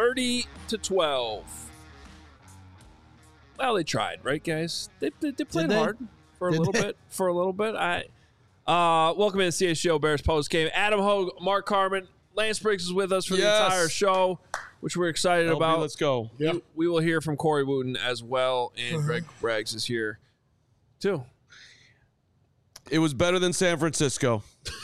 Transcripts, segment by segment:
30-12. Well, they tried, right, guys? They played hard for a little bit. Welcome to the CHGO Bears post game. Adam Hogue, Mark Carman, Lance Briggs is with us for the entire show, which we're excited about. Let's go. We will hear from Corey Wooten as well, and Greg Braggs is here too. It was better than San Francisco.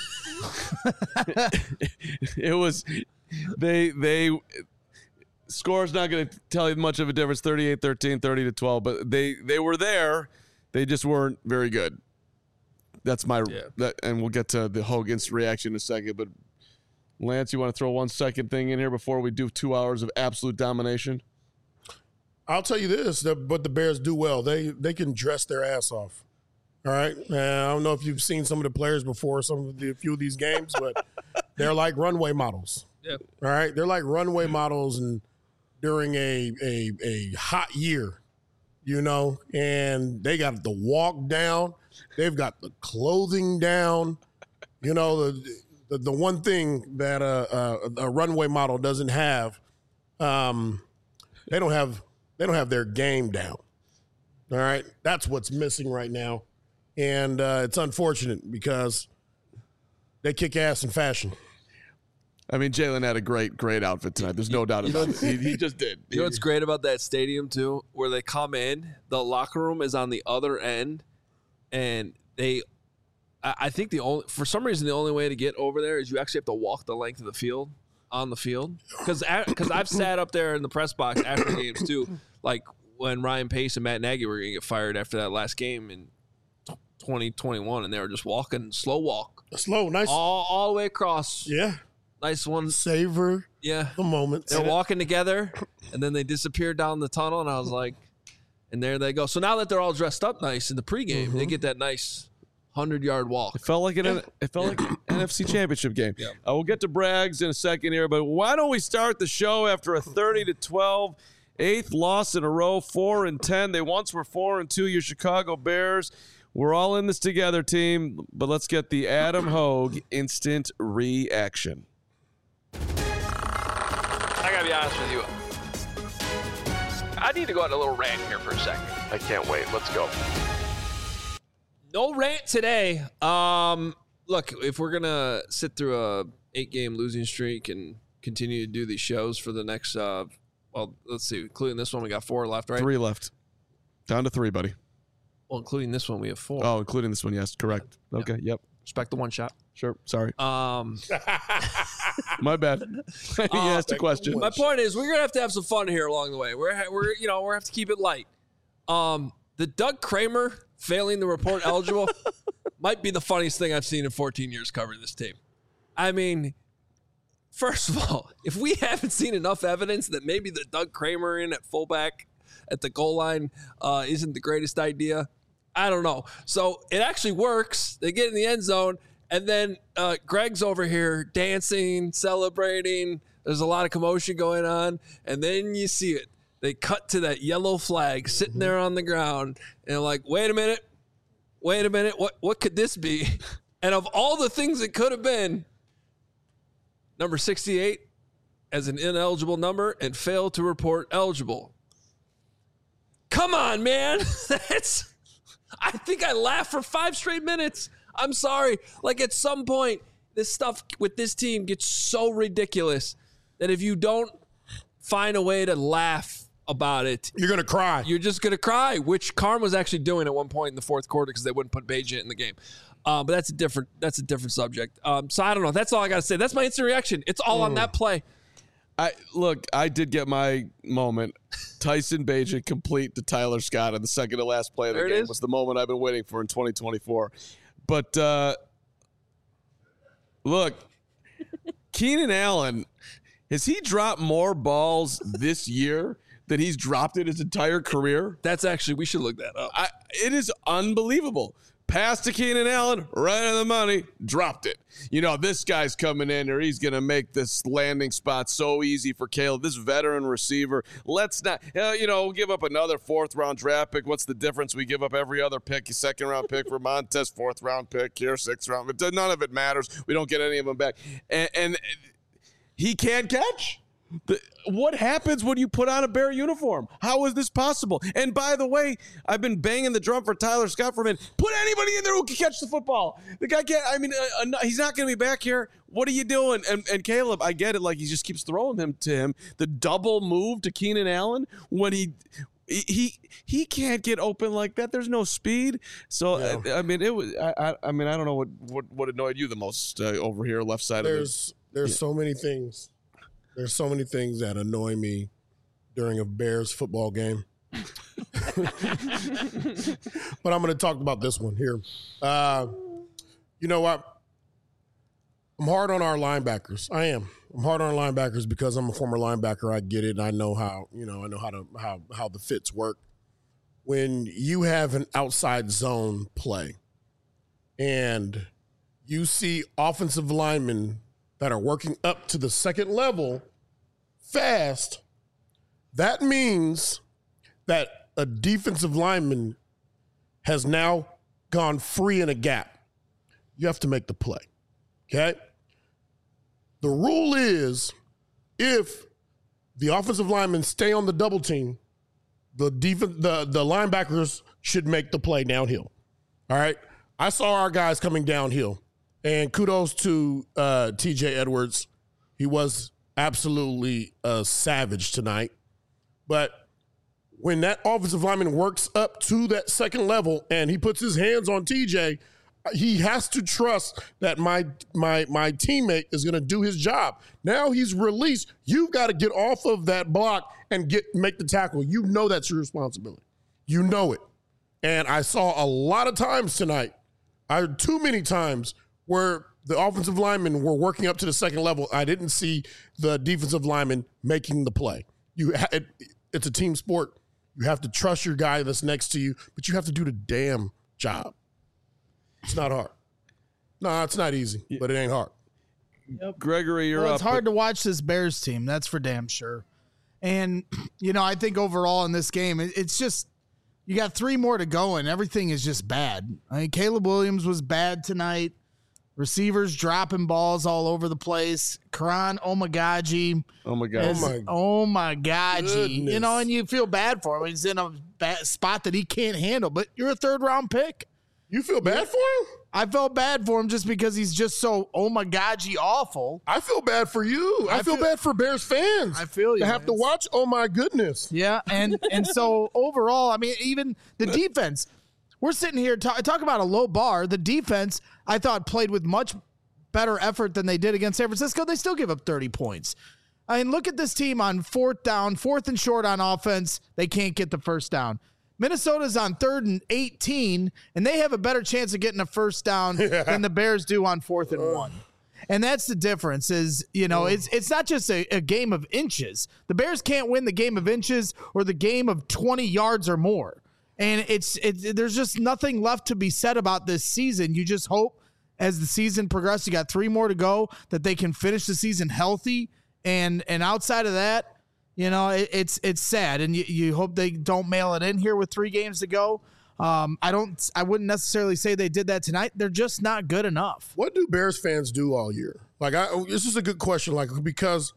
It was. They score's not going to tell you much of a difference. 38-13, 30-12, but they were there. They just weren't very good. That's my and we'll get to the Hogan's reaction in a second. But Lance, you want to throw 1 second thing in here before we do 2 hours of absolute domination? I'll tell you this, but the Bears do well. They can dress their ass off. All right. I don't know if you've seen some of the players before, a few of these games, but they're like runway models. Yep. All right. They're like runway models and during a hot year, and they got the walk down. They've got the clothing down. The one thing that a runway model doesn't have, they don't have their game down. All right. That's what's missing right now. And it's unfortunate because they kick ass in fashion. I mean, Jalen had a great outfit tonight. There's no doubt about it. He just did. You know what's great about that stadium, too? Where they come in, the locker room is on the other end, and I think for some reason, the only way to get over there is you actually have to walk the length of the field, on the field. Because I've sat up there in the press box after games, too, like when Ryan Pace and Matt Nagy were going to get fired after that last game in 2021, and they were just walking, slow walk. Slow, nice. All the way across. Yeah. Nice one. Savor the moment. They're walking together, and then they disappear down the tunnel, and I was like, and there they go. So now that they're all dressed up nice in the pregame, they get that nice 100-yard walk. It felt like an NFC Championship game. Yeah. We'll get to Braggs in a second here, but why don't we start the show after a 30-12, 8th loss in a row, 4-10. They once were 4-2, your Chicago Bears. We're all in this together, team, but let's get the Adam Hogue instant reaction. I gotta be honest with you. I need to go on a little rant here for a second. I can't wait. Let's go. No rant today. Look, if we're gonna sit through a 8-game losing streak and continue to do these shows for the next, let's see, including this one, we got 4 left, right? 3 left. Down to 3, buddy. Well, including this one, we have 4. Oh, including this one, yes, correct. Okay, yep. Respect the one shot. Sure, sorry. My bad. He asked a question. My point is, we're gonna have some fun here along the way. We're have to keep it light. The Doug Kramer failing to report eligible might be the funniest thing I've seen in 14 years covering this team. I mean, first of all, if we haven't seen enough evidence that maybe the Doug Kramer in at fullback at the goal line isn't the greatest idea, I don't know. So it actually works. They get in the end zone. And then Greg's over here dancing, celebrating. There's a lot of commotion going on. And then you see it. They cut to that yellow flag sitting there on the ground. And they're like, wait a minute. What could this be? And of all the things it could have been, number 68 as an ineligible number and failed to report eligible. Come on, man. I think I laughed for 5 straight minutes. I'm sorry. Like, at some point, this stuff with this team gets so ridiculous that if you don't find a way to laugh about it, you're going to cry. You're just going to cry, which Carm was actually doing at one point in the fourth quarter because they wouldn't put Bagent in the game. But that's a different subject. So I don't know. That's all I got to say. That's my instant reaction. It's all on that play. I did get my moment. Tyson Bagent complete to Tyler Scott on the second to last play of the game was the moment I've been waiting for in 2024. But look, Keenan Allen, has he dropped more balls this year than he's dropped in his entire career? That's actually, we should look that up. It is unbelievable. Pass to Keenan Allen, right on the money, dropped it. This guy's coming in or he's going to make this landing spot so easy for Caleb, this veteran receiver. Let's not, give up another 4th-round draft pick. What's the difference? We give up every other pick, a 2nd-round pick for Montez, 4th-round pick here, 6th-round. None of it matters. We don't get any of them back. And he can't catch. What happens when you put on a Bear uniform? How is this possible? And by the way, I've been banging the drum for Tyler Scott for a minute. Put anybody in there who can catch the football. The guy can't. I mean, he's not going to be back here. What are you doing? And Caleb, I get it. Like, he just keeps throwing them to him. The double move to Keenan Allen when he can't get open like that. There's no speed. So I mean, it was. I mean, I don't know what annoyed you the most over here, left side of this. There's so many things. There's so many things that annoy me during a Bears football game. But I'm going to talk about this one here. You know what? I'm hard on our linebackers. I am. I'm hard on our linebackers because I'm a former linebacker. I get it. I know how the fits work. When you have an outside zone play and you see offensive linemen that are working up to the second level fast, that means that a defensive lineman has now gone free in a gap. You have to make the play, okay? The rule is if the offensive linemen stay on the double team, the linebackers should make the play downhill, all right? I saw our guys coming downhill. And kudos to TJ Edwards. He was absolutely a savage tonight. But when that offensive lineman works up to that second level and he puts his hands on TJ, he has to trust that my teammate is going to do his job. Now he's released. You've got to get off of that block and make the tackle. You know that's your responsibility. You know it. And I saw a lot of times tonight, too many times, where the offensive linemen were working up to the second level. I didn't see the defensive lineman making the play. It's a team sport. You have to trust your guy that's next to you, but you have to do the damn job. It's not hard. No, it's not easy, but it ain't hard. Yep. Gregory, you're up. It's hard to watch this Bears team. That's for damn sure. And, I think overall in this game, it's just you got 3 more to go, and everything is just bad. I mean, Caleb Williams was bad tonight. Receivers dropping balls all over the place. Karan Omagaji. Oh, my God. Omagaji. And you feel bad for him. He's in a bad spot that he can't handle. But you're a 3rd-round pick. You feel bad for him? I felt bad for him just because he's just so Omagaji awful. I feel bad for you. I feel bad for Bears fans. I feel you. To have to watch, oh, my goodness. Yeah, and so overall, I mean, even the defense – we're sitting here talk about a low bar. The defense, I thought, played with much better effort than they did against San Francisco. They still give up 30 points. I mean, look at this team on 4th down, 4th and short on offense. They can't get the first down. Minnesota's on 3rd and 18, and they have a better chance of getting a first down than the Bears do on 4th and 1. And that's the difference is, it's not just a game of inches. The Bears can't win the game of inches or the game of 20 yards or more. And there's just nothing left to be said about this season. You just hope as the season progresses, you got 3 more to go, that they can finish the season healthy. And outside of that, it's sad. And you hope they don't mail it in here with 3 games to go. I wouldn't necessarily say they did that tonight. They're just not good enough. What do Bears fans do all year? This is a good question, because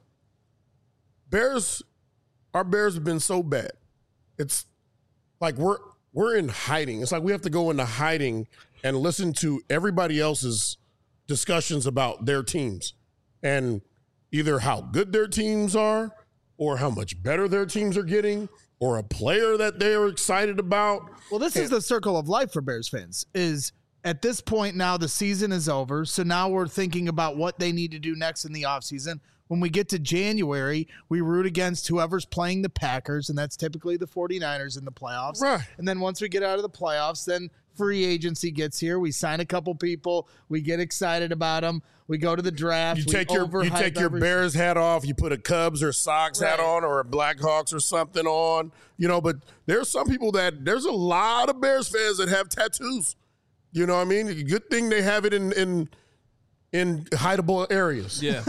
our Bears have been so bad. It's like we're in hiding. It's like we have to go into hiding and listen to everybody else's discussions about their teams and either how good their teams are or how much better their teams are getting or a player that they're excited about. Well, this is the circle of life for Bears fans is at this point now the season is over. So now we're thinking about what they need to do next in the offseason. When we get to January, we root against whoever's playing the Packers, and that's typically the 49ers in the playoffs. Right. And then once we get out of the playoffs, then free agency gets here. We sign a couple people. We get excited about them. We go to the draft. You take your Bears hat off. You put a Cubs or Sox hat on or a Blackhawks or something on. But there's some people there's a lot of Bears fans that have tattoos. You know what I mean? Good thing they have it in hideable areas. Yeah.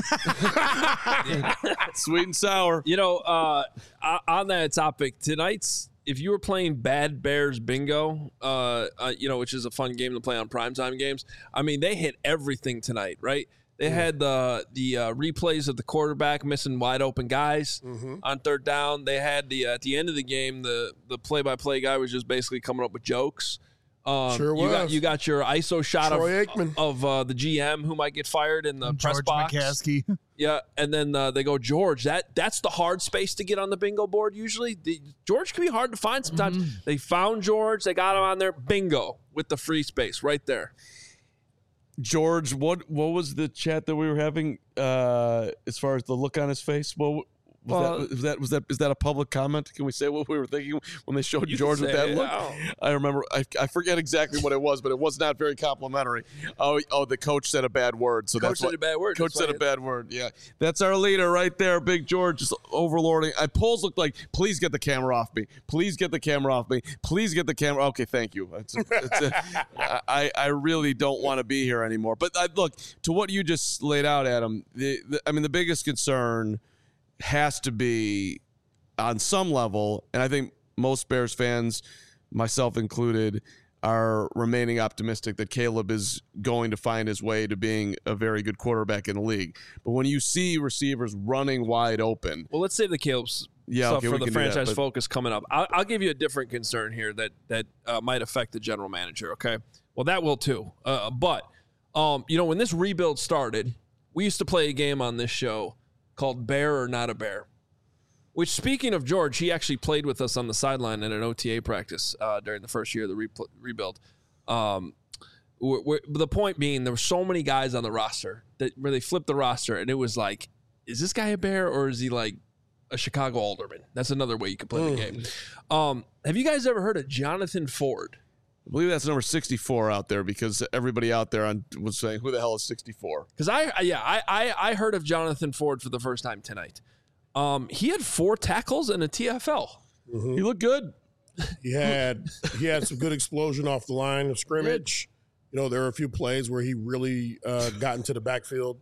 Sweet and sour. On that topic, if you were playing Bad Bears Bingo, which is a fun game to play on primetime games, I mean, they hit everything tonight, right? They had the replays of the quarterback missing wide open guys on third down. They had the at the end of the game, the play-by-play guy was just basically coming up with jokes. Sure was. You got your ISO shot Troy Aikman. of the GM who might get fired in the press George box. McCaskey. Yeah, and then they go George. That's the hard space to get on the bingo board. Usually, George can be hard to find sometimes. They found George. They got him on there. Bingo with the free space right there. George, what was the chat that we were having as far as the look on his face? Is that a public comment? Can we say what we were thinking when they showed George with that look? I remember. I forget exactly what it was, but it was not very complimentary. Oh, the coach said a bad word. So Coach said a bad word. Coach said a bad word. Yeah, that's our leader right there, Big George, just overlording. Polls looked like, please get the camera off me. Please get the camera off me. Please get the camera. Okay, thank you. I really don't want to be here anymore. But look, to what you just laid out, Adam. The biggest concern has to be on some level, and I think most Bears fans, myself included, are remaining optimistic that Caleb is going to find his way to being a very good quarterback in the league. But when you see receivers running wide open, well, let's save the Caleb's stuff for the franchise focus coming up. I'll give you a different concern here that might affect the general manager. Okay, well that will too. But when this rebuild started, we used to play a game on this show called Bear or Not a Bear, which, speaking of George, he actually played with us on the sideline in an OTA practice during the first year of the rebuild. The point being, there were so many guys on the roster where they flipped the roster, and it was like, is this guy a Bear or is he like a Chicago Alderman? That's another way you could play the game. Have you guys ever heard of Jonathan Ford? I believe that's number 64 out there, because everybody out there was saying, who the hell is 64? Because I heard of Jonathan Ford for the first time tonight. He had 4 tackles and a TFL. Mm-hmm. He looked good. He had some good explosion off the line of scrimmage. There were a few plays where he really got into the backfield.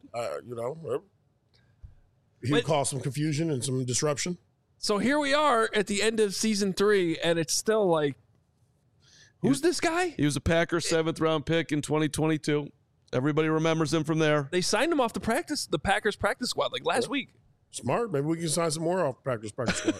He would cause some confusion and some disruption. So here we are at the end of season 3, and it's still like, who's this guy? He was a Packers 7th round pick in 2022. Everybody remembers him from there. They signed him off the Packers practice squad like last week. Smart. Maybe we can sign some more off practice squad.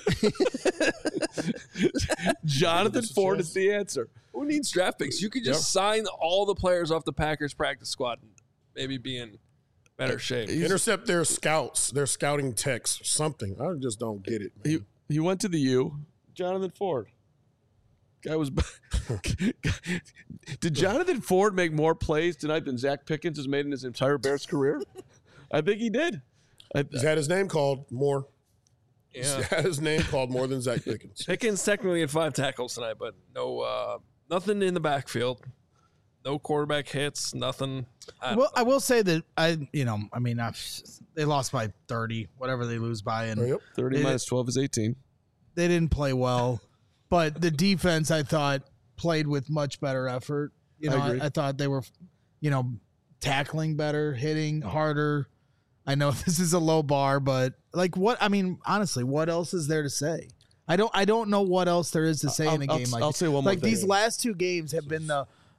Jonathan Ford is the answer. Who needs draft picks? You could just sign all the players off the Packers practice squad and maybe be in better shape. Intercept their scouts, their scouting techs, something. I just don't get it, man. He went to the U. Jonathan Ford. Guy was. Did Jonathan Ford make more plays tonight than Zach Pickens has made in his entire Bears career? I think he did. He's had his name called more. Yeah. He's had his name called more than Zach Pickens. Pickens technically had 5 tackles tonight, but no, nothing in the backfield. No quarterback hits. Nothing. I will say that they lost by 30, whatever they lose by, and 30 minus 12 is 18. They didn't play well. But the defense, I thought, played with much better effort. I thought they were, tackling better, hitting harder. I know this is a low bar, but honestly, what else is there to say? I don't know what else there is to say in a game like this. I'll say one more thing. These last 2 games have been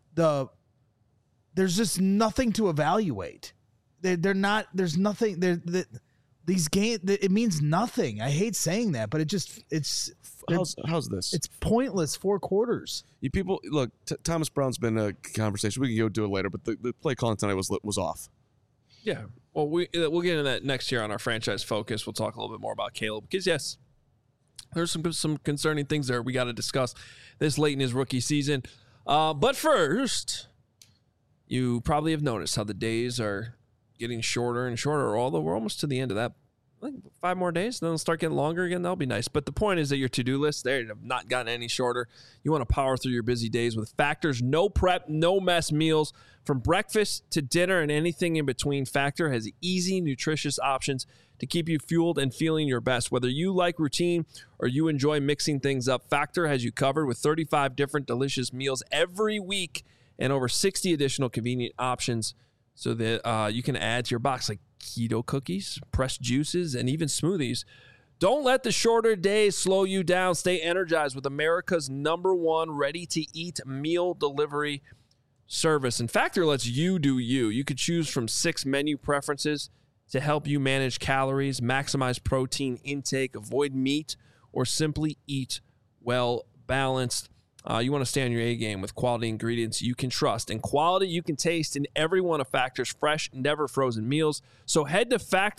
there's just nothing to evaluate. They're not. There's nothing. These games, it means nothing. I hate saying that, but it's. How's this? It's pointless 4 quarters. You people, look, Thomas Brown's been a conversation. We can go do it later, but the play calling tonight was off. Yeah. Well, we'll get into that next year on our franchise focus. We'll talk a little bit more about Caleb because, yes, there's some concerning things there we got to discuss this late in his rookie season. But first, you probably have noticed how the days are getting shorter and shorter, although we're almost to the end of that. I think 5 more days, then they'll start getting longer again. That'll be nice. But the point is that your to-do list, they have not gotten any shorter. You want to power through your busy days with Factor's no prep, no mess meals. From breakfast to dinner and anything in between, Factor has easy, nutritious options to keep you fueled and feeling your best. Whether you like routine or you enjoy mixing things up, Factor has you covered with 35 different delicious meals every week and over 60 additional convenient options so that you can add to your box, like keto cookies, pressed juices, and even smoothies. Don't let the shorter days slow you down. Stay energized with America's #1 ready-to-eat meal delivery service. And Factor lets you do you. You could choose from 6 menu preferences to help you manage calories, maximize protein intake, avoid meat, or simply eat well balanced. You want to stay on your A game with quality ingredients you can trust and quality you can taste in every one of Factor's fresh, never frozen meals. So head to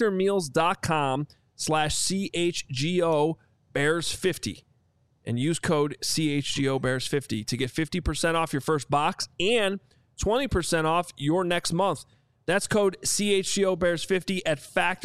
factormeals.com/CHGO Bears50 and use code CHGO Bears50 to get 50% off your first box and 20% off your next month. That's code CHGO Bears50 at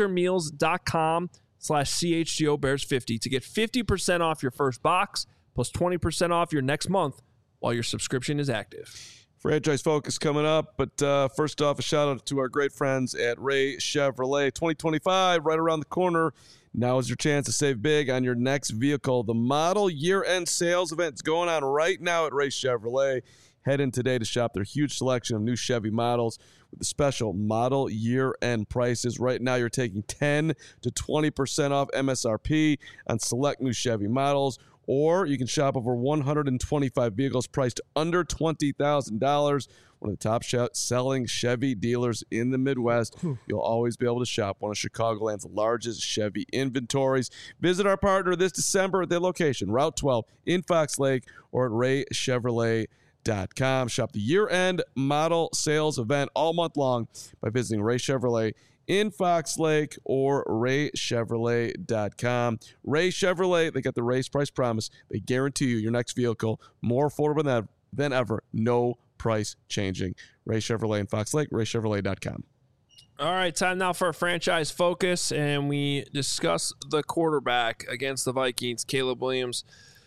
factormeals.com/CHGO Bears50 to get 50% off your first box plus 20% off your next month while your subscription is active. Franchise Focus coming up, but first off, a shout out to our great friends at Ray Chevrolet. 2025 right around the corner. Now is your chance to save big on your next vehicle. The model year-end sales event is going on right now at Ray Chevrolet. Head in today to shop their huge selection of new Chevy models with the special model year-end prices. Right now, you're taking 10 to 20% off MSRP on select new Chevy models, or you can shop over 125 vehicles priced under $20,000. One of the top selling Chevy dealers in the Midwest. You'll always be able to shop one of Chicagoland's largest Chevy inventories. Visit our partner this December at their location, Route 12 in Fox Lake, or at RayChevrolet.com. Shop the year-end model sales event all month long by visiting Ray Chevrolet in Fox Lake or RayChevrolet.com. Ray Chevrolet, they got the race price promise. They guarantee you your next vehicle more affordable than ever. No price changing. Ray Chevrolet in Fox Lake, RayChevrolet.com. All right, time now for a franchise focus, and we discuss the quarterback against the Vikings. Caleb Williams,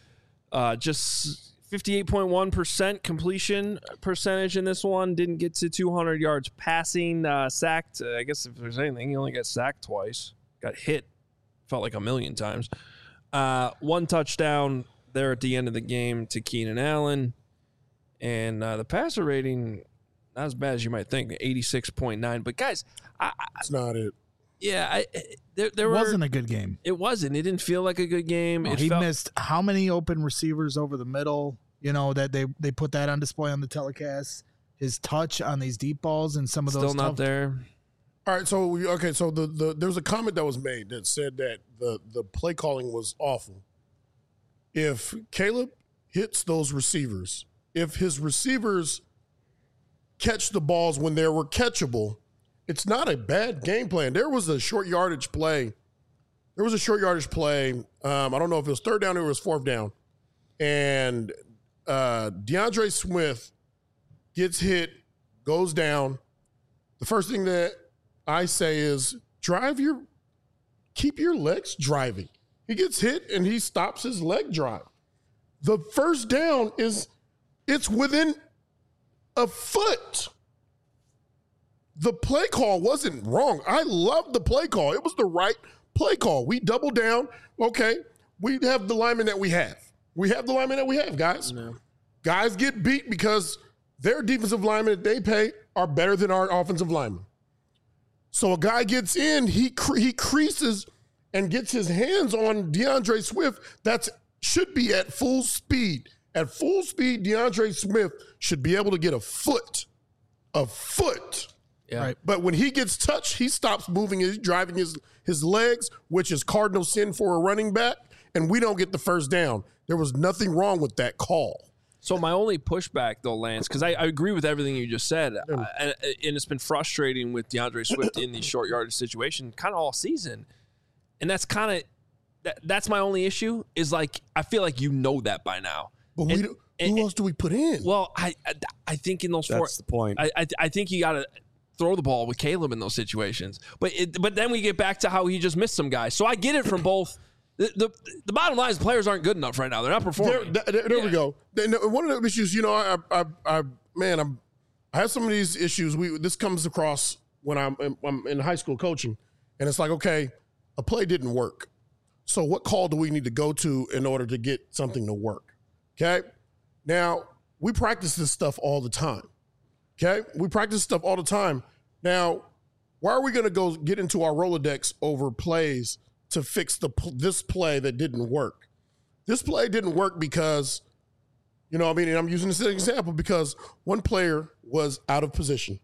just 58.1% completion percentage in this one. Didn't get to 200 yards passing. Sacked, I guess if there's anything, he only got sacked twice. Got hit, felt like a million times. 1 touchdown there at the end of the game to Keenan Allen. And the passer rating, not as bad as you might think, 86.9. But, guys, That's not it. Yeah, there wasn't a good game. It wasn't. It didn't feel like a good game. No, he missed how many open receivers over the middle? You know, that they put that on display on the telecast. His touch on these deep balls and some of those still not there. All right, so there was a comment that was made that said that the play calling was awful. If Caleb hits those receivers, if his receivers catch the balls when they were catchable, it's not a bad game plan. There was a short yardage play. I don't know if it was 3rd down or it was 4th down. And DeAndre Swift gets hit, goes down. The first thing that I say is keep your legs driving. He gets hit and he stops his leg drive. The first down it's within a foot. The play call wasn't wrong. I love the play call. It was the right play call. We double down. Okay, we have the linemen that we have. We have the linemen that we have, guys. No. Guys get beat because their defensive linemen that they pay are better than our offensive linemen. So a guy gets in, he creases and gets his hands on DeAndre Swift. That should be at full speed. At full speed, DeAndre Swift should be able to get a foot. Yeah. Right. But when he gets touched, he stops moving, he's driving his legs, which is cardinal sin for a running back, and we don't get the first down. There was nothing wrong with that call. So my only pushback, though, Lance, because I agree with everything you just said, and it's been frustrating with DeAndre Swift in these short yardage situations kind of all season. And that's kind of that's my only issue is, like, I feel like you know that by now. But who else do we put in? Well, I think in those That's the point. I think you got to throw the ball with Caleb in those situations. But then we get back to how he just missed some guys. So I get it from both. The bottom line is players aren't good enough right now. They're not performing. There we go. One of the issues, I have some of these issues. This comes across when I'm in high school coaching, and it's like, okay, a play didn't work. So what call do we need to go to in order to get something to work? Okay. Now, we practice this stuff all the time. Okay. We practice stuff all the time. Now, why are we going to go get into our Rolodex over plays to fix this play that didn't work? This play didn't work because, and I'm using this as an example because one player was out of position.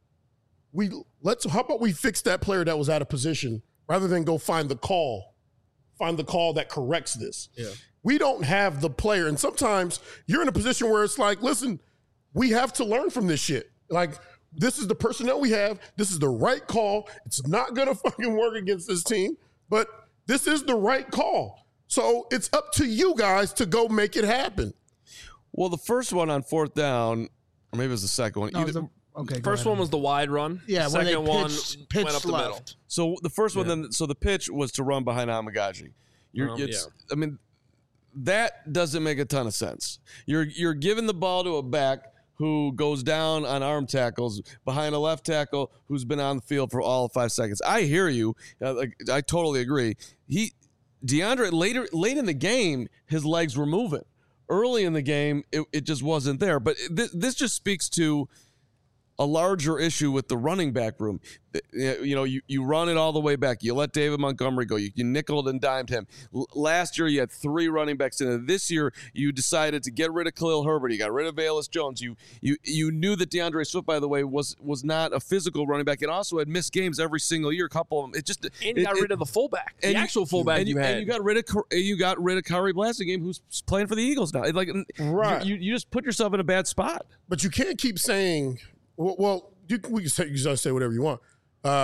How about we fix that player that was out of position rather than go find the call that corrects this. Yeah. We don't have the player. And sometimes you're in a position where it's like, listen, we have to learn from this shit. Like, this is the personnel we have. This is the right call. It's not going to fucking work against this team, but this is the right call. So it's up to you guys to go make it happen. Well, the first one on 4th down, or maybe it was the second one. First one was the wide run. Yeah, the where second they one pitched went up the middle. left. So the first one, then, so the pitch was to run behind Amagaji. I mean, that doesn't make a ton of sense. You're giving the ball to a back who goes down on arm tackles behind a left tackle who's been on the field for all 5 seconds. I hear you. I totally agree. DeAndre late in the game, his legs were moving. Early in the game, it just wasn't there. But this just speaks to a larger issue with the running back room. You know, you run it all the way back. You let David Montgomery go. You nickeled and dimed him. Last year, you had 3 running backs in it. This year, you decided to get rid of Khalil Herbert. You got rid of Velus Jones. You knew that DeAndre Swift, by the way, was not a physical running back and also had missed games every single year. A couple of them. You got rid of the fullback, the actual fullback you had. And you got rid of Kyrie Blasingame, who's playing for the Eagles now. Right. You just put yourself in a bad spot. But you can't keep saying, well, you can say whatever you want.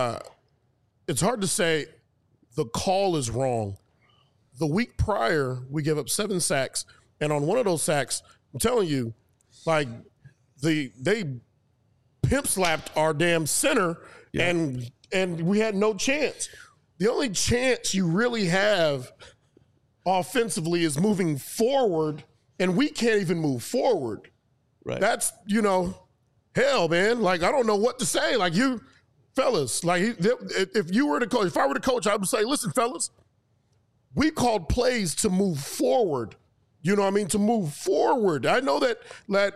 It's hard to say the call is wrong. The week prior, we gave up 7 sacks, and on one of those sacks, I'm telling you, like they pimp slapped our damn center, and we had no chance. The only chance you really have offensively is moving forward, and we can't even move forward. Right. That's, hell, man. Like, I don't know what to say. Like, you fellas, like, if you were the coach, if I were the coach, I would say, listen, fellas, we called plays to move forward. You know what I mean? To move forward. I know that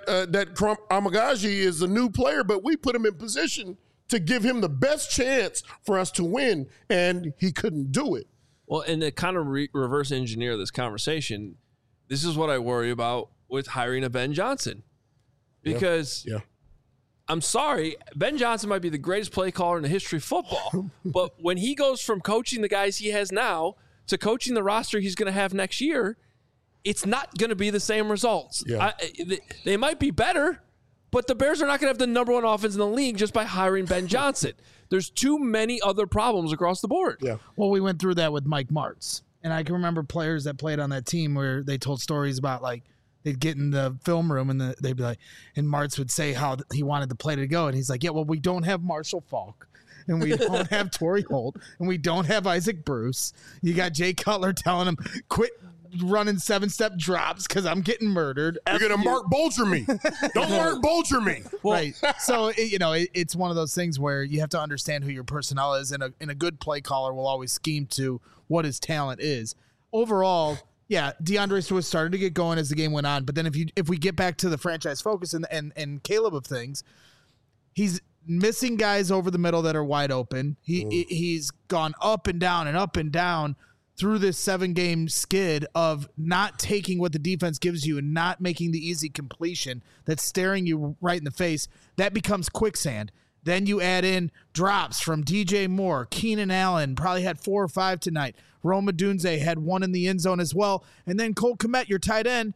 Amagaji is a new player, but we put him in position to give him the best chance for us to win, and he couldn't do it. Well, and to kind of reverse engineer this conversation, this is what I worry about with hiring a Ben Johnson. Because I'm sorry, Ben Johnson might be the greatest play caller in the history of football, but when he goes from coaching the guys he has now to coaching the roster he's going to have next year, it's not going to be the same results. Yeah. They might be better, but the Bears are not going to have the number 1 offense in the league just by hiring Ben Johnson. There's too many other problems across the board. Yeah. Well, we went through that with Mike Martz, and I can remember players that played on that team where they told stories about, like, they'd get in the film room and they'd be like, and Martz would say how he wanted the play to go. And he's like, yeah, well, we don't have Marshall Faulk and we don't have Torrey Holt and we don't have Isaac Bruce. You got Jay Cutler telling him, quit running 7-step drops because I'm getting murdered. You're going to Mark Bulger me. Don't Mark Bulger me. Right. So, it's one of those things where you have to understand who your personnel is, and a good play caller will always scheme to what his talent is. Overall, yeah, DeAndre Swift started to get going as the game went on, but then if we get back to the franchise focus and Caleb of things, he's missing guys over the middle that are wide open. He's gone up and down through this 7-game skid of not taking what the defense gives you and not making the easy completion that's staring you right in the face. That becomes quicksand. Then you add in drops from DJ Moore. Keenan Allen probably had 4 or 5 tonight. Rome Odunze had 1 in the end zone as well. And then Cole Kmet, your tight end,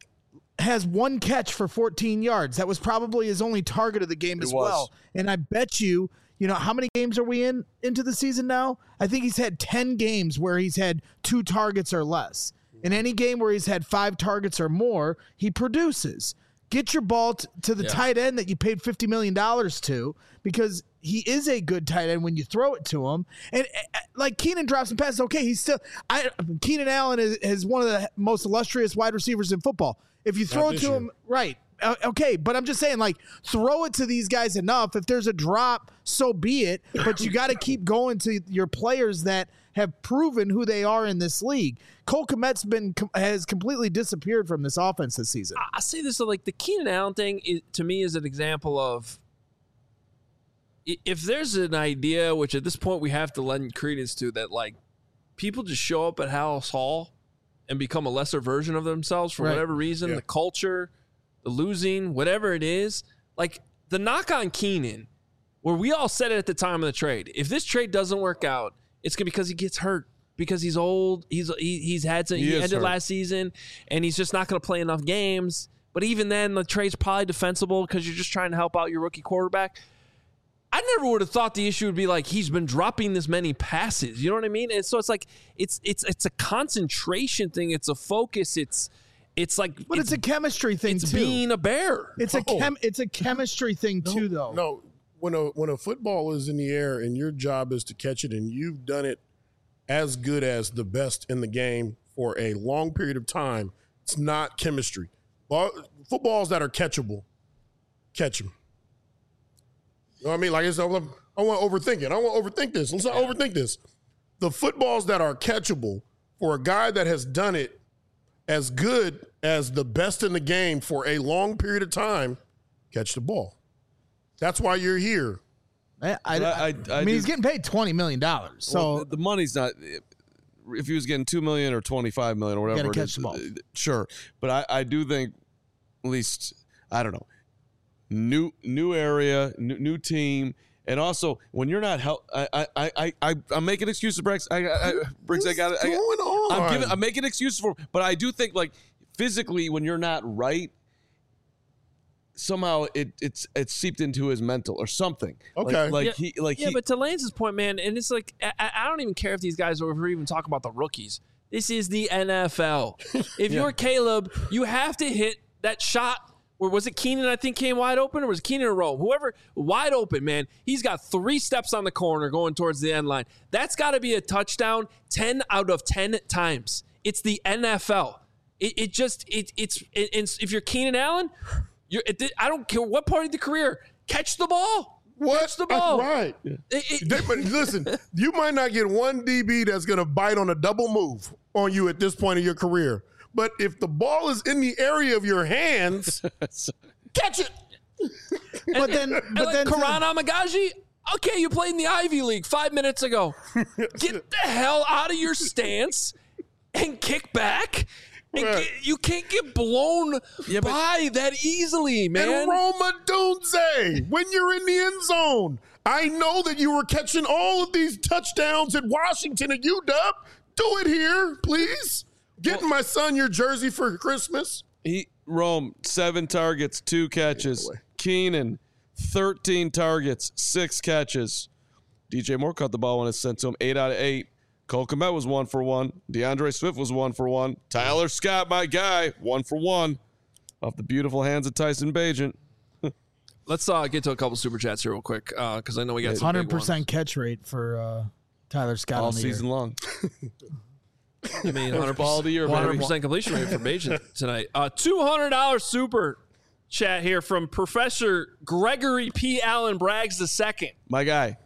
has 1 catch for 14 yards. That was probably his only target of the game as well. And I bet you, how many games are we into the season now? I think he's had 10 games where he's had 2 targets or less. In any game where he's had 5 targets or more, he produces. Get your ball to the tight end that you paid $50 million to, because he is a good tight end when you throw it to him. And like Keenan drops some passes, okay, Keenan Allen is one of the most illustrious wide receivers in football. If you throw it to him, right, okay, but I'm just saying, like, throw it to these guys enough. If there's a drop, so be it. But you got to keep going to your players that have proven who they are in this league. Cole Kmet has completely disappeared from this offense this season. I say this, like, the Keenan Allen thing to me is an example of, if there's an idea, which at this point we have to lend credence to, that, like, people just show up at Hallis Hall and become a lesser version of themselves for whatever reason, the culture, the losing, whatever it is. Like, the knock on Keenan, where we all said it at the time of the trade, if this trade doesn't work out, it's gonna be because he gets hurt, because he's old. He ended hurt. last season, and he's just not gonna play enough games. But even then, the trade's probably defensible because you're just trying to help out your rookie quarterback. I never would have thought the issue would be like he's been dropping this many passes. You know what I mean? And so it's like it's a concentration thing. It's a focus. It's like, But it's a chemistry thing it's too. being a bear. It's a chemistry thing too, though. No, when a football is in the air and your job is to catch it, and you've done it as good as the best in the game for a long period of time, it's not chemistry. Footballs that are catchable, catch them. You know what I mean? Like, I want to overthink it. I want to overthink this. Let's not overthink this. The footballs that are catchable for a guy that has done it as good as the best in the game for a long period of time, catch the ball. That's why you're here. I mean, he's getting paid $20 million. So Well, the money's not. If he was getting $2 million or $25 million or whatever, gotta it catch is, the ball. Sure. But I do think, at least, I don't know, new area, new team, and also when you're not I'm making excuses, Briggs. Briggs, I got it. What's going on? I'm making excuses for, but I do think like physically when you're not right, somehow it's seeped into his mental or something. Okay. But to Lance's point, man, and it's like I don't even care if these guys are even talking about the rookies. This is the NFL. If you're Caleb, you have to hit that shot. Or was it Keenan, I think, came wide open? Or was it Keenan or Rome? Whoever, wide open, man. He's got 3 steps on the corner going towards the end line. That's got to be a touchdown 10 out of 10 times. It's the NFL. It's if you're Keenan Allen, I don't care what part of the career, catch the ball. What? Catch the ball. Right. But listen, you might not get one DB that's going to bite on a double move on you at this point of your career. But if the ball is in the area of your hands, catch it. but then Karan Amagaji, okay, you played in the Ivy League 5 minutes ago. Get the hell out of your stance and kick back. And you can't get blown by that easily, man. And Roma Dunze, when you're in the end zone, I know that you were catching all of these touchdowns at Washington at UW. Do it here, please. Getting my son your jersey for Christmas. Rome, 7 targets, 2 catches. Keenan, 13 targets, 6 catches. DJ Moore caught the ball when it's sent to him, 8 out of 8. Cole Kmet was 1 for 1. DeAndre Swift was 1 for 1. Tyler Scott, my guy, 1 for 1. Off the beautiful hands of Tyson Bagent. Let's get to a couple super chats here real quick because I know we got some big 100% ones. catch rate for Tyler Scott All on the season year. long. I mean, 100% ball of the year, 100% completion rate for Bajan tonight. $200 super chat here from Professor Gregory P. Allen Braggs II. My guy.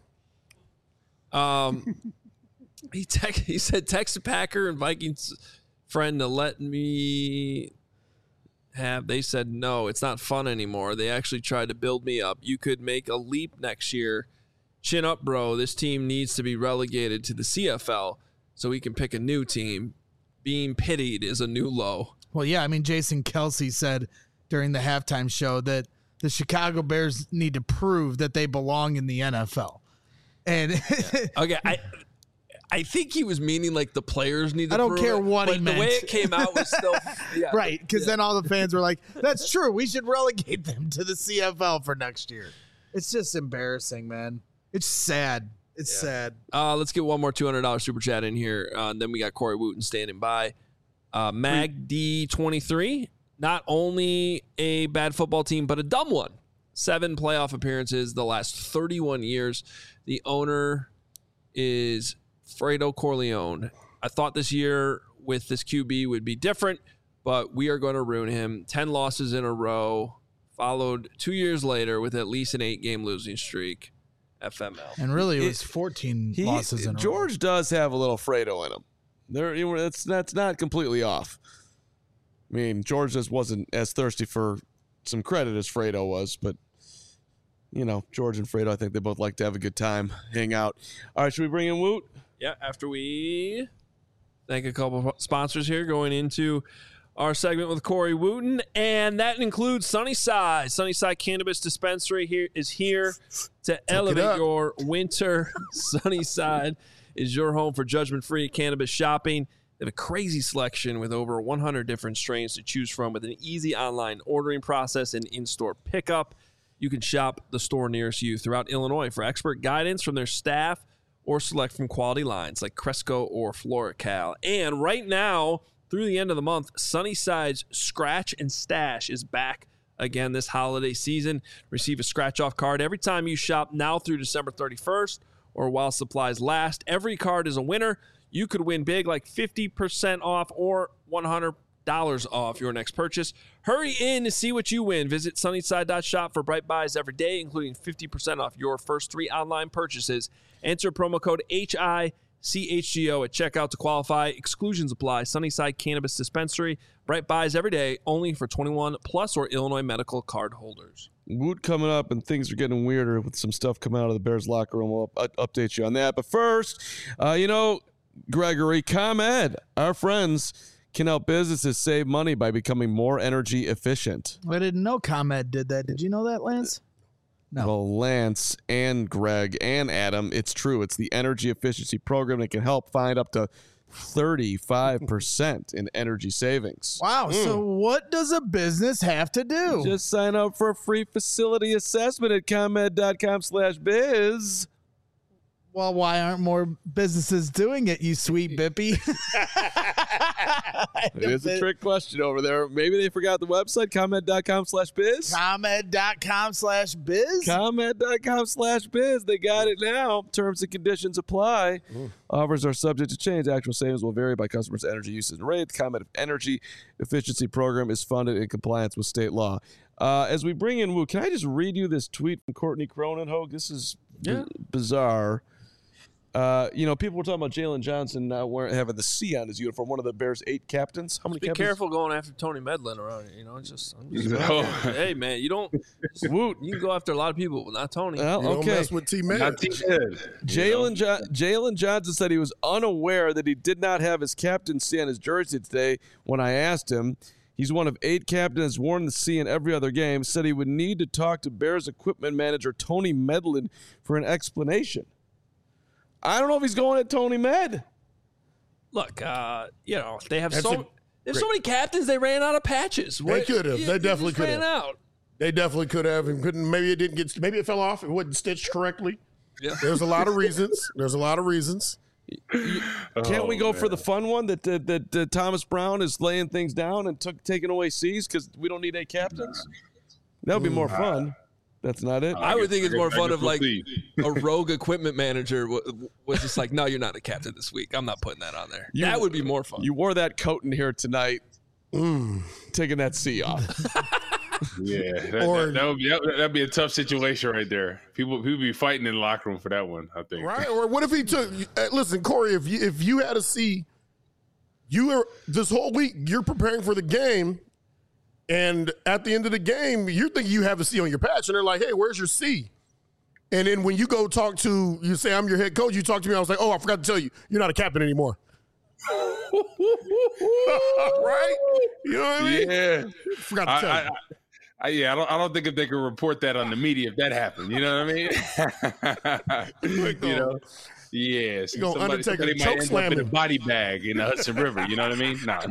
He said text a Packer and Vikings friend to let me have. They said no, it's not fun anymore. They actually tried to build me up. You could make a leap next year. Chin up, bro. This team needs to be relegated to the CFL so we can pick a new team. Being pitied is a new low. Well, yeah, I mean, Jason Kelsey said during the halftime show that the Chicago Bears need to prove that they belong in the NFL. And Okay, I think he was meaning like the players need to I don't prove care it, what he but meant. the way it came out was still yeah. right, because then all the fans were like, that's true. We should relegate them to the CFL for next year. It's just embarrassing, man. It's sad. It's sad. Let's get one more $200 super chat in here. Then we got Corey Wooten standing by. Mag D23, not only a bad football team, but a dumb one. 7 playoff appearances the last 31 years. The owner is Fredo Corleone. I thought this year with this QB would be different, but we are going to ruin him. 10 losses in a row, followed 2 years later with at least an 8-game losing streak. FML. And really, it was 14 losses in a row. George does have a little Fredo in him. That's not completely off. I mean, George just wasn't as thirsty for some credit as Fredo was, but you know, George and Fredo, I think they both like to have a good time, hang out. All right, should we bring in Woot? Yeah, after we thank a couple of sponsors here, going into our segment with Corey Wooten, and that includes Sunnyside. Sunnyside Cannabis Dispensary is here to elevate your winter. Sunnyside is your home for judgment-free cannabis shopping. They have a crazy selection with over 100 different strains to choose from with an easy online ordering process and in-store pickup. You can shop the store nearest you throughout Illinois for expert guidance from their staff or select from quality lines like Cresco or FloraCal. And right now, through the end of the month, Sunnyside's Scratch and Stash is back again this holiday season. Receive a scratch-off card every time you shop now through December 31st or while supplies last. Every card is a winner. You could win big like 50% off or $100 off your next purchase. Hurry in to see what you win. Visit Sunnyside.shop for bright buys every day, including 50% off your first 3 online purchases. Enter promo code HICHGO at checkout to qualify. Exclusions apply. Sunnyside Cannabis Dispensary. Bright buys every day, only for 21 plus or Illinois medical card holders. Woot coming up, and things are getting weirder with some stuff coming out of the Bears locker room. We'll update you on that. But first, Gregory, ComEd, our friends, can help businesses save money by becoming more energy efficient. I didn't know ComEd did that. Did you know that, Lance? No. Well, Lance and Greg and Adam, it's true. It's the energy efficiency program that can help find up to 35% in energy savings. Wow. So what does a business have to do? Just sign up for a free facility assessment at ComEd.com/biz. Well, why aren't more businesses doing it, you sweet bippy? It is a trick question over there. Maybe they forgot the website, ComEd.com/biz. ComEd.com/biz? ComEd.com/biz. They got it now. Terms and conditions apply. Offers are subject to change. Actual savings will vary by customers' energy usage and rate. The ComEd Energy Efficiency Program is funded in compliance with state law. As we bring in Woo, can I just read you this tweet from Courtney Cronin, Hogue? This is bizarre. People were talking about Jalen Johnson now having the C on his uniform, one of the Bears' 8 captains. How many Be captains? careful going after Tony Medlin around here. Hey, man, you can go after a lot of people, but not Tony. Well, Don't mess with T-Med. Jalen Johnson said he was unaware that he did not have his captain's C on his jersey today when I asked him. He's one of 8 captains worn the C in every other game. Said he would need to talk to Bears equipment manager Tony Medlin for an explanation. I don't know if he's going at Tony Med. Look, they have so many captains. They ran out of patches. They could have. They definitely could have. Ran out. They definitely could have and couldn't. Maybe it didn't get. Maybe it fell off. It wasn't stitched correctly. Yeah. There's a lot of reasons. Can't we go for the fun one that Thomas Brown is laying things down and taking away C's because we don't need 8 captains? That would be more fun. That's not it. I would think it's more fun if like a rogue equipment manager was just like, no, you're not a captain this week. I'm not putting that on there. That would be more fun. You wore that coat in here tonight, taking that C off. Yeah, that'd be a tough situation right there. People be fighting in the locker room for that one, I think. Right? Or what if he took? Listen, Corey, if you had a C, you were this whole week you're preparing for the game. And at the end of the game, you're thinking you have a C on your patch, and they're like, hey, where's your C? And then when you go talk to, you say, I'm your head coach, you talk to me, I was like, oh, I forgot to tell you, you're not a captain anymore. Right? You know what I mean? Yeah. Forgot to tell you. I don't think if they could report that on the media if that happened. You know what I mean? Yeah, somebody might end up in a body bag in the Hudson River. You know what I mean? Nah.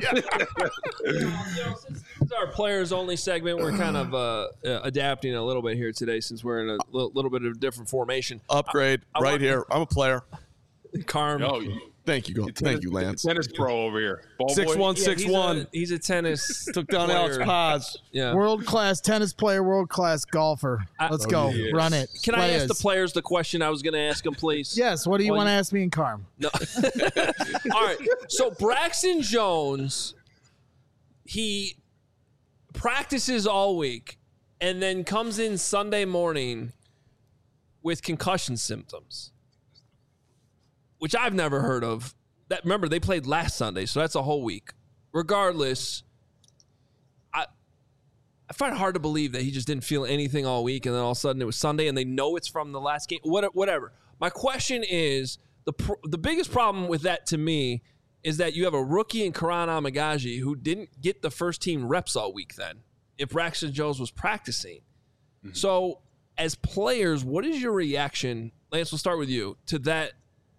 Since this is our players only segment, we're kind of adapting a little bit here today since we're in a little bit of a different formation. Upgrade here. I'm a player. Carm. Thank you, Lance. Tennis pro over here. 6'1", He's a tennis. Took down Alex Paz. Yeah. World-class tennis player, world-class golfer. Let's go. Yes. Run it. Can I ask the players the question I was going to ask them, please? Yes. What do you want to ask me and Carm? No. All right. So Braxton Jones, he practices all week and then comes in Sunday morning with concussion symptoms, which I've never heard of. Remember, they played last Sunday, so that's a whole week. Regardless, I find it hard to believe that he just didn't feel anything all week, and then all of a sudden it was Sunday, and they know it's from the last game. Whatever. My question is, the biggest problem with that to me is that you have a rookie in Karan Amagaji who didn't get the first team reps all week then if Braxton Jones was practicing. Mm-hmm. So as players, what is your reaction? Lance, we'll start with you to that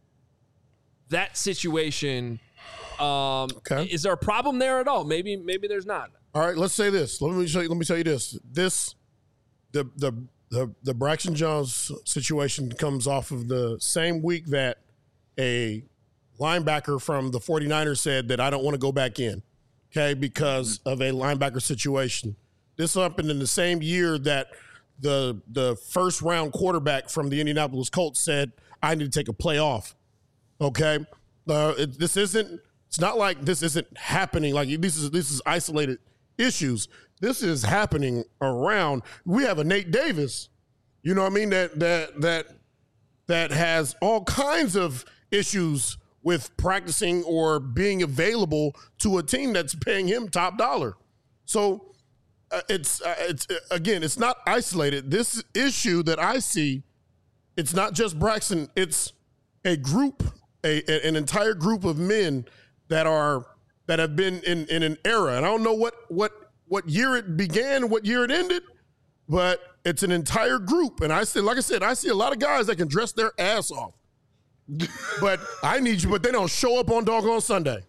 situation. Okay. Is there a problem there at all? Maybe there's not. All right, let's say this. Let me tell you this. The Braxton Jones situation comes off of the same week that a linebacker from the 49ers said that I don't want to go back in, okay, because of a linebacker situation. This happened in the same year that the first round quarterback from the Indianapolis Colts said I need to take a play off, okay? It's not like this isn't happening. Like this is isolated issues. This is happening around. We have a Nate Davis, you know what I mean, that has all kinds of issues with practicing or being available to a team that's paying him top dollar. So it's not isolated. This issue that I see, it's not just Braxton. It's a group, an entire group of men that have been in an era. And I don't know what year it began, what year it ended, but it's an entire group. And I see a lot of guys that can dress their ass off. But they don't show up on doggone Sunday.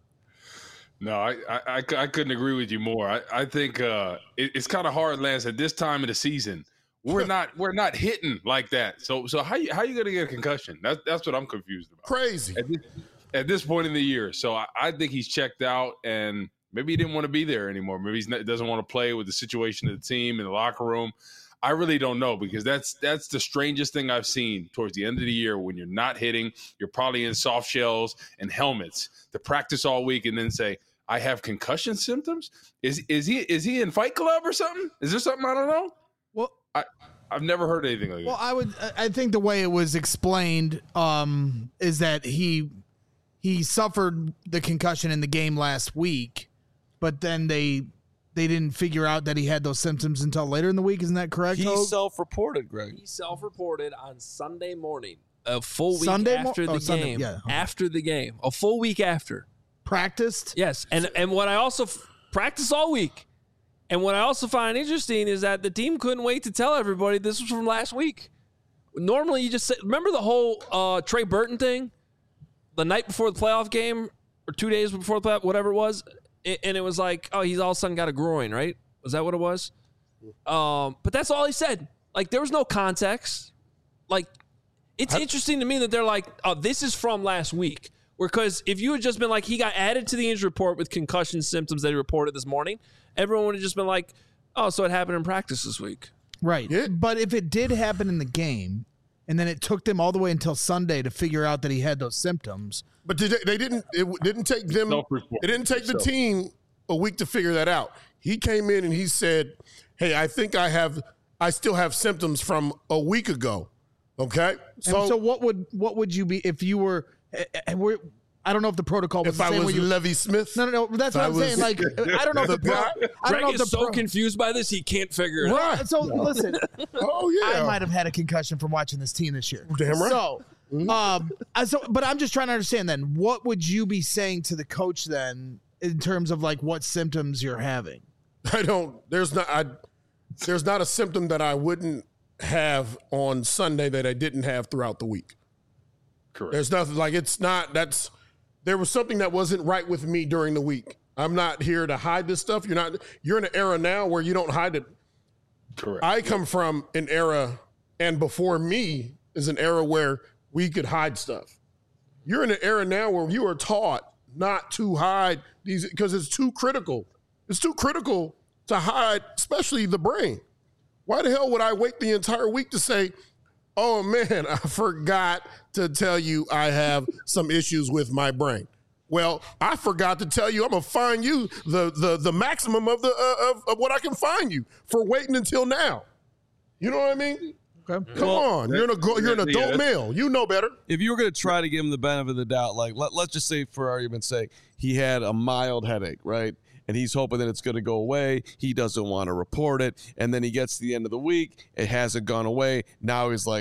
No, I couldn't agree with you more. I think it's kind of hard, Lance, at this time of the season. We're not hitting like that. So how you gonna get a concussion? That's what I'm confused about. Crazy. At this point in the year. So I think he's checked out, and maybe he didn't want to be there anymore. Maybe he doesn't want to play with the situation of the team in the locker room. I really don't know, because that's the strangest thing I've seen towards the end of the year, when you're not hitting, you're probably in soft shells and helmets to practice all week and then say, I have concussion symptoms. Is he in Fight Club or something? Is there something I don't know? Well, I've never heard anything like that. Well, I think the way it was explained is that he suffered the concussion in the game last week, but then they didn't figure out that he had those symptoms until later in the week. Isn't that correct? He self-reported, Greg. He self-reported on Sunday morning, a full week after the game. Yeah. After the game, a full week after. Practiced? Yes, and what I also practiced all week. And what I also find interesting is that the team couldn't wait to tell everybody this was from last week. Normally, you just say, remember the whole Trey Burton thing? The night before the playoff game, or 2 days before the playoff, whatever it was, and it was like, oh, he's all of a sudden got a groin, right? Was that what it was? But that's all he said. Like, there was no context. Like, it's interesting to me that they're like, oh, this is from last week. Because if you had just been like, he got added to the injury report with concussion symptoms that he reported this morning, everyone would have just been like, oh, so it happened in practice this week. Right. Yeah. But if it did happen in the game, and then it took them all the way until Sunday to figure out that he had those symptoms. But it didn't take the team a week to figure that out. He came in and he said, hey, I think I still have symptoms from a week ago. Okay. So what would you be if you were, I don't know if the protocol was if the same. I was Lovie Smith. No. That's what I'm saying. Like, I don't know if Greg is so confused by this, he can't figure it out. So listen. Oh yeah. I might have had a concussion from watching this team this year. Damn right. So, but I'm just trying to understand then, what would you be saying to the coach then in terms of like what symptoms you're having? There's not a symptom that I wouldn't have on Sunday that I didn't have throughout the week. Correct. There's nothing like there was something that wasn't right with me during the week. I'm not here to hide this stuff. You're in an era now where you don't hide it. Correct. I come from an era, and before me is an era where we could hide stuff. You're in an era now where you are taught not to hide these because it's too critical. It's too critical to hide, especially the brain. Why the hell would I wait the entire week to say, oh man, I forgot to tell you I have some issues with my brain? Well, I forgot to tell you I'm gonna fine you the maximum of what I can fine you for waiting until now. You know what I mean? Okay. Come on, you're an adult male. You know better. If you were going to try to give him the benefit of the doubt, like let's just say, for argument's sake, he had a mild headache, right? And he's hoping that it's going to go away. He doesn't want to report it. And then he gets to the end of the week. It hasn't gone away. Now he's like,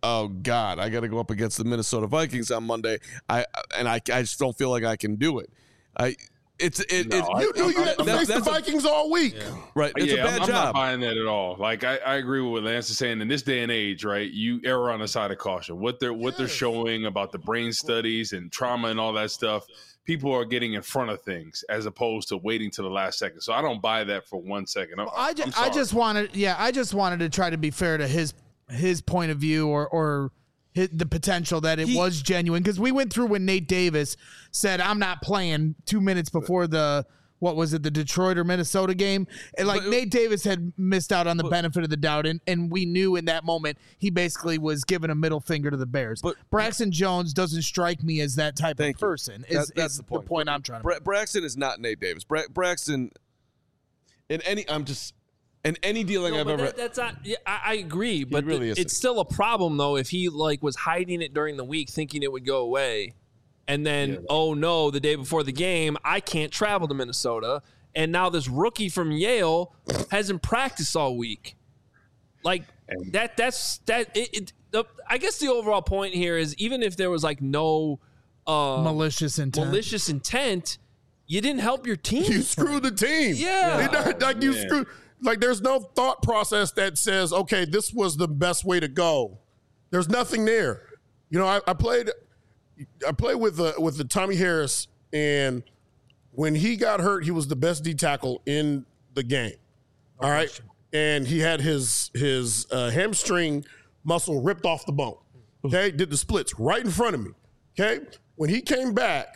oh God, I got to go up against the Minnesota Vikings on Monday. I just don't feel like I can do it. You had to face the Vikings all week. Right. It's a bad I'm job. not buying that at all. Like I agree with what Lance is saying. In this day and age, right, you err on the side of caution. What they're showing about the brain studies and trauma and all that stuff, people are getting in front of things as opposed to waiting to the last second. So I don't buy that for 1 second. I just wanted to try to be fair to his point of view or the potential that it was genuine, because we went through when Nate Davis said, I'm not playing 2 minutes before the Detroit or Minnesota game. And Nate Davis had missed out on the benefit of the doubt. And we knew in that moment he basically was giving a middle finger to the Bears. But Braxton Jones doesn't strike me as that type of person. That's the point I'm trying to make. Braxton is not Nate Davis. Braxton, in any dealing I've ever, that's not. Yeah, I agree, but really it's still a problem though if he was hiding it during the week, thinking it would go away, and then oh no, the day before the game, I can't travel to Minnesota, and now this rookie from Yale hasn't practiced all week. I guess the overall point here is even if there was no malicious intent, you didn't help your team. You screwed the team. Yeah. You screwed. There's no thought process that says, okay, this was the best way to go. There's nothing there. I played with the Tommy Harris, and when he got hurt, he was the best D tackle in the game. All right, and he had his hamstring muscle ripped off the bone. Okay, did the splits right in front of me. Okay, when he came back,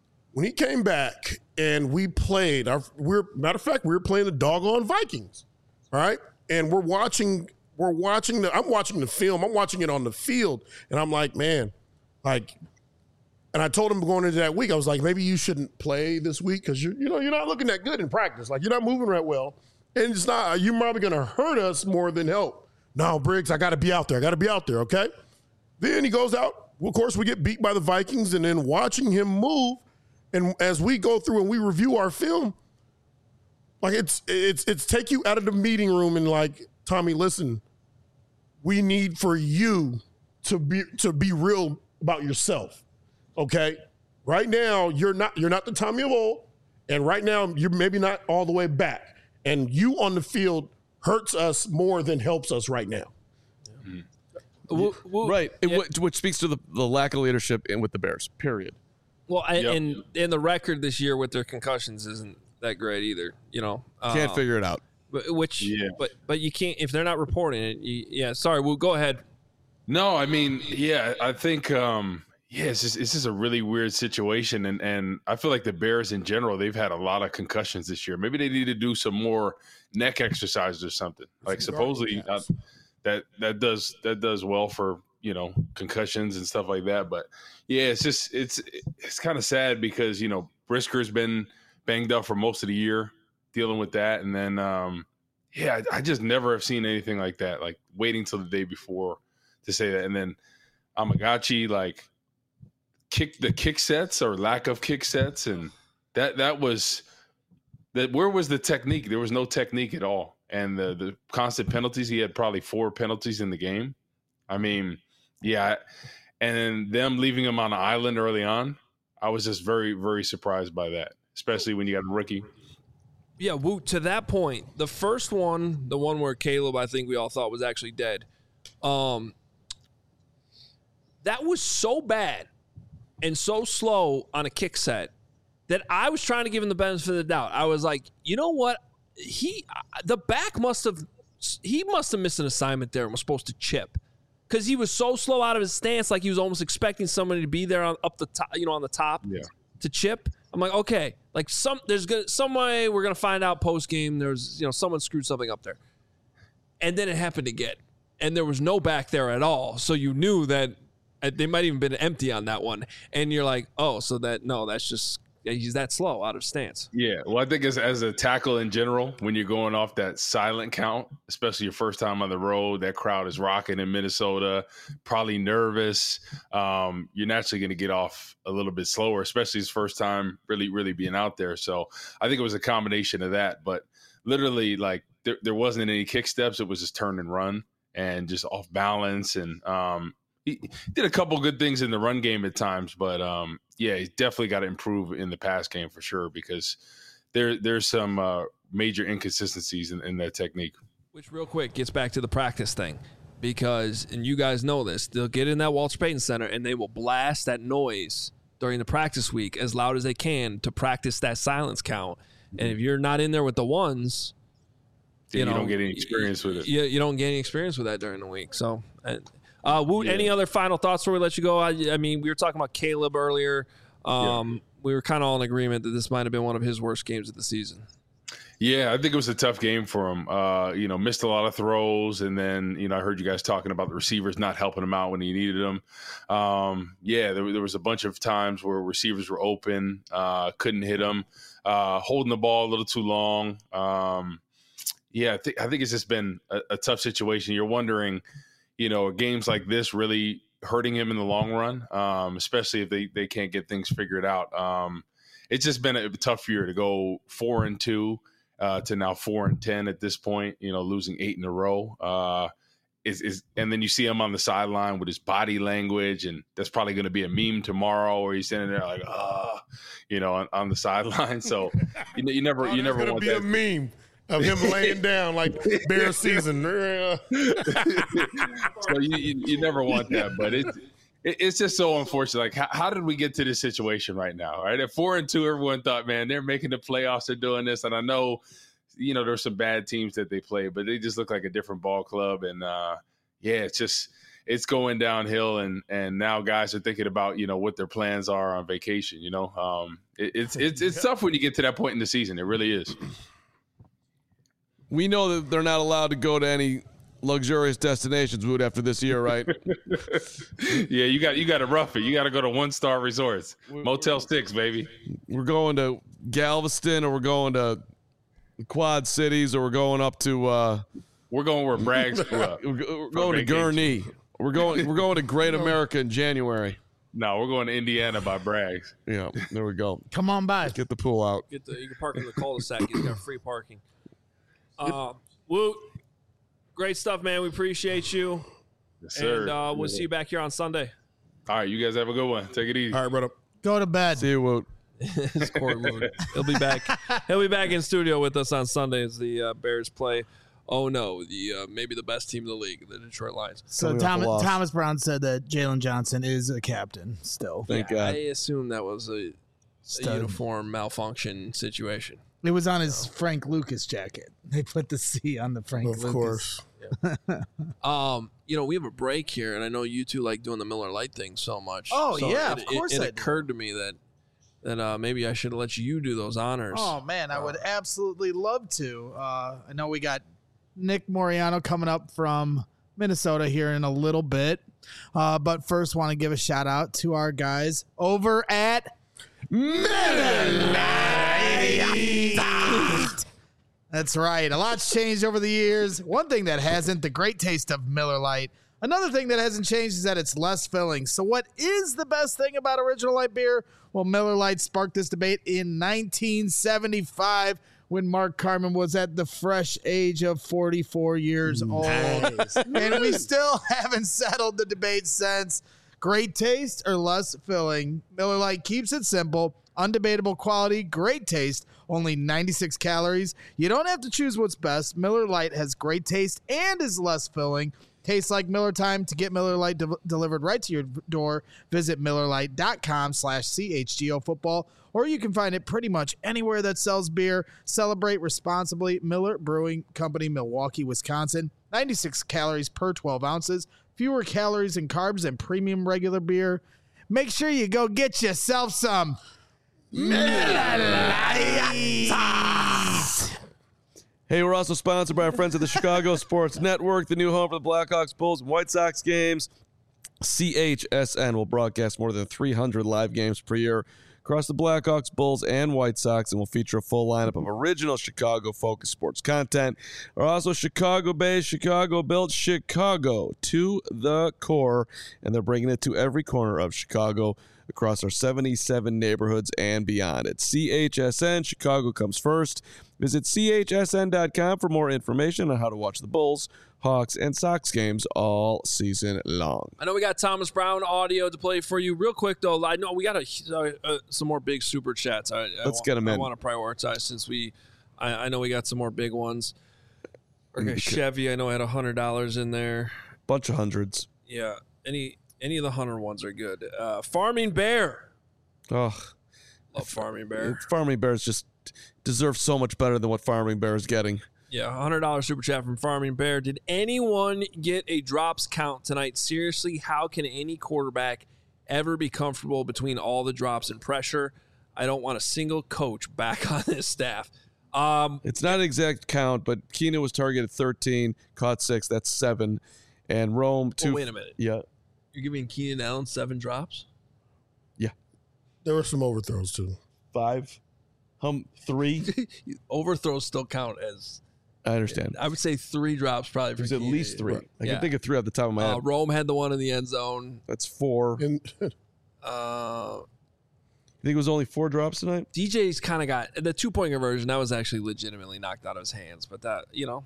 and we played, matter of fact, we were playing the doggone Vikings, all right? And I'm watching the film, I'm watching it on the field, and I'm like, man, and I told him going into that week, I was like, maybe you shouldn't play this week because you're not looking that good in practice. You're not moving that well, and it's not, you're probably going to hurt us more than help. No, Briggs, I got to be out there, okay? Then he goes out. Of course, we get beat by the Vikings, and then watching him move. And as we go through and we review our film, it's take you out of the meeting room and Tommy, listen, we need for you to be real about yourself. Okay? Right now, you're not the Tommy of old, and right now you're maybe not all the way back. And you on the field hurts us more than helps us right now. Right. Which speaks to the lack of leadership with the Bears, period. Well, and the record this year with their concussions isn't that great either. Can't figure it out. But you can't if they're not reporting it. Sorry, we'll go ahead. No, I mean, I think it's just a really weird situation, and I feel like the Bears in general, they've had a lot of concussions this year. Maybe they need to do some more neck exercises or something. Supposedly that does well for concussions and stuff like that. But it's kind of sad because Brisker's been banged up for most of the year dealing with that, and then I just never have seen anything like that, waiting till the day before to say that. And then Amagachi kick sets or lack of kick sets, and that was where was the technique? There was no technique at all. And the constant penalties, he had probably 4 penalties in the game. I mean, and then them leaving him on an island early on, I was just very, very surprised by that, especially when you got a rookie. Yeah, to that point, the first one, the one where Caleb, I think we all thought was actually dead, that was so bad and so slow on a kick set that I was trying to give him the benefit of the doubt. I was like, you know what? The back must have missed an assignment there and was supposed to chip because he was so slow out of his stance, like he was almost expecting somebody to be there up the top, on the top to chip. I'm like, okay, there's some way we're gonna find out post game. There's someone screwed something up there, and then it happened again, and there was no back there at all. So you knew that they might even been empty on that one, and you're like, oh, so that's just. Yeah, he's that slow out of stance. Yeah, well, I think as a tackle in general, when you're going off that silent count, especially your first time on the road, that crowd is rocking in Minnesota, probably nervous. You're naturally going to get off a little bit slower, especially his first time really, really being out there. So I think it was a combination of that. But literally, there wasn't any kick steps. It was just turn and run. and just off balance. And he did a couple good things in the run game at times, but yeah, he's definitely got to improve in the pass game for sure, because there's some major inconsistencies in that technique. Which real quick gets back to the practice thing, because, and you guys know this, they'll get in that Walter Payton Center and they will blast that noise during the practice week as loud as they can to practice that silence count. And if you're not in there with the ones, you know, don't get any experience with it. You don't get any experience with that during the week. So, Woot, any other final thoughts before we let you go? I mean, we were talking about Caleb earlier. We were kind of all in agreement that this might have been one of his worst games of the season. Yeah, I think it was a tough game for him. You know, missed a lot of throws, and then, you know, I heard you guys talking about the receivers not helping him out when he needed them. Yeah, there was a bunch of times where receivers were open, couldn't hit them, holding the ball a little too long. Yeah, I think it's just been a tough situation. You're wondering, you know, are games like this really hurting him in the long run, especially if they can't get things figured out. It's just been a tough year to go 4-2. To now 4-10 at this point, you know, losing 8 in a row. And then you see him on the sideline with his body language, and that's probably going to be a meme tomorrow, where he's standing there like, you know, on the sideline. So you never want that. Be a meme of him laying down like bear season. So you never want that, but it's just so unfortunate. Like, how did we get to this situation right now? Right, at 4-2, everyone thought, man, they're making the playoffs, they're doing this. And I know, you know, there's some bad teams that they play, but they just look like a different ball club. And yeah, it's going downhill. And now guys are thinking about, you know, what their plans are on vacation. You know, it's tough when you get to that point in the season. It really is. We know that they're not allowed to go to any luxurious destinations, Wood, after this year, right? Yeah, you got to rough it. You got to go to 1-star resorts, Motel 6, baby. We're going to Galveston, or we're going to Quad Cities, or we're going up to we're going where Braggs grew up. We're going to Gurnee. We're going to Great America in January. No, we're going to Indiana by Braggs. Yeah, there we go. Come on by. Get the pool out. You can park in the cul-de-sac. He's got free parking. Woot. Great stuff, man. We appreciate you. Yes, sir. And we'll see you back here on Sunday. All right, you guys have a good one. Take it easy. All right, brother. Go to bed. See you, Woot. It's Court Woot. He'll be back. He'll be back in studio with us on Sunday as the Bears play. Oh no, maybe the best team in the league, the Detroit Lions. So Thomas Brown said that Jalen Johnson is a captain still. Thank God. I assume that was a uniform malfunction situation. It was on his Frank Lucas jacket. They put the C on the Frank Lucas. Of course. You know, we have a break here, and I know you two like doing the Miller Lite thing so much. Oh, so yeah, of course it I do. occurred to me that maybe I should let you do those honors. Oh, man, I would absolutely love to. I know we got Nick Moriano coming up from Minnesota here in a little bit. But first, want to give a shout out to our guys over at Miller Lite. That's right. A lot's changed over the years. One thing that hasn't, the great taste of Miller Lite. Another thing that hasn't changed is that it's less filling. So what is the best thing about original light beer? Well, Miller Lite sparked this debate in 1975 when Mark Carman was at the fresh age of 44 years old. And we still haven't settled the debate since. Great taste or less filling? Miller Lite keeps it simple. Undebatable quality, great taste, only 96 calories. You don't have to choose what's best. Miller Lite has great taste and is less filling. Tastes like Miller time. To get Miller Lite delivered right to your door, visit MillerLite.com/CHGO football, or you can find it pretty much anywhere that sells beer. Celebrate responsibly. Miller Brewing Company, Milwaukee, Wisconsin. 96 calories per 12 ounces. Fewer calories and carbs than premium regular beer. Make sure you go get yourself some Miller Lite. Hey, we're also sponsored by our friends at the Chicago Sports Network, the new home for the Blackhawks, Bulls, and White Sox games. CHSN will broadcast more than 300 live games per year across the Blackhawks, Bulls, and White Sox, and will feature a full lineup of original Chicago-focused sports content. Are also Chicago-based, Chicago-built, Chicago to the core, and they're bringing it to every corner of Chicago. across our 77 neighborhoods and beyond. At CHSN, Chicago comes first. Visit chsn.com for more information on how to watch the Bulls, Hawks, and Sox games all season long. I know we got Thomas Brown audio to play for you. Real quick, though, I know we got some more big super chats. Let's get them in. I want to prioritize since I know we got some more big ones. Okay, Chevy, I know had $100 in there. Bunch of hundreds. Yeah, any of the 100 ones are good. Farming Bear. Oh, Love Farming Bear. Farming Bears just deserve so much better than what Farming Bear is getting. Yeah, $100 super chat from Farming Bear. Did anyone get a drops count tonight? Seriously, how can any quarterback ever be comfortable between all the drops and pressure? I don't want a single coach back on this staff. It's not an exact count, but Keenan was targeted 13, caught 6. That's 7. And Rome, 2. Oh, wait a minute. Yeah. You're giving Keenan Allen 7 drops? Yeah. There were some overthrows too. 5. 3. Overthrows still count as... I understand. I would say 3 drops probably for There's at Keenan. least 3. Right. I can think of 3 off the top of my head. Rome had the one in the end zone. That's 4. And You think it was only 4 drops tonight? DJ's kind of got the 2-point conversion. That was actually legitimately knocked out of his hands, but that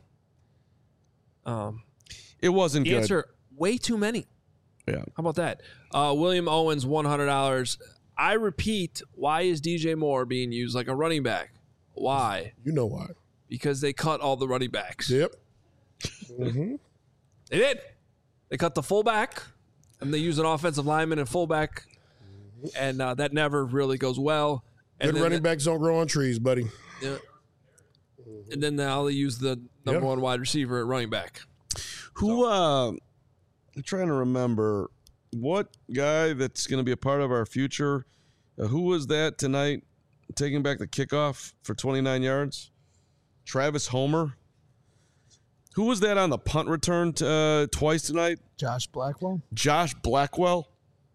It wasn't good. answer way too many. Yeah. How about that? William Owens, $100. I repeat, why is DJ Moore being used like a running back? Why? you know why. Because they cut all the running backs. Yep. Mm-hmm. They did. They cut the fullback, and they use an offensive lineman and fullback, and that never really goes well. And Good then running backs don't grow on trees, buddy. Yeah. And then now they use the number one wide receiver at running back. Who, I'm trying to remember what guy that's going to be a part of our future. Who was that tonight taking back the kickoff for 29 yards? Travis Homer. Who was that on the punt return twice tonight? Josh Blackwell. Josh Blackwell.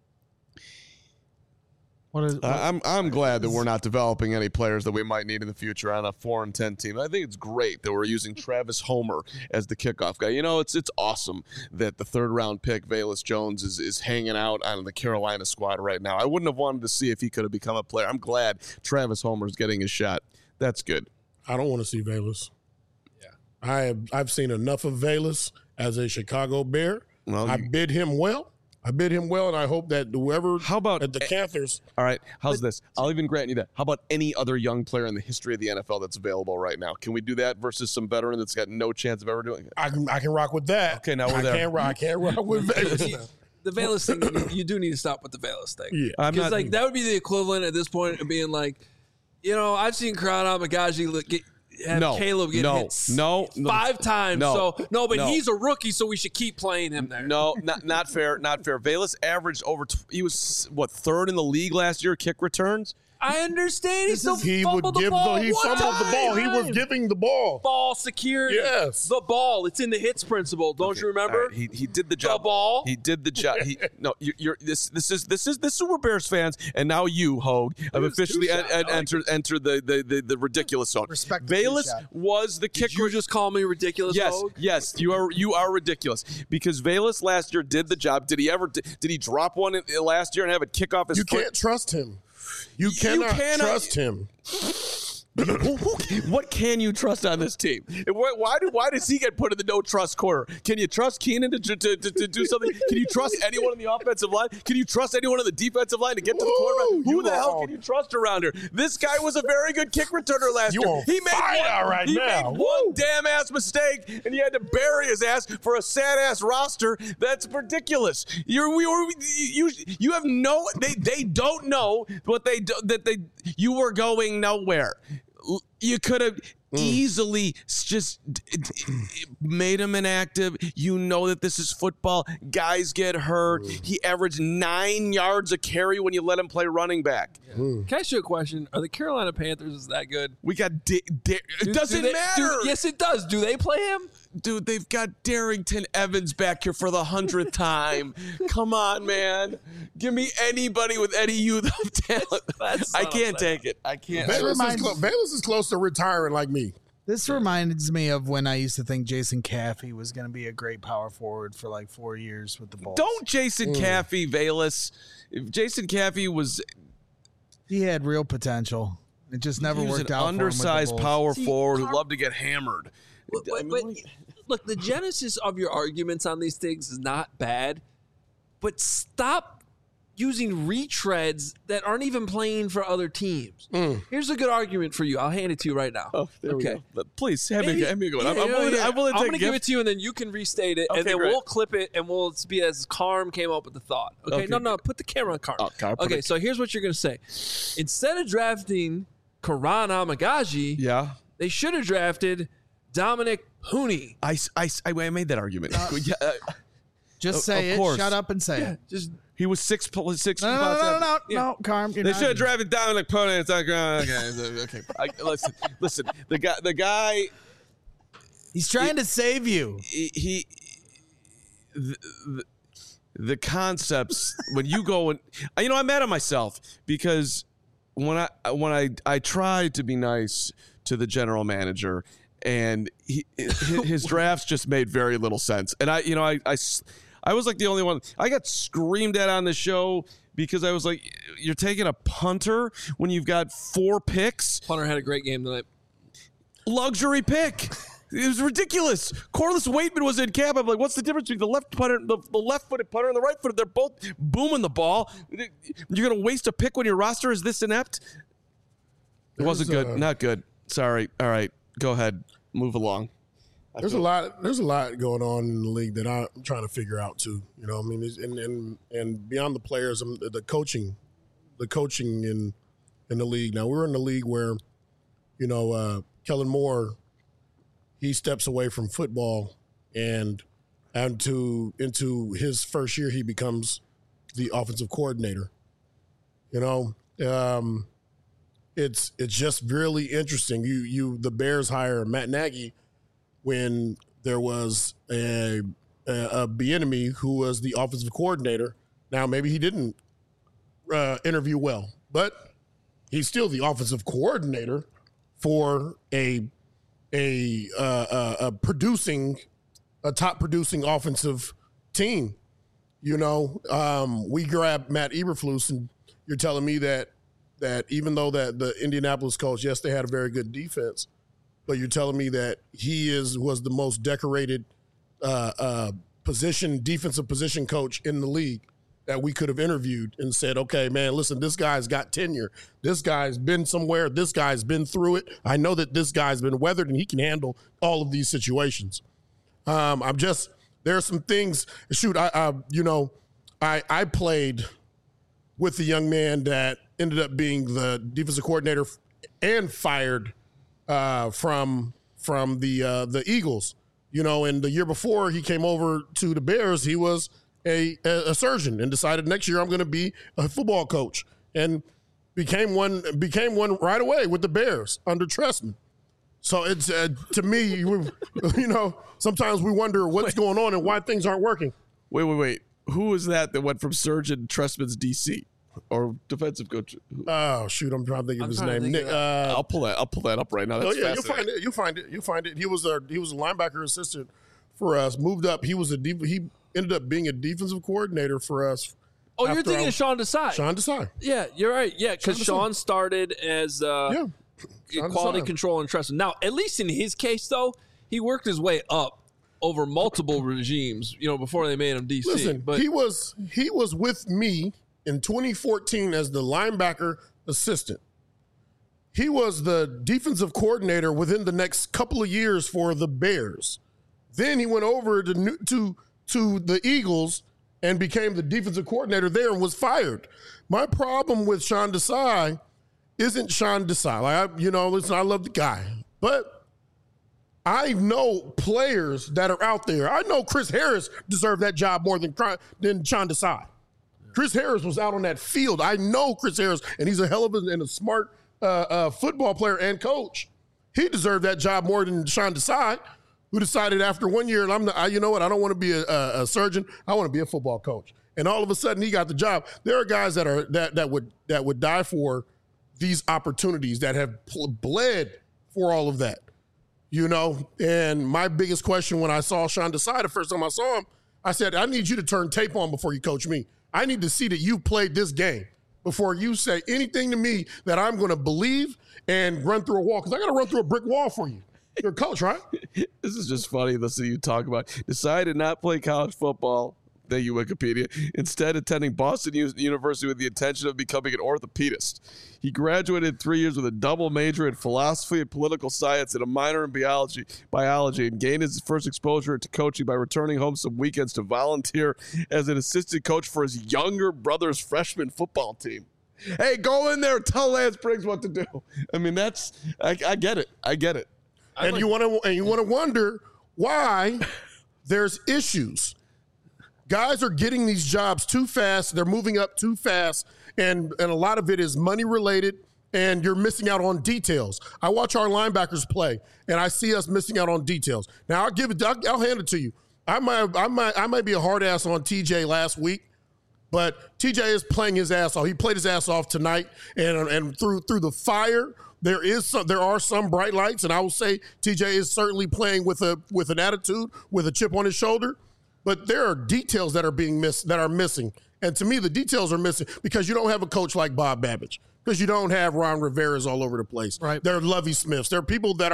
I'm glad that we're not developing any players that we might need in the future on a 4-10 team. I think it's great that we're using Travis Homer as the kickoff guy. You know, it's awesome that the 3rd round pick Velus Jones is hanging out on the Carolina squad right now. I wouldn't have wanted to see if he could have become a player. I'm glad Travis Homer's getting his shot. That's good. I don't want to see Velus. Yeah. I've seen enough of Velus as a Chicago Bear. Well, I bid him well. And I hope that whoever at the Panthers. All right, how's this? I'll even grant you that. How about any other young player in the history of the NFL that's available right now? Can we do that versus some veteran that's got no chance of ever doing it? I can rock with that. Okay, now we're there. I can't rock with Velus now. The Velus thing, you do need to stop with the Velus thing. Yeah. Because that would be the equivalent at this point of being like, I've seen Crowd Magaji Caleb get hit 5 times. But he's a rookie, so we should keep playing him there. No, not fair. Not fair. Velus averaged he was 3rd in the league last year kick returns. I understand. He fumbled He the ball. fumbled the ball. He was giving the ball. Ball secured. Yes. The ball. It's in the hits principle. Don't you remember? Right. He did the job. The ball. He did the job. This is the Super Bears fans, and now you, Hogue, have officially entered the ridiculous zone. Respect the Velus two-shot. was the kicker. Did you just call me ridiculous? Hogue? Yes, you are ridiculous because Velus last year did the job. Did he drop one last year and have it kick off his You foot? can't trust him. You cannot trust him. What can you trust on this team? Why does he get put in the no trust corner? Can you trust Keenan to do something? Can you trust anyone on the offensive line? Can you trust anyone on the defensive line to get to the quarterback? Who the hell can you trust around here? This guy was a very good kick returner last year. He made one damn ass mistake, and you had to bury his ass for a sad ass roster. That's ridiculous. You have no. They don't know what you were going nowhere. You could have easily just made him inactive. You know that this is football. Guys get hurt. He averaged 9 yards a carry when you let him play running back. Can I ask you a question? Are the Carolina Panthers that good? We got it doesn't matter. Yes, it does. Do they play him? Dude, they've got Darrington Evans back here for the 100th time. Come on, man. Give me anybody with any youth of talent. I can't take it. I can't. Velus is close to retiring like me. This reminds me of when I used to think Jason Caffey was going to be a great power forward for like 4 years with the Bulls. Don't Jason Caffey, Velas. If Jason Caffey was... He had real potential. It just never He was worked an out. undersized for him with the Bulls. power See, forward who Carl- loved to get hammered. But look, the genesis of your arguments on these things is not bad, but stop using retreads that aren't even playing for other teams. Here's a good argument for you. I'll hand it to you right now. Oh, there we go. But please, have me go. Yeah, I'm willing to I'm take going to give it to you, and then you can restate it, and Okay, then great. we'll clip it, and we'll be as Carm came up with the thought. Okay? Okay, No, put the camera on Carm. Oh, Carm, put Okay, it- so here's what you're going to say. Instead of drafting Karan Amagaji, Yeah. they should have drafted Dominic Hooney. I made that argument. Just say of it. course. Shut up and say it. Just He was six No, spots. no, Carm. They should have drafted Dominic Pone. It's like, okay. Listen. The guy. He's trying to save you. The concepts when you go and I'm mad at myself because when I tried to be nice to the general manager and his drafts just made very little sense, and I was like the only one. I got screamed at on the show because I was like, you're taking a punter when you've got 4 picks. Punter had a great game tonight. Luxury pick. It was ridiculous. Corliss Waitman was in camp. I'm like, what's the difference between the left-footed punter and the right-footed? They're both booming the ball. You're going to waste a pick when your roster is this inept? It wasn't good. Not good. Sorry. All right. Go ahead. Move along. There's a lot going on in the league that I'm trying to figure out too. You know, I mean, and beyond the players, the coaching in the league. Now we're in the league where, Kellen Moore, he steps away from football and into his first year, he becomes the offensive coordinator. It's just really interesting. The Bears hire Matt Nagy when there was a Bieniemy who was the offensive coordinator. Now maybe he didn't interview well, but he's still the offensive coordinator for a top producing offensive team. We grabbed Matt Eberflus, and you're telling me that even though that the Indianapolis coach, yes, they had a very good defense, but you're telling me that he was the most decorated defensive position coach in the league that we could have interviewed and said, okay, man, listen, this guy's got tenure. This guy's been somewhere. This guy's been through it. I know that this guy's been weathered and he can handle all of these situations. There's some things. Shoot, I played with the young man that ended up being the defensive coordinator and fired from the Eagles. And the year before he came over to the Bears, he was a surgeon and decided next year I'm going to be a football coach, and became one right away with the Bears under Trestman. So it's to me, sometimes we wonder what's going on and why things aren't working. Wait. Who was that went from surgeon Trestman's DC or defensive coach? Oh shoot, I'm trying to think of his name. Nick, I'll pull that up right now. That's you'll find it. He was a linebacker assistant for us. Moved up. He ended up being a defensive coordinator for us. Oh, you're thinking of Sean Desai. Sean Desai. Yeah, you're right. Yeah, because Sean started as Sean quality Desai. control and trust. Now, at least in his case, though, he worked his way up over multiple regimes, before they made him DC. Listen, but he was with me in 2014 as the linebacker assistant. He was the defensive coordinator within the next couple of years for the Bears. Then he went over to the Eagles and became the defensive coordinator there and was fired. My problem with Sean Desai isn't Sean Desai. Listen, I love the guy, but I know players that are out there. I know Chris Harris deserved that job more than Sean Desai. Chris Harris was out on that field. I know Chris Harris, and he's a hell of a smart football player and coach. He deserved that job more than Sean Desai, who decided after 1 year, I don't want to be a surgeon. I want to be a football coach. And all of a sudden, he got the job. There are guys that would die for these opportunities, that have bled for all of that. you know. And my biggest question when I saw Sean Desai the first time I saw him, I said, I need you to turn tape on before you coach me. I need to see that you played this game before you say anything to me that I'm going to believe and run through a wall, because I got to run through a brick wall for you. You're a coach, right? This is just funny listening to you talk about. Decided not to play college football. Thank you, Wikipedia. Instead, attending Boston University with the intention of becoming an orthopedist. He graduated 3 years with a double major in philosophy and political science and a minor in biology, and gained his first exposure to coaching by returning home some weekends to volunteer as an assistant coach for his younger brother's freshman football team. Hey, go in there and tell Lance Briggs what to do. I mean, I get it. I get it. And you want to wonder why there's issues. Guys are getting these jobs too fast. They're moving up too fast, and a lot of it is money related, and you're missing out on details. I watch our linebackers play, and I see us missing out on details. Now I'll hand it to you. I might be a hard ass on TJ last week, but TJ is playing his ass off. He played his ass off tonight, and through the fire, there are some bright lights, and I will say TJ is certainly playing with an attitude, with a chip on his shoulder. But there are details that are missing. And to me, the details are missing because you don't have a coach like Bob Babbage, because you don't have Ron Rivera's all over the place. Right. There are Lovie Smiths. There are people that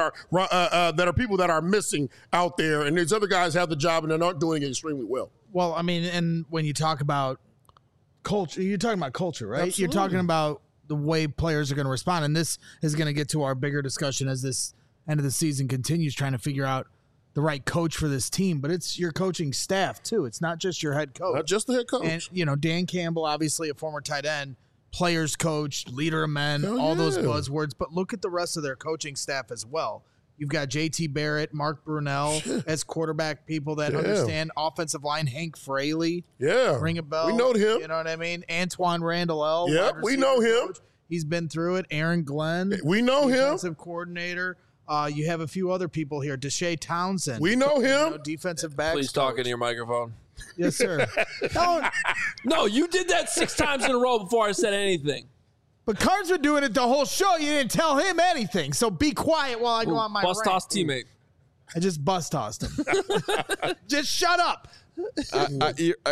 are missing out there, and these other guys have the job and they're not doing it extremely well. Well, I mean, and when you talk about culture, you're talking about culture, right? Absolutely. You're talking about the way players are going to respond, and this is going to get to our bigger discussion as this end of the season continues, trying to figure out the right coach for this team, but it's your coaching staff too. It's not just your head coach. Not just the head coach. And, Dan Campbell, obviously a former tight end, players coach, leader of men, all those buzzwords, but look at the rest of their coaching staff as well. You've got JT Barrett, Mark Brunell as quarterback people that understand offensive line, Hank Fraley. Yeah. Ring a bell. We know him. You know what I mean? Antoine Randall L. Yeah, we know him. Coach. He's been through it. Aaron Glenn. We know him. Defensive coordinator. You have a few other people here. Deshae Townsend. We know him. Defensive backs. Please talk into your microphone. Yes, sir. No, you did that 6 times in a row before I said anything. But Cards were doing it the whole show. You didn't tell him anything. So be quiet while I go on my bus rant. toss teammate. I just bus tossed him. Just shut up. I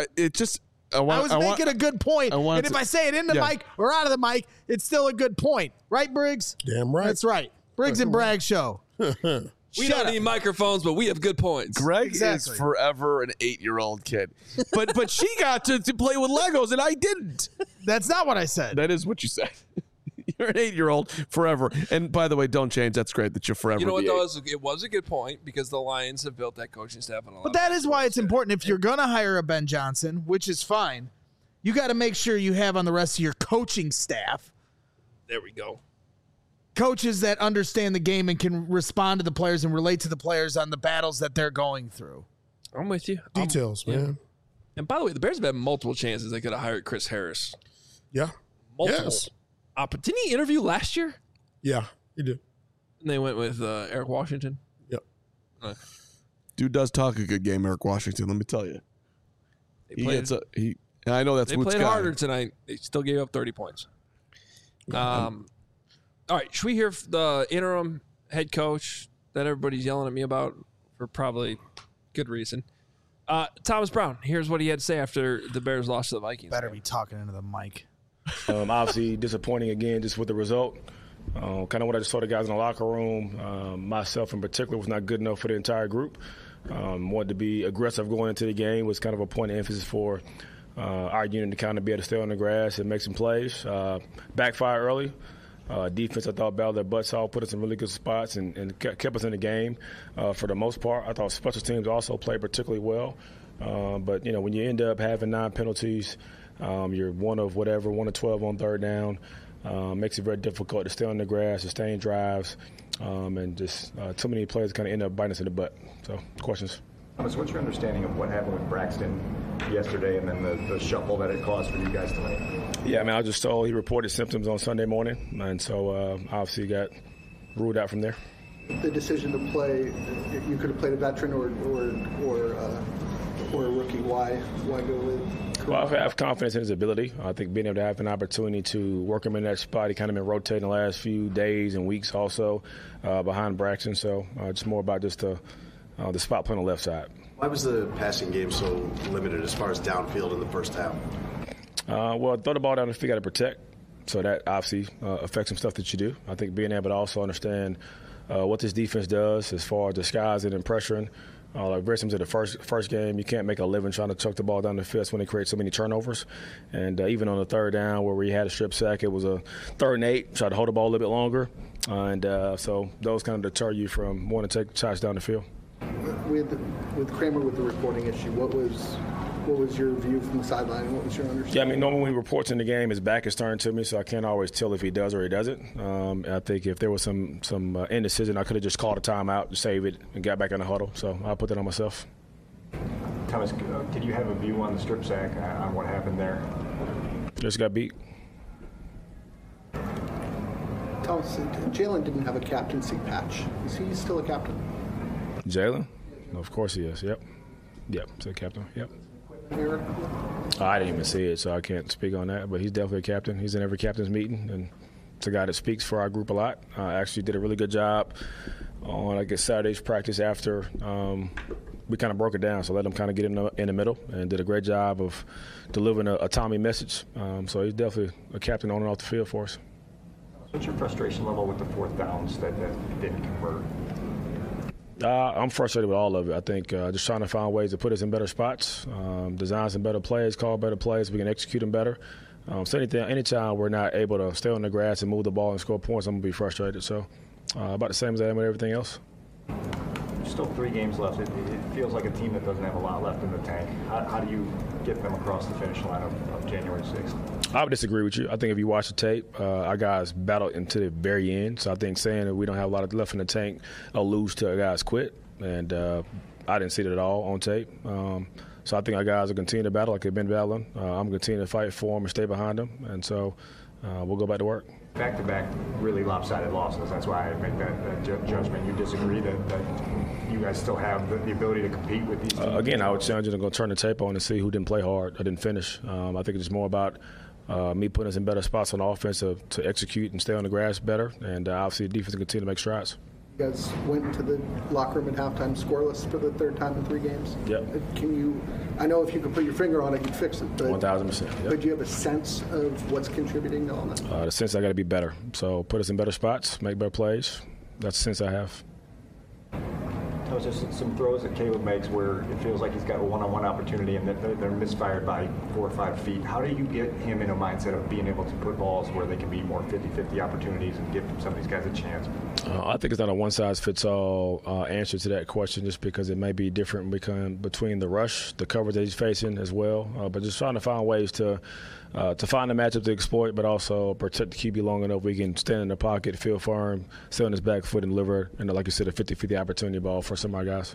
was making a good point. And if I say it in the mic or out of the mic, it's still a good point. Right, Briggs? Damn right. That's right. Briggs and Bragg show. We don't need microphones, but we have good points. Greg is forever an 8-year-old kid. But she got to play with Legos and I didn't. That's not what I said. That is what you said. You're an 8-year-old forever. And by the way, don't change. That's great that you're forever. You know what, though? It was a good point because the Lions have built that coaching staff. But that is why it's important. If you're going to hire a Ben Johnson, which is fine, you got to make sure you have on the rest of your coaching staff. There we go. Coaches that understand the game and can respond to the players and relate to the players on the battles that they're going through. I'm with you. Details, man. And by the way, the Bears have had multiple chances they could have hired Chris Harris. Yeah. Multiple. Yes. Didn't he interview last year? Yeah, he did. And they went with Eric Washington. Yep. Dude does talk a good game, Eric Washington, let me tell you. I know that's They Wood's played guy. harder tonight. They still gave up 30 points. All right, should we hear the interim head coach that everybody's yelling at me about for probably good reason? Thomas Brown, here's what he had to say after the Bears lost to the Vikings. Better be talking into the mic. Obviously disappointing again just with the result. Kind of what I just saw the guys in the locker room. Myself in particular was not good enough for the entire group. Wanted to be aggressive going into the game was kind of a point of emphasis for our unit to kind of be able to stay on the grass and make some plays. Backfire early. Defense, I thought, battled their butts off, put us in really good spots, and kept us in the game for the most part. I thought special teams also played particularly well. But, when you end up having 9 penalties, you're 1 of 12 on third down. Makes it very difficult to stay on the grass, sustain drives, and just too many players kind of end up biting us in the butt. So, questions? Thomas, what's your understanding of what happened with Braxton yesterday and then the shuffle that it caused for you guys tonight? Yeah, I was just told he reported symptoms on Sunday morning, and so obviously got ruled out from there. The decision to play, you could have played a veteran or for a rookie? Why go with? Well, I have confidence in his ability. I think being able to have an opportunity to work him in that spot, he kind of been rotating the last few days and weeks also behind Braxton. So it's more about just the spot play on the left side. Why was the passing game so limited as far as downfield in the first half? Well, throw the ball down the field, got to protect. So that obviously affects some stuff that you do. I think being able to also understand what this defense does as far as disguising and pressuring. Like very similar to the first game, you can't make a living trying to chuck the ball down the field when they create so many turnovers. And even on the third down where we had a strip sack, it was a 3rd and 8, tried to hold the ball a little bit longer. So those kind of deter you from wanting to take shots down the field. With Kramer with the reporting issue, what was your view from the sideline? What was your understanding? Yeah, I mean, normally when he reports in the game, his back is turned to me, so I can't always tell if he does or he doesn't. I think if there was some indecision, I could have just called a timeout to save it and got back in the huddle. So I'll put that on myself. Thomas, did you have a view on the strip sack, on what happened there? Just got beat. Thomas, Jalen didn't have a captaincy patch. Is he still a captain? Jalen? Of course he is, yep. Yep, he's a captain, yep. I didn't even see it, so I can't speak on that. But he's definitely a captain. He's in every captain's meeting, and it's a guy that speaks for our group a lot. Actually did a really good job on, I guess, Saturday's practice after we kind of broke it down. So let him kind of get in the middle and did a great job of delivering a Tommy message. So he's definitely a captain on and off the field for us. What's your frustration level with the 4th downs that didn't convert? I'm frustrated with all of it. I think just trying to find ways to put us in better spots, design some better plays, call better plays, we can execute them better. So anytime we're not able to stay on the grass and move the ball and score points, I'm going to be frustrated. So about the same as I am with everything else. Still 3 games left. It feels like a team that doesn't have a lot left in the tank. How do you get them across the finish line of January 6th? I would disagree with you. I think if you watch the tape, our guys battled into the very end. So I think saying that we don't have a lot left in the tank alludes to our guys quit. And I didn't see it at all on tape. So I think our guys will continue to battle like they've been battling. I'm going to continue to fight for them and stay behind them. And so we'll go back to work. Back-to-back really lopsided losses. That's why I make that judgment. You disagree that you guys still have the ability to compete with these teams? Again, I would challenge you to go turn the tape on and see who didn't play hard or didn't finish. I think it's more about me putting us in better spots on offense to execute and stay on the grass better. And obviously the defense will continue to make strides. You guys went into the locker room at halftime scoreless for the 3rd time in 3 games. Yep. I know if you could put your finger on it, you'd fix it. But 1,000%. Yep. But do you have a sense of what's contributing to all that? The sense I got to be better. So put us in better spots, make better plays. That's the sense I have. There's some throws that Caleb makes where it feels like he's got a one-on-one opportunity and they're misfired by 4 or 5 feet. How do you get him in a mindset of being able to put balls where they can be more 50-50 opportunities and give some of these guys a chance? I think it's not a one-size-fits-all answer to that question just because it may be different between the rush, the coverage that he's facing as well. But just trying to find ways to find a matchup to exploit, but also protect the QB long enough we can stand in the pocket, feel firm, stay on his back foot, and deliver, and like you said, a 50-50 opportunity ball for some of our guys.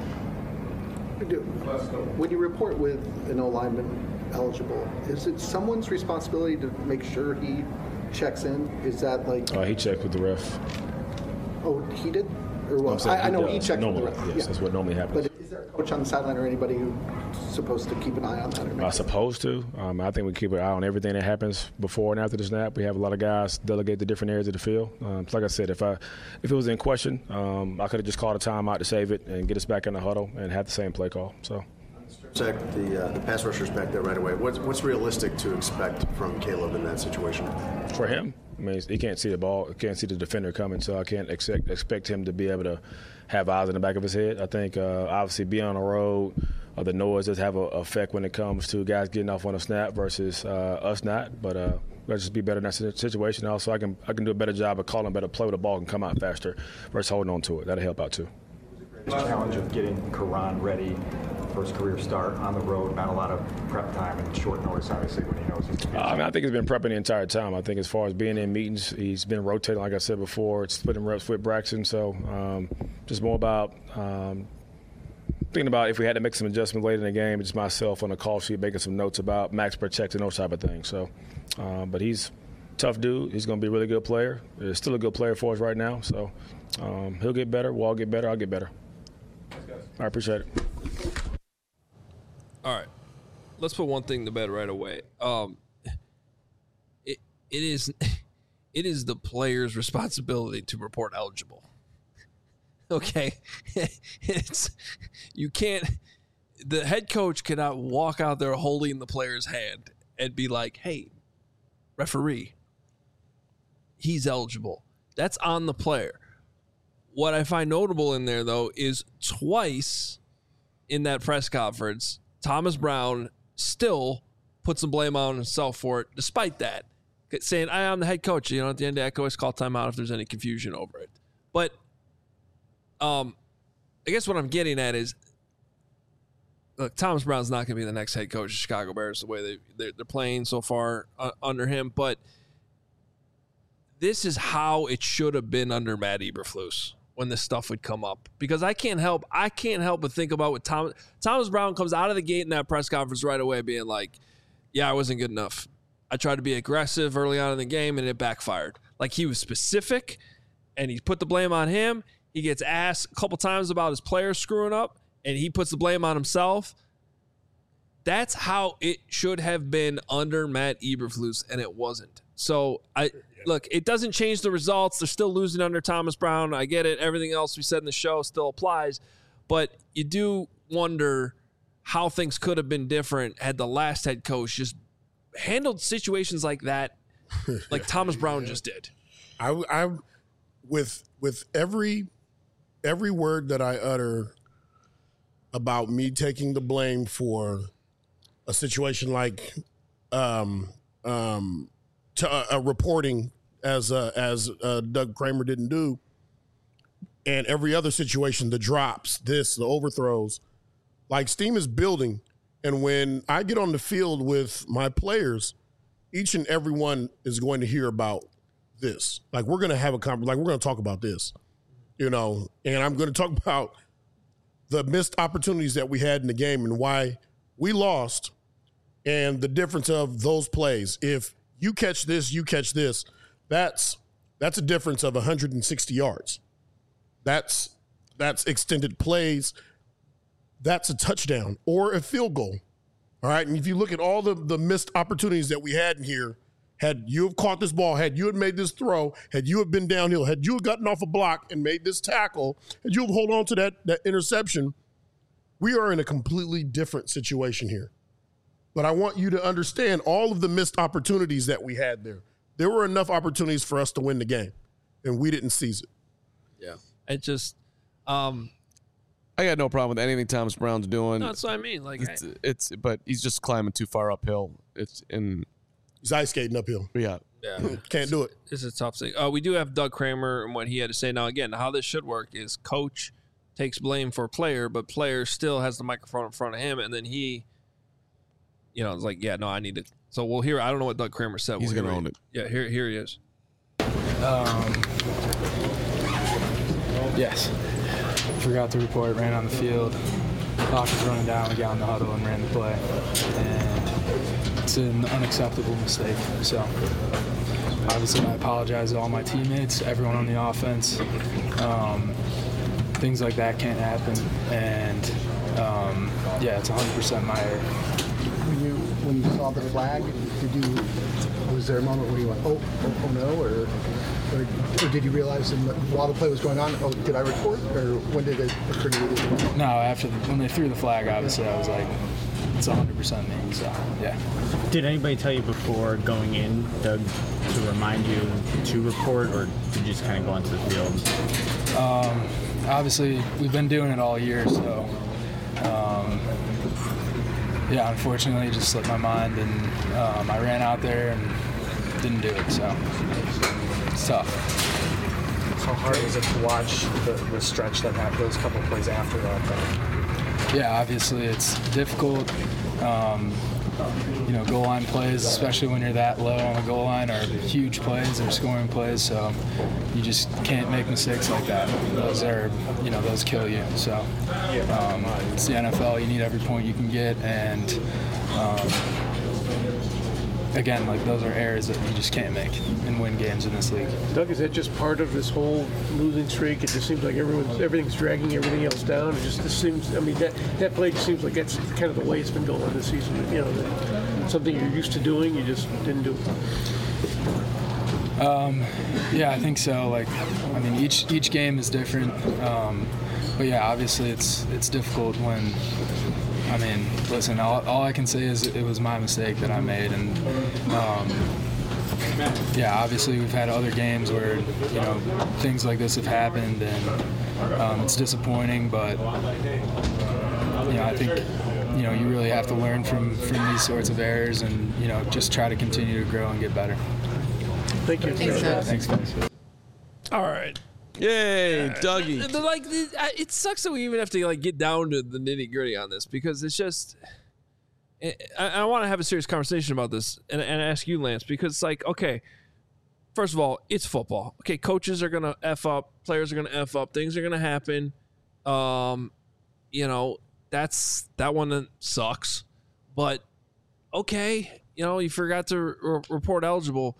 When you report with an O-lineman eligible, is it someone's responsibility to make sure he checks in? Is that like... he checked with the ref. Oh, he did? Or what? I know he checked normally, with the ref. Yes, that's what normally happens. But is there a coach on the sideline or anybody who's supposed to keep an eye on that? Supposed to. I think we keep an eye on everything that happens before and after the snap. We have a lot of guys delegate to different areas of the field. Like I said, if it was in question, I could have just called a timeout to save it and get us back in the huddle and have the same play call. So. The pass rushers back there right away. What's realistic to expect from Caleb in that situation? For him, I mean, he can't see the ball, can't see the defender coming, so I can't expect him to be able to have eyes in the back of his head. I think obviously being on the road, the noise does have an effect when it comes to guys getting off on a snap versus us not. But let's just be better in that situation. Also, I can do a better job of calling a better play with the ball and come out faster versus holding on to it. That'll help out too. The challenge of getting Karan ready, first career start on the road, not a lot of prep time and short notice, obviously, when he knows he's going to be I think he's been prepping the entire time. I think as far as being in meetings, he's been rotating, like I said before, it's splitting reps with Braxton. So just more about thinking about if we had to make some adjustments late in the game, just myself on the call sheet making some notes about max protect and those type of things. So, but he's a tough dude. He's going to be a really good player. He's still a good player for us right now. So he'll get better. We'll all get better. I'll get better. I appreciate it. All right. Let's put one thing to bed right away. It is the player's responsibility to report eligible. Okay. The head coach cannot walk out there holding the player's hand and be like, hey, referee, he's eligible. That's on the player. What I find notable in there, though, is twice in that press conference, Thomas Brown still put some blame on himself for it, despite that, saying, I'm the head coach. You know, at the end, I can always call timeout if there's any confusion over it. But I guess what I'm getting at is, look, Thomas Brown's not going to be the next head coach of Chicago Bears the way they're playing so far under him, but this is how it should have been under Matt Eberflus when this stuff would come up. Because I can't help but think about what Thomas Brown comes out of the gate in that press conference right away being like, yeah, I wasn't good enough. I tried to be aggressive early on in the game, and it backfired. Like, he was specific, and he put the blame on him. He gets asked a couple times about his players screwing up, and he puts the blame on himself. That's how it should have been under Matt Eberflus, and it wasn't. So, look, it doesn't change the results. They're still losing under Thomas Brown. I get it. Everything else we said in the show still applies. But you do wonder how things could have been different had the last head coach just handled situations like that, like Thomas Brown just did. I with every word that I utter about me taking the blame for a situation like reporting as Doug Kramer didn't do, and every other situation, the drops, the overthrows, like steam is building. And when I get on the field with my players, each and every one is going to hear about this. Like, we're going to have a conversation. Like, we're going to talk about this, you know, and I'm going to talk about the missed opportunities that we had in the game and why we lost and the difference of those plays. If you catch this, you catch this, that's a difference of 160 yards. That's extended plays. That's a touchdown or a field goal. All right. And if you look at all the missed opportunities that we had in here, had you have caught this ball, had you had made this throw, had you have been downhill, had you have gotten off a block and made this tackle, had you have hold on to that interception, we are in a completely different situation here. But I want you to understand all of the missed opportunities that we had there. There were enough opportunities for us to win the game, and we didn't seize it. Yeah. It just I got no problem with anything Thomas Brown's doing. No, that's what I mean. Like, but he's just climbing too far uphill. He's ice skating uphill. Yeah. Can't do it. It's a tough thing. We do have Doug Kramer and what he had to say. Now, again, how this should work is coach takes blame for player, but player still has the microphone in front of him, and then he, you know, is like, yeah, no, I need to. So we'll hear. I don't know what Doug Kramer said. He's going to own it. Yeah, here he is. Yes. Forgot to report, ran on the field. Clock was running down, we got in the huddle and ran the play. And it's an unacceptable mistake. So obviously I apologize to all my teammates, everyone on the offense. Things like that can't happen. And yeah, it's 100% my error. When you saw the flag, was there a moment where you went, oh no, or did you realize while the play was going on, oh, did I report, or when did it occur to you? No, when they threw the flag, obviously I was like, it's 100% me. So yeah. Did anybody tell you before going in, Doug, to remind you to report, or did you just kind of go onto the field? Obviously, we've been doing it all year, so. Yeah, unfortunately, it just slipped my mind, and I ran out there and didn't do it, so it's tough. How hard was it to watch the stretch that had those couple plays after that, though? Yeah, obviously, it's difficult. You know, goal line plays, especially when you're that low on the goal line, are huge plays, they're scoring plays, so you just can't make mistakes like that. Those are, you know, those kill you. So it's the NFL, you need every point you can get, and again, like those are errors that you just can't make and win games in this league. Doug, is that just part of this whole losing streak? It just seems like everything's dragging everything else down. It just seems, I mean, that play just seems like that's kind of the way it's been going this season. You know, something you're used to doing, you just didn't do. Yeah, I think so. Like, I mean, each game is different. But yeah, obviously it's difficult when, I mean, listen, all I can say is it was my mistake that I made. And yeah, obviously we've had other games where, you know, things like this have happened, and it's disappointing, but, you know, I think, you know, you really have to learn from these sorts of errors and, you know, just try to continue to grow and get better. Thank you. Thanks, guys. All right. Yay, Dougie. Like, it sucks that we even have to like get down to the nitty gritty on this, because it's just. I want to have a serious conversation about this and ask you, Lance, because it's like, okay, first of all, it's football. Okay, coaches are gonna F up, players are gonna F up, things are gonna happen. You know, that one that sucks. But okay, you know, you forgot to report eligible.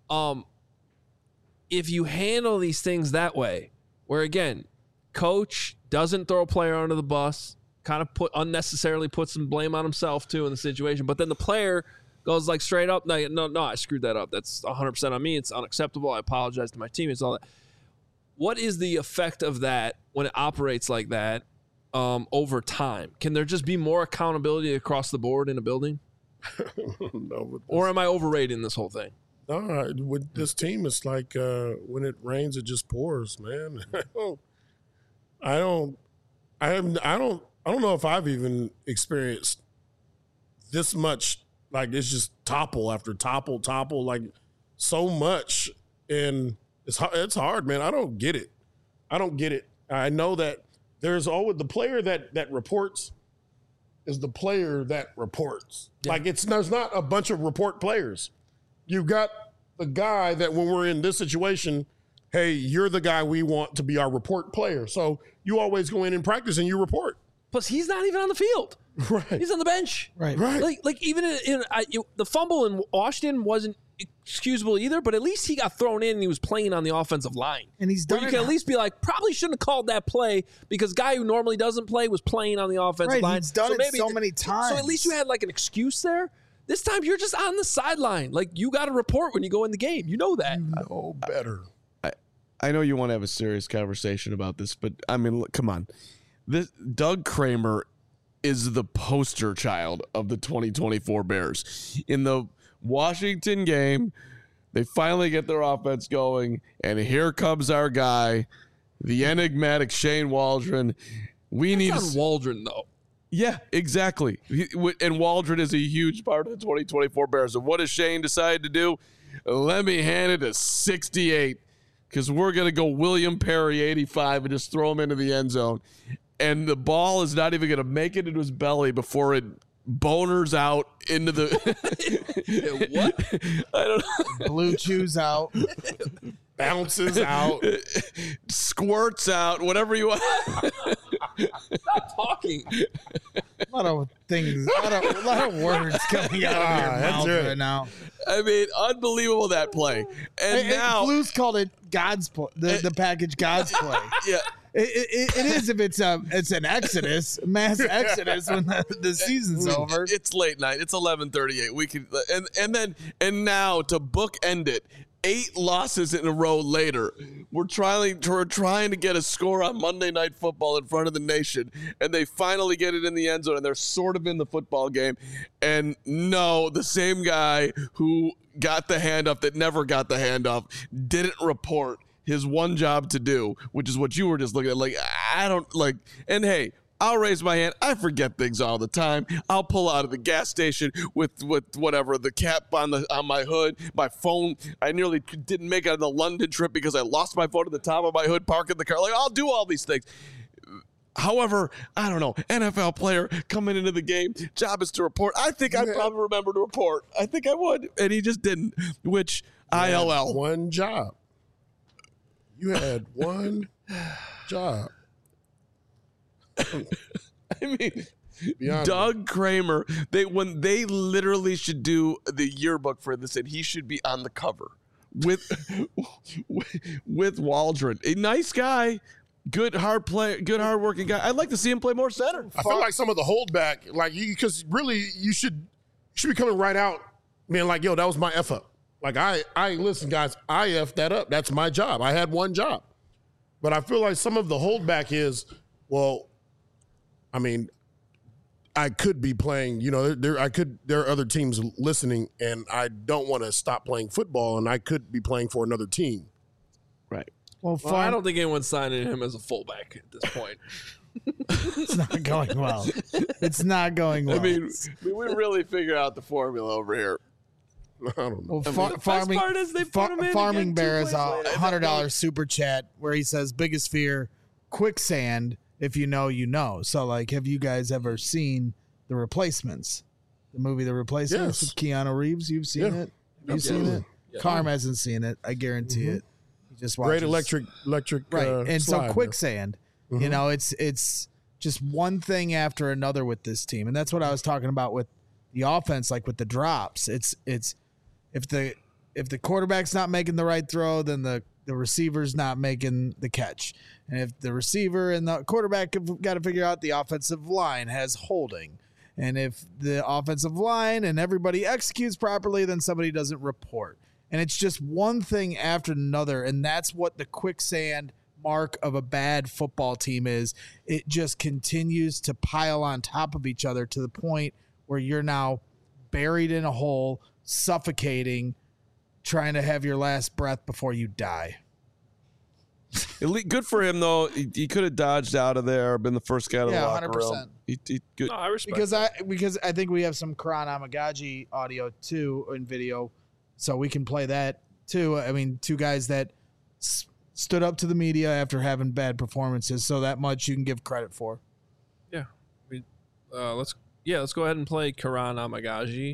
If you handle these things that way, where again, coach doesn't throw a player under the bus, kind of unnecessarily puts some blame on himself too in the situation, but then the player goes like straight up, no, I screwed that up. That's 100% on me. It's unacceptable. I apologize to my teammates. All that. What is the effect of that when it operates like that over time? Can there just be more accountability across the board in a building? No, or am I overrating this whole thing? No, with this team, it's like when it rains, it just pours, man. I don't know if I've even experienced this much. Like, it's just topple after topple, like so much, and it's hard, man. I don't get it. I know that there's always the player that reports is the player that reports. Yeah. Like, there's not a bunch of report players. You've got the guy that when we're in this situation, hey, you're the guy we want to be our report player. So you always go in practice and you report. Plus, he's not even on the field. Right. He's on the bench. Right. Like even the fumble in Washington wasn't excusable either, but at least he got thrown in and he was playing on the offensive line. And he's done you can at least be like, probably shouldn't have called that play because guy who normally doesn't play was playing on the offensive line. He's done it so many times. So at least you had like an excuse there. This time you're just on the sideline. Like, you got to report when you go in the game. You know that. You know better. I know you want to have a serious conversation about this, but I mean, look, come on. This Doug Kramer is the poster child of the 2024 Bears. In the Washington game, they finally get their offense going, and here comes our guy, the enigmatic Shane Waldron. That's not Waldron, though. Yeah, exactly. And Waldron is a huge part of the 2024 Bears. And what does Shane decide to do? Let me hand it to 68 because we're going to go William Perry 85 and just throw him into the end zone. And the ball is not even going to make it into his belly before it boners out into the what? I don't know. Blue chews out. Bounces out. Squirts out. Whatever you want. Stop talking. A lot of things, a lot of words coming out of your mouth right now. I mean, unbelievable that play. And now Blues called it God's play, the package God's play. Yeah. It is if it's an exodus, mass exodus when the season's over. It's late night. It's 11:38. We can and now to bookend it. 8 losses in a row later, we're trying to get a score on Monday Night Football in front of the nation, and they finally get it in the end zone, and they're sort of in the football game. And no, the same guy who got the handoff that never got the handoff didn't report his one job to do, which is what you were just looking at. Like, I don't like, and hey, I'll raise my hand. I forget things all the time. I'll pull out of the gas station with whatever, the cap on my hood, my phone. I nearly didn't make it on the London trip because I lost my phone at the top of my hood, parking the car. Like, I'll do all these things. However, I don't know, NFL player coming into the game, job is to report. I think I'd probably remember to report. I think I would, and he just didn't, which ILL. One job. You had one job. I mean, Be honest. Doug Kramer. When they literally should do the yearbook for this, and he should be on the cover with Waldron. A nice guy, good hard working guy. I'd like to see him play more center. I feel like some of the holdback, like because really you should be coming right out, being like, yo, that was my F up. Like I listen, guys, I F that up. That's my job. I had one job. But I feel like some of the holdback is, well, I mean, I could be playing, there are other teams listening, and I don't want to stop playing football, and I could be playing for another team. Right. Well, I don't think anyone's signing him as a fullback at this point. It's not going well. It's not going well. I mean, we really figure out the formula over here. I don't know. Well, Farming Bear is a $100 super chat where he says, biggest fear, quicksand. If you know, you know. So, like, have you guys ever seen The Replacements? The movie The Replacements with Keanu Reeves? You've seen it? Have you seen it? Yeah. Carm hasn't seen it. I guarantee it. He just watches. Great electric. Right. And slide, so quicksand, it's just one thing after another with this team. And that's what I was talking about with the offense, like with the drops. It's if the quarterback's not making the right throw, then the receiver's not making the catch. And if the receiver and the quarterback have got to figure out, the offensive line has holding. And if the offensive line and everybody executes properly, then somebody doesn't report. And it's just one thing after another. And that's what the quicksand mark of a bad football team is. It just continues to pile on top of each other to the point where you're now buried in a hole, suffocating, trying to have your last breath before you die. Good for him, though. He could have dodged out of there, been the first guy to the locker 100%. room. He good. No, I respect because I think we have some Karan Amagaji audio too in video, so we can play that too. I mean, two guys that stood up to the media after having bad performances, so that much you can give credit for. Yeah, let's go ahead and play Karan Amagaji,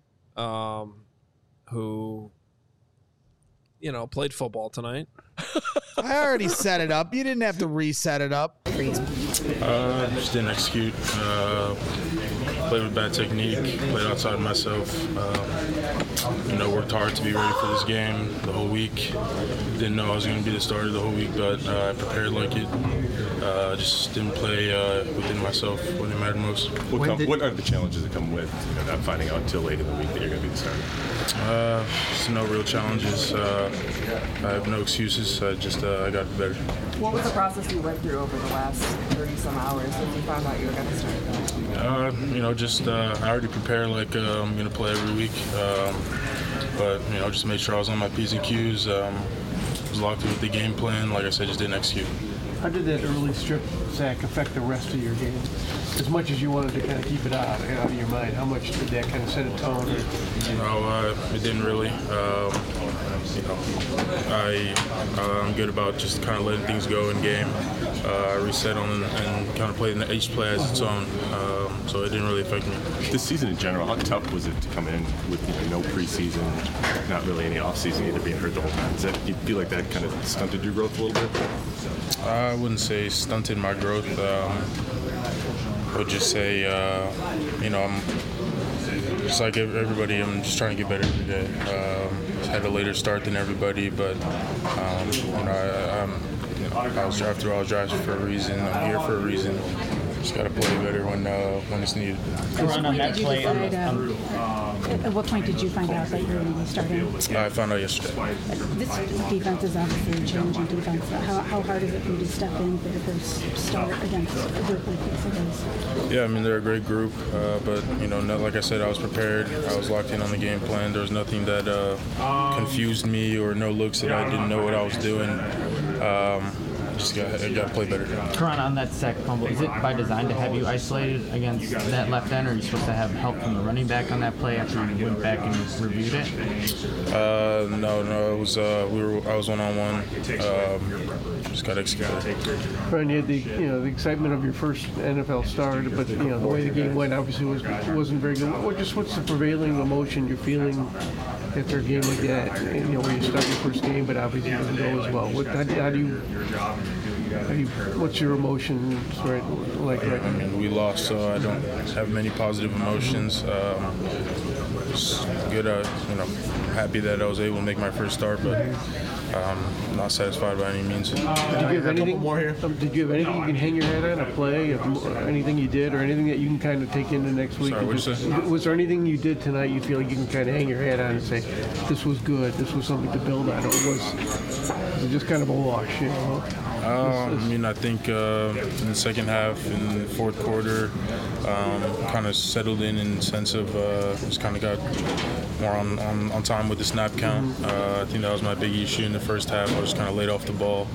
who played football tonight. I already set it up. You didn't have to reset it up. Just didn't execute. Played with bad technique. Played outside of myself. Worked hard to be ready for this game the whole week. Didn't know I was going to be the starter the whole week, but I prepared like it. Just didn't play within myself when it mattered most. What are the challenges that come with not finding out until late in the week that you're going to be the starter? Just no real challenges. I have no excuses. I got better. What was the process you went through over the last 30-some hours since you found out you were going to start? I already prepared like I'm going to play every week. But just made sure I was on my P's and Q's. Was locked in with the game plan. Like I said, just didn't execute. How did that early strip sack affect the rest of your game? As much as you wanted to kind of keep it out of your mind, how much did that kind of set a tone? It didn't really. I'm good about just kind of letting things go in game. I reset on and kind of played each play as its own, so it didn't really affect me. This season in general, how tough was it to come in with no preseason, not really any offseason, either being hurt the whole time? Do you feel like that kind of stunted your growth a little bit? I wouldn't say stunted my growth. I would just say, I'm just like everybody. I'm just trying to get better every day. Had a later start than everybody, but I was drafted for a reason. I'm here for a reason. Just got to play better when it's needed. At what point did you find out that you were going to be starting? I found out yesterday. This defense is obviously a challenging defense. How hard is it for you to step in for your first start against a group like this? Yeah, I mean, they're a great group, but, like I said, I was prepared. I was locked in on the game plan. There was nothing that confused me or no looks that I didn't know what I was doing. Just got to play better. Karan, on that sack fumble, is it by design to have you isolated against that left end, or are you supposed to have help from the running back on that play after you went back and reviewed it? No, it was I was one-on-one. Just got to execute it. Brian, you had the excitement of your first NFL start, but the way the game went obviously wasn't very good. What's the prevailing emotion you're feeling after a game like that? Where you start your first game, but obviously it doesn't go as well. What's your emotions right I mean, we lost, so I don't have many positive emotions. Just good, happy that I was able to make my first start, but not satisfied by any means. Did you have anything more here? Did you have anything you can hang your head on, a play, anything you did, or anything that you can kind of take into next week? Sorry, what'd you say? Was there anything you did tonight you feel like you can kind of hang your head on and say, this was good, this was something to build on? Or was it just kind of a wash, you know? I think in the second half, in the fourth quarter, kind of settled in the sense of just kind of got more on time with the snap count. I think that was my big issue in the first half. I was kind of laid off the ball.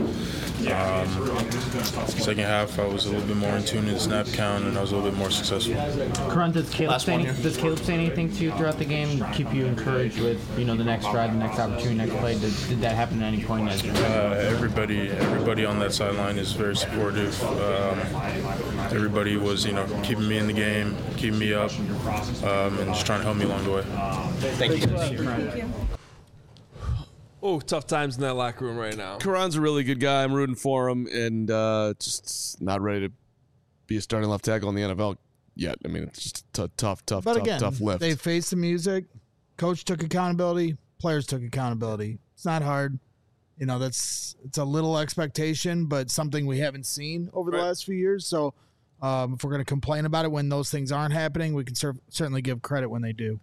Second half, I was a little bit more in tune in the snap count, and I was a little bit more successful. Karan, does Caleb say anything to you throughout the game, keep you encouraged with the next drive, the next opportunity, next play? Did that happen at any point? Everybody on that sideline is very supportive. Everybody was, keeping me in the game, keeping me up, and just trying to help me along the way. Thank you. Oh, tough times in that locker room right now. Karan's a really good guy. I'm rooting for him, and just not ready to be a starting left tackle in the NFL yet. I mean, it's just a tough lift. They faced the music. Coach took accountability. Players took accountability. It's not hard. It's a little expectation, but something we haven't seen over the last few years. So if we're going to complain about it when those things aren't happening, we can certainly give credit when they do.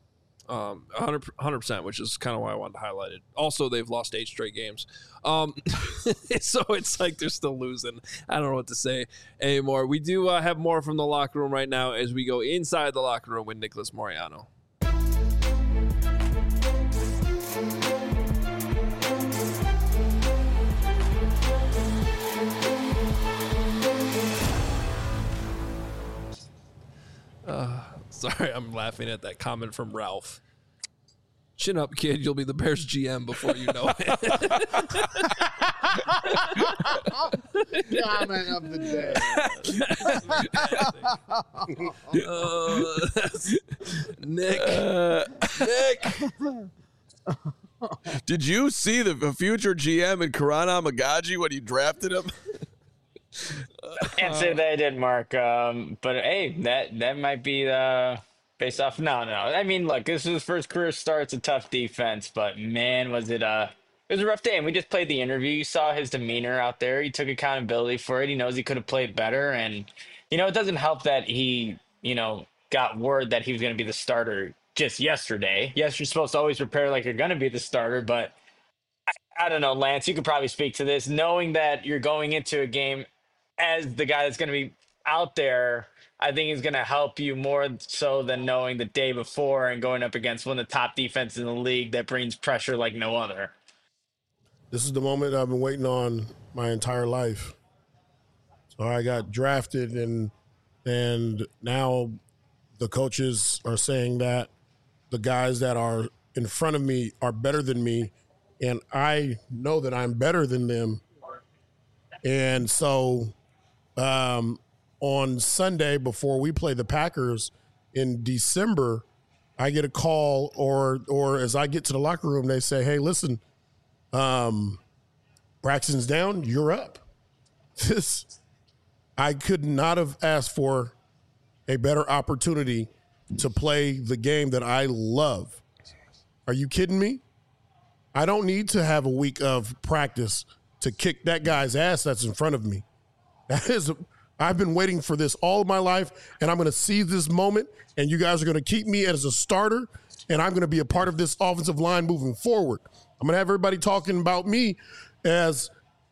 100%, which is kind of why I wanted to highlight it. Also, they've lost 8 straight games. So it's like they're still losing. I don't know what to say anymore. We do have more from the locker room right now as we go inside the locker room with Nicholas Moreano. Sorry, I'm laughing at that comment from Ralph. Chin up, kid. You'll be the Bears GM before you know it. Comment of the day. Nick. Did you see the future GM in Karan Amagaji when you drafted him? Can't say that I did, Mark. But hey, that might be based off. No. I mean, look, this is his first career start. It's a tough defense, but man, was it a rough day. And we just played the interview. You saw his demeanor out there. He took accountability for it. He knows he could have played better, and it doesn't help that he got word that he was going to be the starter just yesterday. Yes, you're supposed to always prepare like you're going to be the starter, but I don't know, Lance. You could probably speak to this, knowing that you're going into a game as the guy that's going to be out there. I think is going to help you more so than knowing the day before and going up against one of the top defenses in the league that brings pressure like no other. This is the moment I've been waiting on my entire life. So I got drafted, and now the coaches are saying that the guys that are in front of me are better than me, and I know that I'm better than them. And so on Sunday, before we play the Packers in December, I get a call, or as I get to the locker room, they say, hey, listen, Braxton's down, you're up. I could not have asked for a better opportunity to play the game that I love. Are you kidding me? I don't need to have a week of practice to kick that guy's ass that's in front of me. I've been waiting for this all of my life, and I'm going to seize this moment, and you guys are going to keep me as a starter, and I'm going to be a part of this offensive line moving forward. I'm going to have everybody talking about me as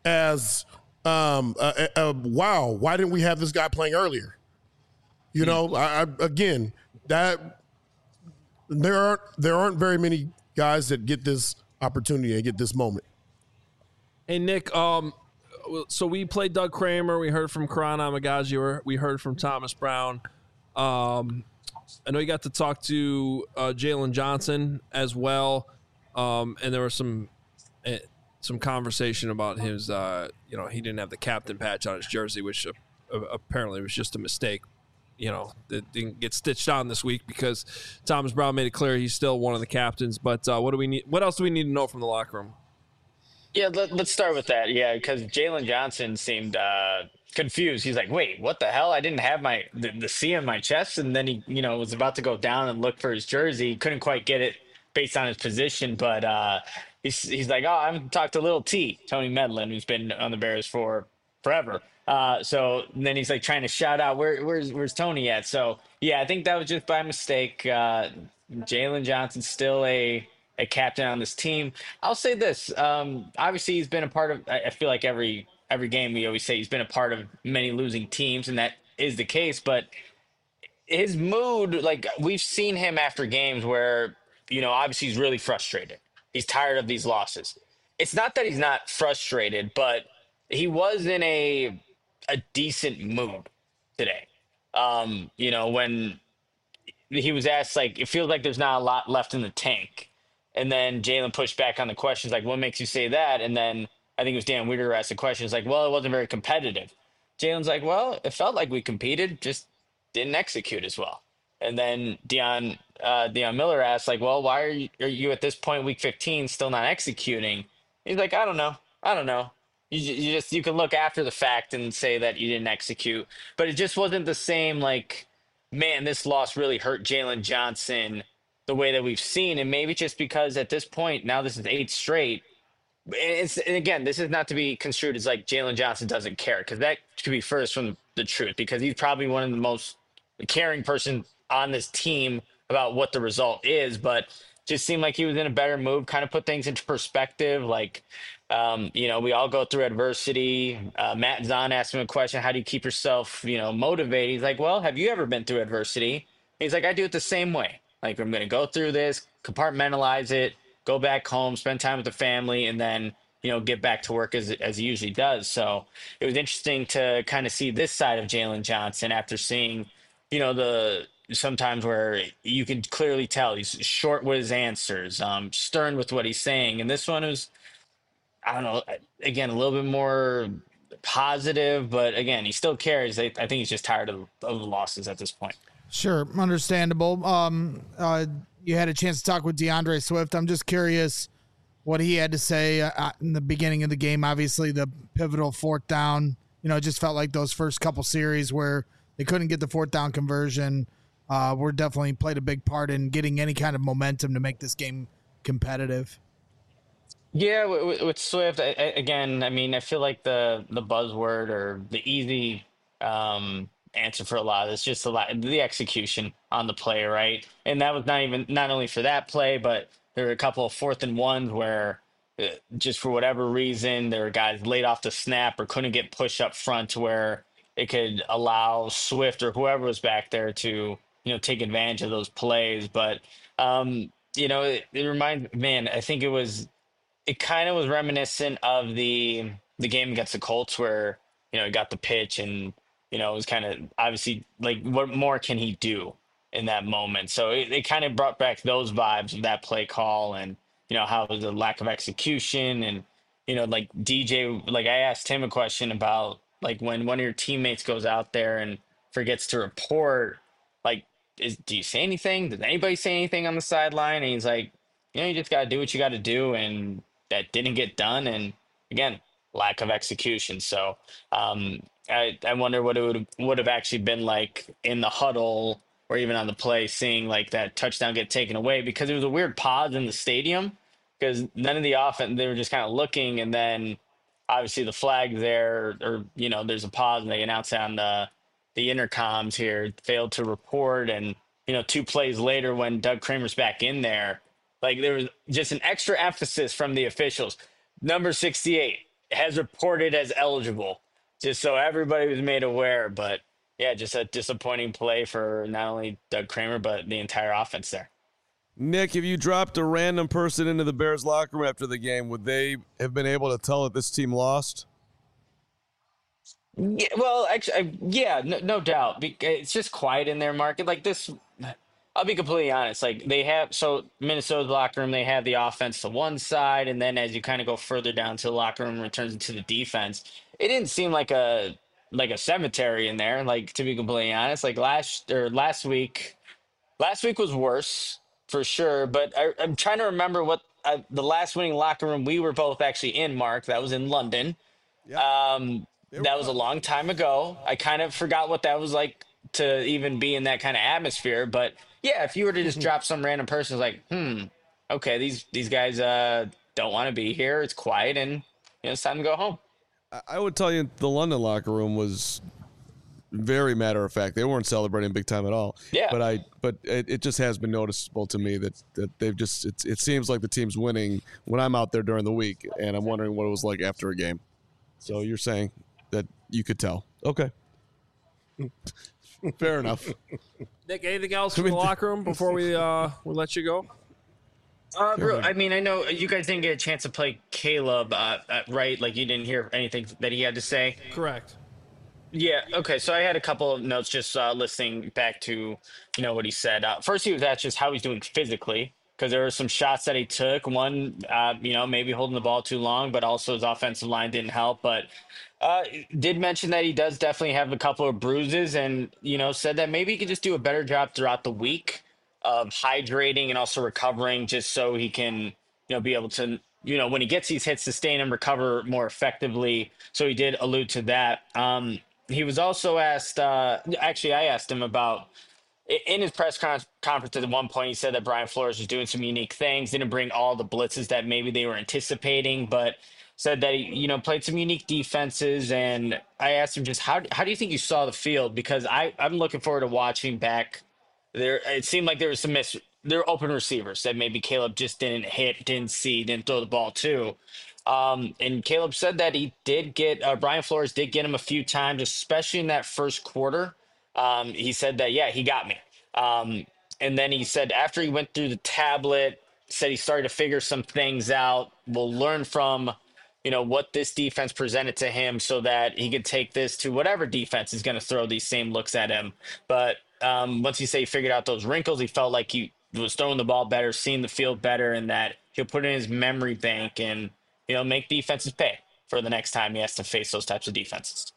wow, why didn't we have this guy playing earlier? Again, that there aren't very many guys that get this opportunity and get this moment. Hey, Nick, so we played Doug Kramer. We heard from Karan Amagaji. We heard from Thomas Brown. I know you got to talk to Jalen Johnson as well, and there was some conversation about his, he didn't have the captain patch on his jersey, which apparently was just a mistake. That didn't get stitched on this week because Thomas Brown made it clear he's still one of the captains. But what else do we need to know from the locker room? Yeah, let's start with that. Yeah, because Jalen Johnson seemed confused. He's like, "Wait, what the hell? I didn't have the C on my chest." And then he, was about to go down and look for his jersey. He couldn't quite get it based on his position, but he's like, "Oh, I haven't talked to Little T, Tony Medlin, who's been on the Bears for forever." So then he's like trying to shout out, "Where's Tony at?" So yeah, I think that was just by mistake. Jalen Johnson's still a captain on this team. I'll say this. Obviously, he's been a part of. I feel like every game we always say he's been a part of many losing teams, and that is the case. But his mood, like we've seen him after games where obviously he's really frustrated. He's tired of these losses. It's not that he's not frustrated, but he was in a decent mood today. When he was asked, like, it feels like there's not a lot left in the tank. And then Jalen pushed back on the questions, like, what makes you say that? And then I think it was Dan Weeder who asked the questions, like, well, it wasn't very competitive. Jalen's like, well, it felt like we competed, just didn't execute as well. And then Deion Miller asked, like, well, why are you at this point, week 15, still not executing? He's like, I don't know. You can look after the fact and say that you didn't execute, but it just wasn't the same, like, man, this loss really hurt Jalen Johnson the way that we've seen. And maybe just because at this point, now this is 8 straight. And again, this is not to be construed as like Jalen Johnson doesn't care, because that could be furthest from the truth, because he's probably one of the most caring person on this team about what the result is. But just seemed like he was in a better mood, kind of put things into perspective. Like, we all go through adversity. Matt Zahn asked him a question, how do you keep yourself, motivated? He's like, well, have you ever been through adversity? He's like, I do it the same way. Like, I'm going to go through this, compartmentalize it, go back home, spend time with the family, and then, get back to work as he usually does. So it was interesting to kind of see this side of Jalen Johnson after seeing, sometimes where you can clearly tell he's short with his answers, stern with what he's saying. And this one was, I don't know, again, a little bit more positive, but again, he still cares. I think he's just tired of the losses at this point. Sure, understandable. You had a chance to talk with DeAndre Swift. I'm just curious what he had to say in the beginning of the game. Obviously, the pivotal 4th down. It just felt like those first couple series where they couldn't get the 4th down conversion were definitely played a big part in getting any kind of momentum to make this game competitive. Yeah, with Swift, again, I mean, I feel like the buzzword or the easy answer for a lot is just the execution on the play, right? And that was not only for that play, but there were a couple of 4th and 1s where just for whatever reason, there were guys laid off the snap or couldn't get pushed up front to where it could allow Swift or whoever was back there to, take advantage of those plays. But, it reminds, man, I think it kind of was reminiscent of the game against the Colts where, he got the pitch and, it was kind of obviously like, what more can he do in that moment? So it kind of brought back those vibes of that play call and, how it was a lack of execution. And, like DJ, like I asked him a question about like when one of your teammates goes out there and forgets to report, like, do you say anything? Does anybody say anything on the sideline? And he's like, you just got to do what you got to do. And that didn't get done. And again, lack of execution. So I wonder what it would have actually been like in the huddle or even on the play, seeing like that touchdown get taken away, because it was a weird pause in the stadium because none of the offense, they were just kind of looking, and then obviously the flag there, or there's a pause and they announce on the intercoms here, failed to report. And 2 plays later when Doug Kramer's back in there, like there was just an extra emphasis from the officials. Number 68 has reported as eligible, just so everybody was made aware. But yeah, just a disappointing play for not only Doug Kramer, but the entire offense there. Nick, if you dropped a random person into the Bears locker room after the game, would they have been able to tell that this team lost? Yeah, well, actually, no doubt. It's just quiet in their market. Like this, I'll be completely honest. Like Minnesota's locker room, they have the offense to one side, and then as you kind of go further down to the locker room, returns into the defense. It didn't seem like a cemetery in there. Like, to be completely honest, like last week was worse for sure. But I'm trying to remember what the last winning locker room we were both actually in, Mark. That was in London. That was a long time ago. I kind of forgot what that was like to even be in that kind of atmosphere. But yeah, if you were to just drop some random person, like, okay, these guys don't want to be here. It's quiet, and it's time to go home. I would tell you the London locker room was very matter of fact. They weren't celebrating big time at all. Yeah. But it just has been noticeable to me that they've just it seems like the team's winning when I'm out there during the week, and I'm wondering what it was like after a game. So you're saying that you could tell. Okay. Fair enough. Nick, anything else from the locker room before we let you go? Bro, I mean, I know you guys didn't get a chance to play Caleb, right? Like, you didn't hear anything that he had to say? Correct. Yeah, okay, so I had a couple of notes just listening back to, what he said. First, he was asked just how he's doing physically, because there were some shots that he took. One, maybe holding the ball too long, but also his offensive line didn't help. But did mention that he does definitely have a couple of bruises, and, said that maybe he could just do a better job throughout the week of hydrating and also recovering, just so he can, be able to, when he gets these hits, sustain and recover more effectively. So he did allude to that. He was also asked, actually, I asked him about, in his press conference at one point, he said that Brian Flores was doing some unique things, didn't bring all the blitzes that maybe they were anticipating, but said that he, played some unique defenses. And I asked him just, how do you think you saw the field? Because I'm looking forward to watching back there. It seemed like there was there were open receivers that maybe Caleb just didn't hit, didn't see, didn't throw the ball to. And Caleb said that he did get, Brian Flores did get him a few times, especially in that first quarter. He said that, yeah, he got me. And then he said after he went through the tablet, said he started to figure some things out. We'll learn from, what this defense presented to him so that he could take this to whatever defense is going to throw these same looks at him. But once he said he figured out those wrinkles, he felt like he was throwing the ball better, seeing the field better, and that he'll put it in his memory bank and, make defenses pay for the next time he has to face those types of defenses.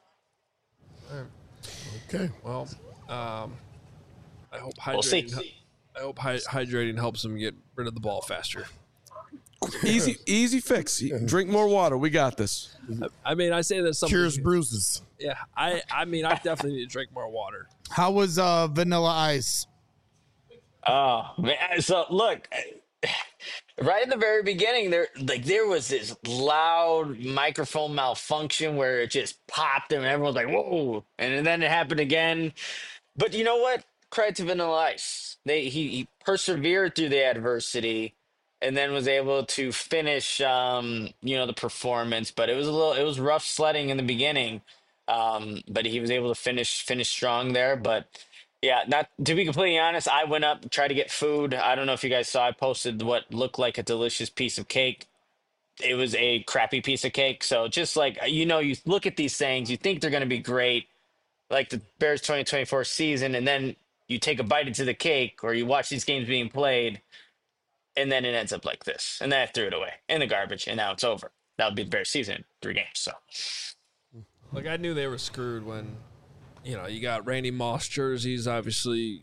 Okay. Well, I hope We'll see. hydrating helps him get rid of the ball faster. Easy fix. Drink more water. We got this. I mean, I say that cures bruises. Yeah, I mean, I definitely need to drink more water. How was Vanilla Ice? Oh man! So look, right in the very beginning, there was this loud microphone malfunction where it just popped and everyone's like, "Whoa!" And then it happened again. But you know what? Credit to Vanilla Ice. He persevered through the adversity, and then was able to finish, the performance. But it was rough sledding in the beginning. But he was able to finish strong there. But yeah, not to be completely honest, I went up, tried to get food. I don't know if you guys saw, I posted what looked like a delicious piece of cake. It was a crappy piece of cake. So just like, you look at these things, you think they're going to be great, like the Bears 2024 season, and then you take a bite into the cake, or you watch these games being played, and then it ends up like this. And then I threw it away in the garbage, and now it's over. That would be the Bears season, 3 games. So, like, I knew they were screwed when, you got Randy Moss jerseys, obviously,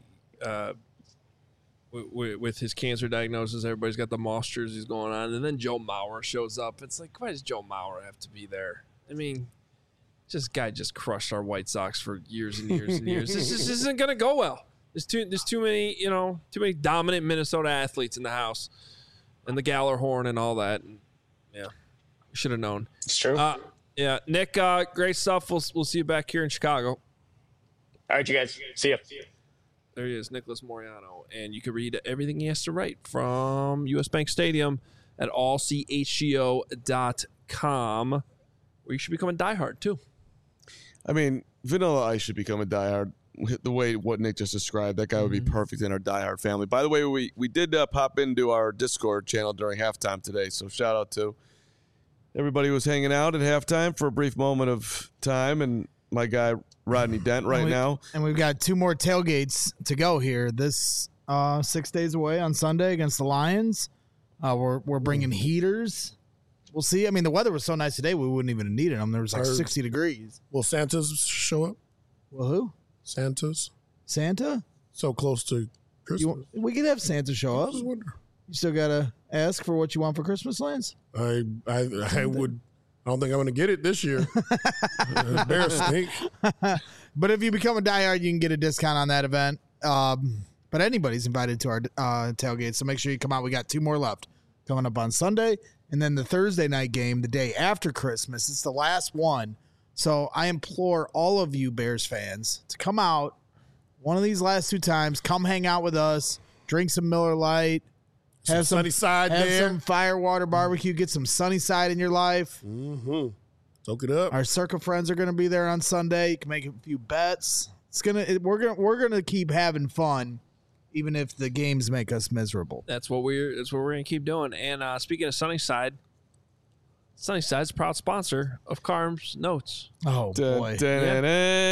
with his cancer diagnosis. Everybody's got the Moss jerseys going on. And then Joe Mauer shows up. It's like, why does Joe Mauer have to be there? I mean, this guy just crushed our White Sox for years and years and years. This isn't going to go well. There's too many dominant Minnesota athletes in the house, and the Gallarhorn and all that. And, yeah, we should have known. It's true. Yeah, Nick, great stuff. We'll see you back here in Chicago. All right, you guys. See ya. There he is, Nicholas Moriano. And you can read everything he has to write from US Bank Stadium at allchgo.com, where you should become a diehard, too. I mean, Vanilla Ice should become a diehard. The way what Nick just described, that guy would be perfect in our diehard family. By the way, we did pop into our Discord channel during halftime today, so shout out to everybody who was hanging out at halftime for a brief moment of time, and my guy Rodney Dent now. And we've got 2 more tailgates to go here. This 6 days away on Sunday against the Lions. We're bringing heaters. We'll see. I mean, the weather was so nice today, we wouldn't even have needed them. There was like 60 degrees. Will Santa's show up? Well, who? Santa's. Santa? So close to We could have Santa show up. You still gotta ask for what you want for Christmas, Lance. I would. I don't think I'm going to get it this year. Bear stink. But if you become a diehard, you can get a discount on that event. But anybody's invited to our tailgate, so make sure you come out. We got 2 more left coming up on Sunday, and then the Thursday night game the day after Christmas. It's the last one. So I implore all of you Bears fans to come out one of these last 2 times. Come hang out with us. Drink some Miller Lite. Have some Sunnyside have there. some Firewater barbecue. Get some Sunnyside in your life. Mm-hmm. Soak it up. Our Circa friends are going to be there on Sunday. You can make a few bets. We're gonna keep having fun, even if the games make us miserable. That's what we're gonna keep doing. And speaking of Sunnyside, Sunnyside's a proud sponsor of Carm's Notes. Oh boy! Thank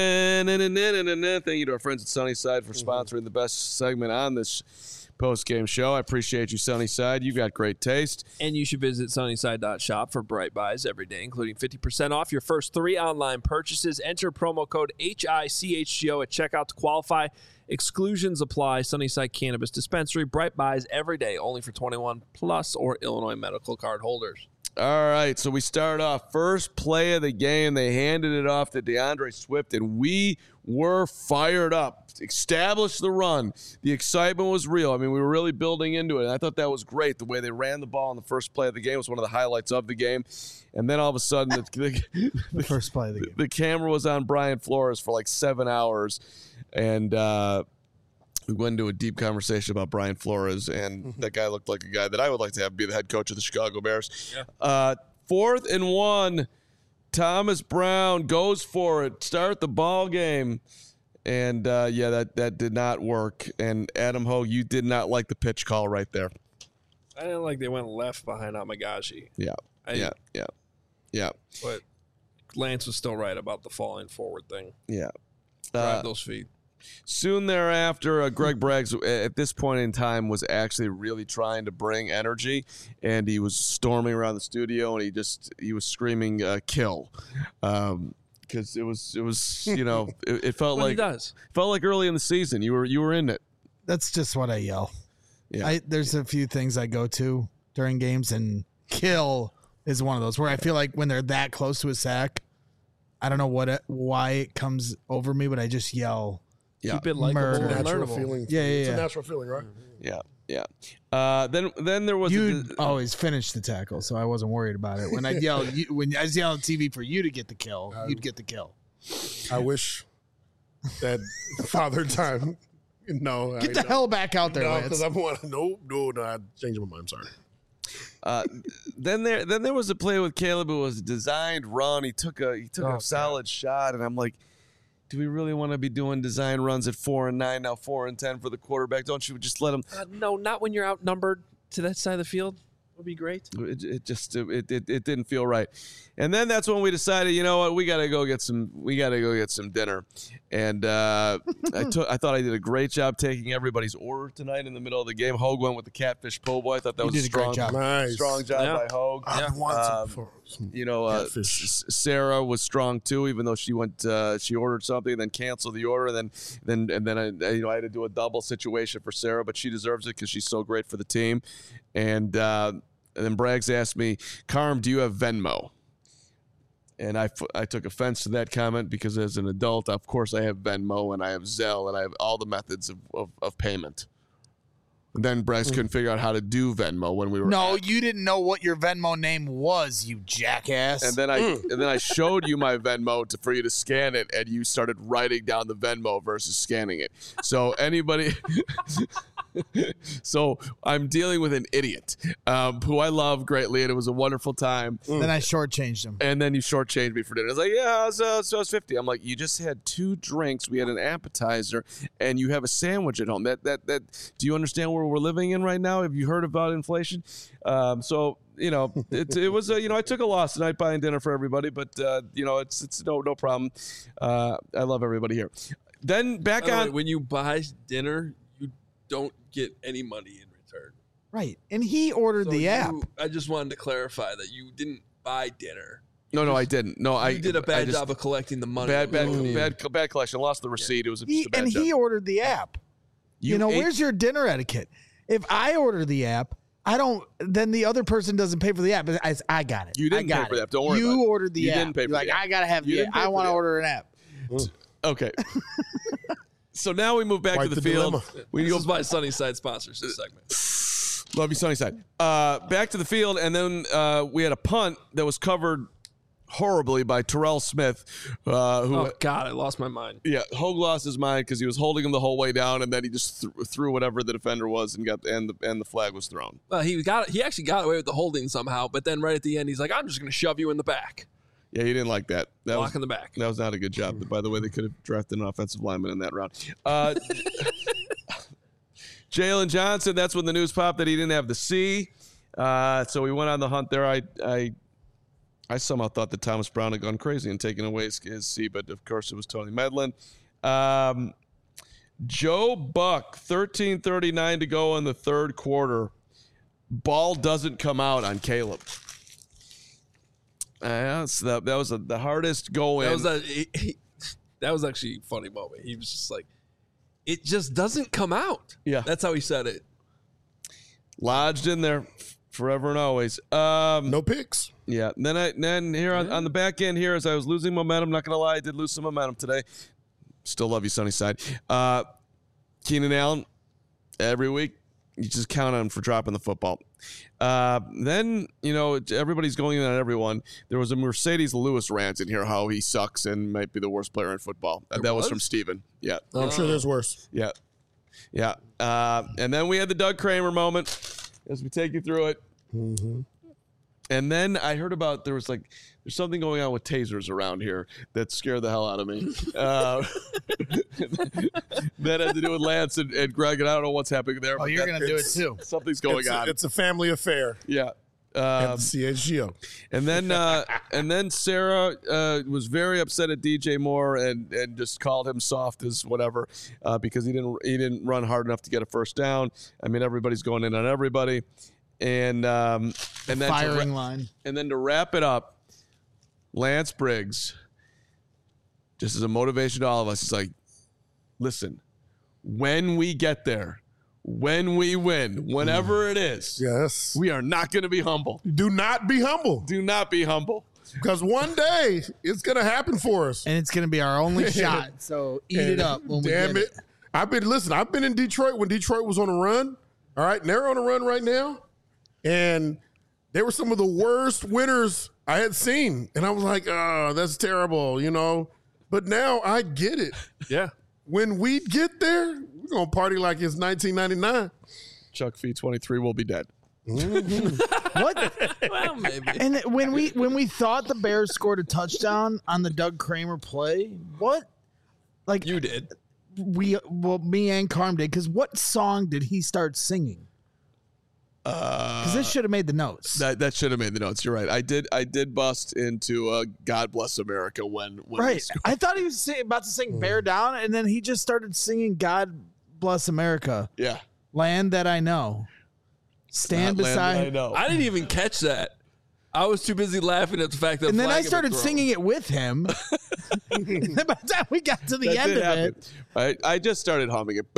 you to our friends at Sunnyside for sponsoring the best segment on this post-game show. I appreciate you, Sunnyside. You've got great taste. And you should visit sunnyside.shop for bright buys every day, including 50% off your first 3 online purchases. Enter promo code HICHGO at checkout to qualify. Exclusions apply. Sunnyside Cannabis Dispensary. Bright buys every day, only for 21 plus or Illinois medical card holders. All right, so we start off. First play of the game, they handed it off to DeAndre Swift, and we were fired up. Established the run. The excitement was real. I mean, we were really building into it, and I thought that was great. The way they ran the ball in the first play of the game was one of the highlights of the game. And then all of a sudden, the first play of the game. The camera was on Brian Flores for like 7 hours, and we went into a deep conversation about Brian Flores, and that guy looked like a guy that I would like to have be the head coach of the Chicago Bears. Yeah. 4th and 1, Thomas Brown goes for it. Start the ball game. And, that did not work. And, Adam Hogue, you did not like the pitch call right there. I didn't like they went left behind Amagashi. Yeah. But Lance was still right about the falling forward thing. Yeah. Drive those feet. Soon thereafter, Greg Braggs, at this point in time, was actually really trying to bring energy, and he was storming around the studio, and he was screaming, kill. Because it was it felt Well, like he does. Felt like early in the season you were in it. That's just what I yell. Yeah. There's a few things I go to during games, and kill is one of those where I feel like when they're that close to a sack, I don't know why it comes over me, but I just yell. Yeah. Keep it likable and Natural learnable. feeling. Yeah. It's a natural feeling, right? Yeah. Then there was You always finish the tackle, so I wasn't worried about it. When I yelled, when I was yelling on TV for you to get the kill, you'd get the kill. I wish that Father Time. No, Get the hell back out there, No, Lance. because I'm no. I changed my mind. I'm sorry. Then there was a play with Caleb. It was a designed run. He took a solid shot, and I'm like, do we really want to be doing design runs at 4 and 9 now 4 and 10 for the quarterback? Don't you just let him? No, not when you're outnumbered to that side of the field. Would be great. It just didn't feel right. And then that's when we decided, you know what, we got to go get some dinner. And I thought I did a great job taking everybody's order tonight in the middle of the game. Hogue went with the catfish po' boy. I thought that was did a great job. Nice. Strong job by Hogue. I've wanted some catfish. Sarah was strong too, even though she went she ordered something and then canceled the order, and then I had to do a double situation for Sarah, but she deserves it because she's so great for the team. And then Braggs asked me, Carm, do you have Venmo? And I took offense to that comment because as an adult, of course, I have Venmo and I have Zelle and I have all the methods of payment. And then Braggs couldn't figure out how to do Venmo when we were. No, you didn't know what your Venmo name was, you jackass. And then I showed you my Venmo for you to scan it, and you started writing down the Venmo versus scanning it. So anybody. So I'm dealing with an idiot who I love greatly, and it was a wonderful time. Then I shortchanged him. And then you shortchanged me for dinner. I was like, yeah, so I was 50. I'm like, you just had 2 drinks. We had an appetizer, and you have a sandwich at home. That do you understand where we're living in right now? Have you heard about inflation? So it was I took a loss tonight buying dinner for everybody, but it's no problem. I love everybody here. Then back By the on way, when you buy dinner, you don't get any money in return. Right. And he ordered the app. I just wanted to clarify that you didn't buy dinner. No, I didn't. No, You did a bad job of collecting the money. Bad collection. Lost the receipt. It was just a bad job. He ordered the app. You know, where's your dinner etiquette? If I order the app, then the other person doesn't pay for the app. I got it. You didn't pay for the app. Don't worry about it. You ordered the You app. didn't pay for You're the like, app. I got to have You the didn't app. pay I for want to the app. order an app. Okay. So now we move back Quite to the the field. dilemma. We This is why Sunnyside sponsors this segment. Love you, Sunnyside. Back to the field, and then we had a punt that was covered horribly by Terrell Smith, who Oh God, I lost my mind. Hogue lost his mind because he was holding him the whole way down, and then he just threw whatever the defender was and the flag was thrown. Well, he actually got away with the holding somehow, but then right at the end, he's like, "I'm just going to shove you in the back." Yeah, he didn't like that. Block in the back. That was not a good job. By the way, they could have drafted an offensive lineman in that round. Jalen Johnson, that's when the news popped that he didn't have the C. So we went on the hunt there. I somehow thought that Thomas Brown had gone crazy and taken away his C, but of course it was Tony Medlin. Joe Buck, 13:39 to go in the third quarter. Ball doesn't come out on Caleb. That was the hardest go in. That was actually a funny moment. He was just like, it just doesn't come out. Yeah. That's how he said it. Lodged in there forever and always. No picks. Yeah. And then here on the back end here, as I was losing momentum, not going to lie, I did lose some momentum today. Still love you, Sunnyside. Keenan Allen, every week, you just count on him for dropping the football. Then, everybody's going in on everyone. There was a Mercedes Lewis rant in here, how he sucks and might be the worst player in football. That was from Steven. Yeah. I'm sure there's worse. Yeah. Yeah. And then we had the Doug Kramer moment as we take you through it. Mm-hmm. And then I heard about there's something going on with tasers around here that scared the hell out of me. That had to do with Lance and Greg, and I don't know what's happening there. Oh, you're going to do it too. Something's going on. It's a family affair. Yeah. At the CHGO. And then Sarah was very upset at DJ Moore and just called him soft as whatever because he didn't run hard enough to get a first down. I mean, everybody's going in on everybody. And then firing line. And then to wrap it up, Lance Briggs, just as a motivation to all of us, he's like, listen, when we get there, when we win, whenever it is, yes, we are not going to be humble. Do not be humble. Do not be humble. Because one day it's going to happen for us. And it's going to be our only shot. So eat it up when we get it. I've been in Detroit when Detroit was on a run. All right. And they're on a run right now. And they were some of the worst winners I had seen. And I was like, oh, that's terrible, But now I get it. Yeah. When we get there, we're going to party like it's 1999. Chuck Fee 23 will be dead. Mm-hmm. What? Well, maybe. And when we thought the Bears scored a touchdown on the Doug Kramer play, what? Like you did. Me and Carm did. Because what song did he start singing? Because this should have made the notes. That should have made the notes. You're right. I did bust into God Bless America when right. I thought he was about to sing Bear Down, and then he just started singing God Bless America. Yeah. Land That I Know. Stand beside. I didn't even catch that. I was too busy laughing at the fact that. And then I started singing it with him. And then by the time we got to the end of it, I just started humming it.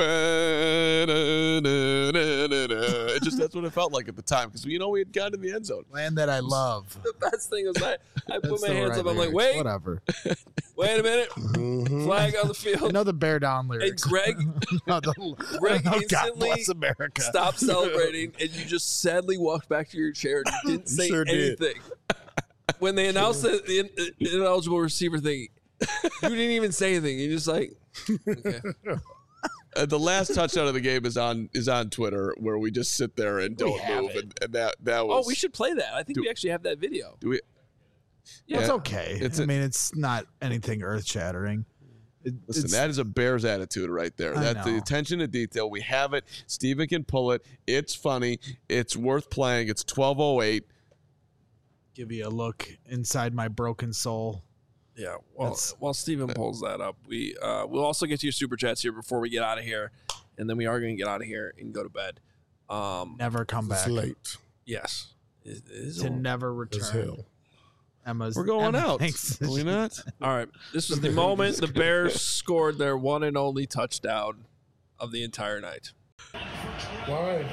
It just that's what it felt like at the time because we had gotten in the end zone. Land That I Love. The best thing was I put my hands up. I'm like, lyrics. wait, Whatever. Wait a minute. Flag on the field. I know the Bear Down lyrics. And Greg God instantly bless America. stopped celebrating, and you just sadly walked back to your chair and you didn't say sure did. anything. When they announced the ineligible receiver thing, you didn't even say anything. You're just like, okay. The last touchdown of the game is on Twitter where we just sit there and don't move, and that was. Oh, we should play that. I think we actually have that video. Do we? Yeah, it's okay. It's not anything earth shattering. Listen, that is a Bears attitude right there. That's the attention to detail. We have it. Steven can pull it. It's funny. It's worth playing. It's 12:08. Give you a look inside my broken soul. Yeah. While Steven pulls that up, we'll also get to your super chats here before we get out of here, and then we are going to get out of here and go to bed. Never come back. It's late. Yes. It is to never return. We're going out. Are we not? All right. This was the moment the Bears scored their one and only touchdown of the entire night. Why?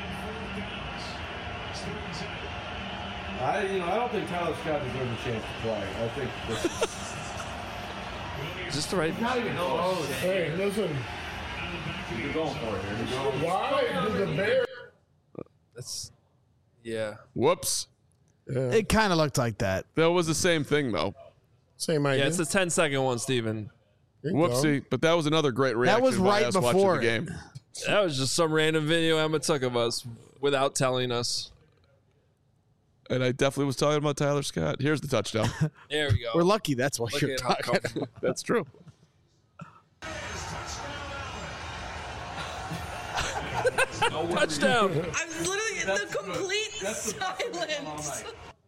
I don't think Tyler Scott deserves a chance to play. I think Is this the right? Hey, listen. You're going for it here. Why did the Bears? That's yeah. Whoops. It kind of looked like that. That was the same thing, though. Same idea. Yeah, it's the 10-second one, Steven. Whoopsie. But that was another great reaction. That was by right us watching before the game. That was just some random video Emma took of us without telling us. And I definitely was talking about Tyler Scott. Here's the touchdown. There we go. We're lucky. That's what Look you're at how talking. comfortable. That's true. Touchdown. I was literally in the complete silence.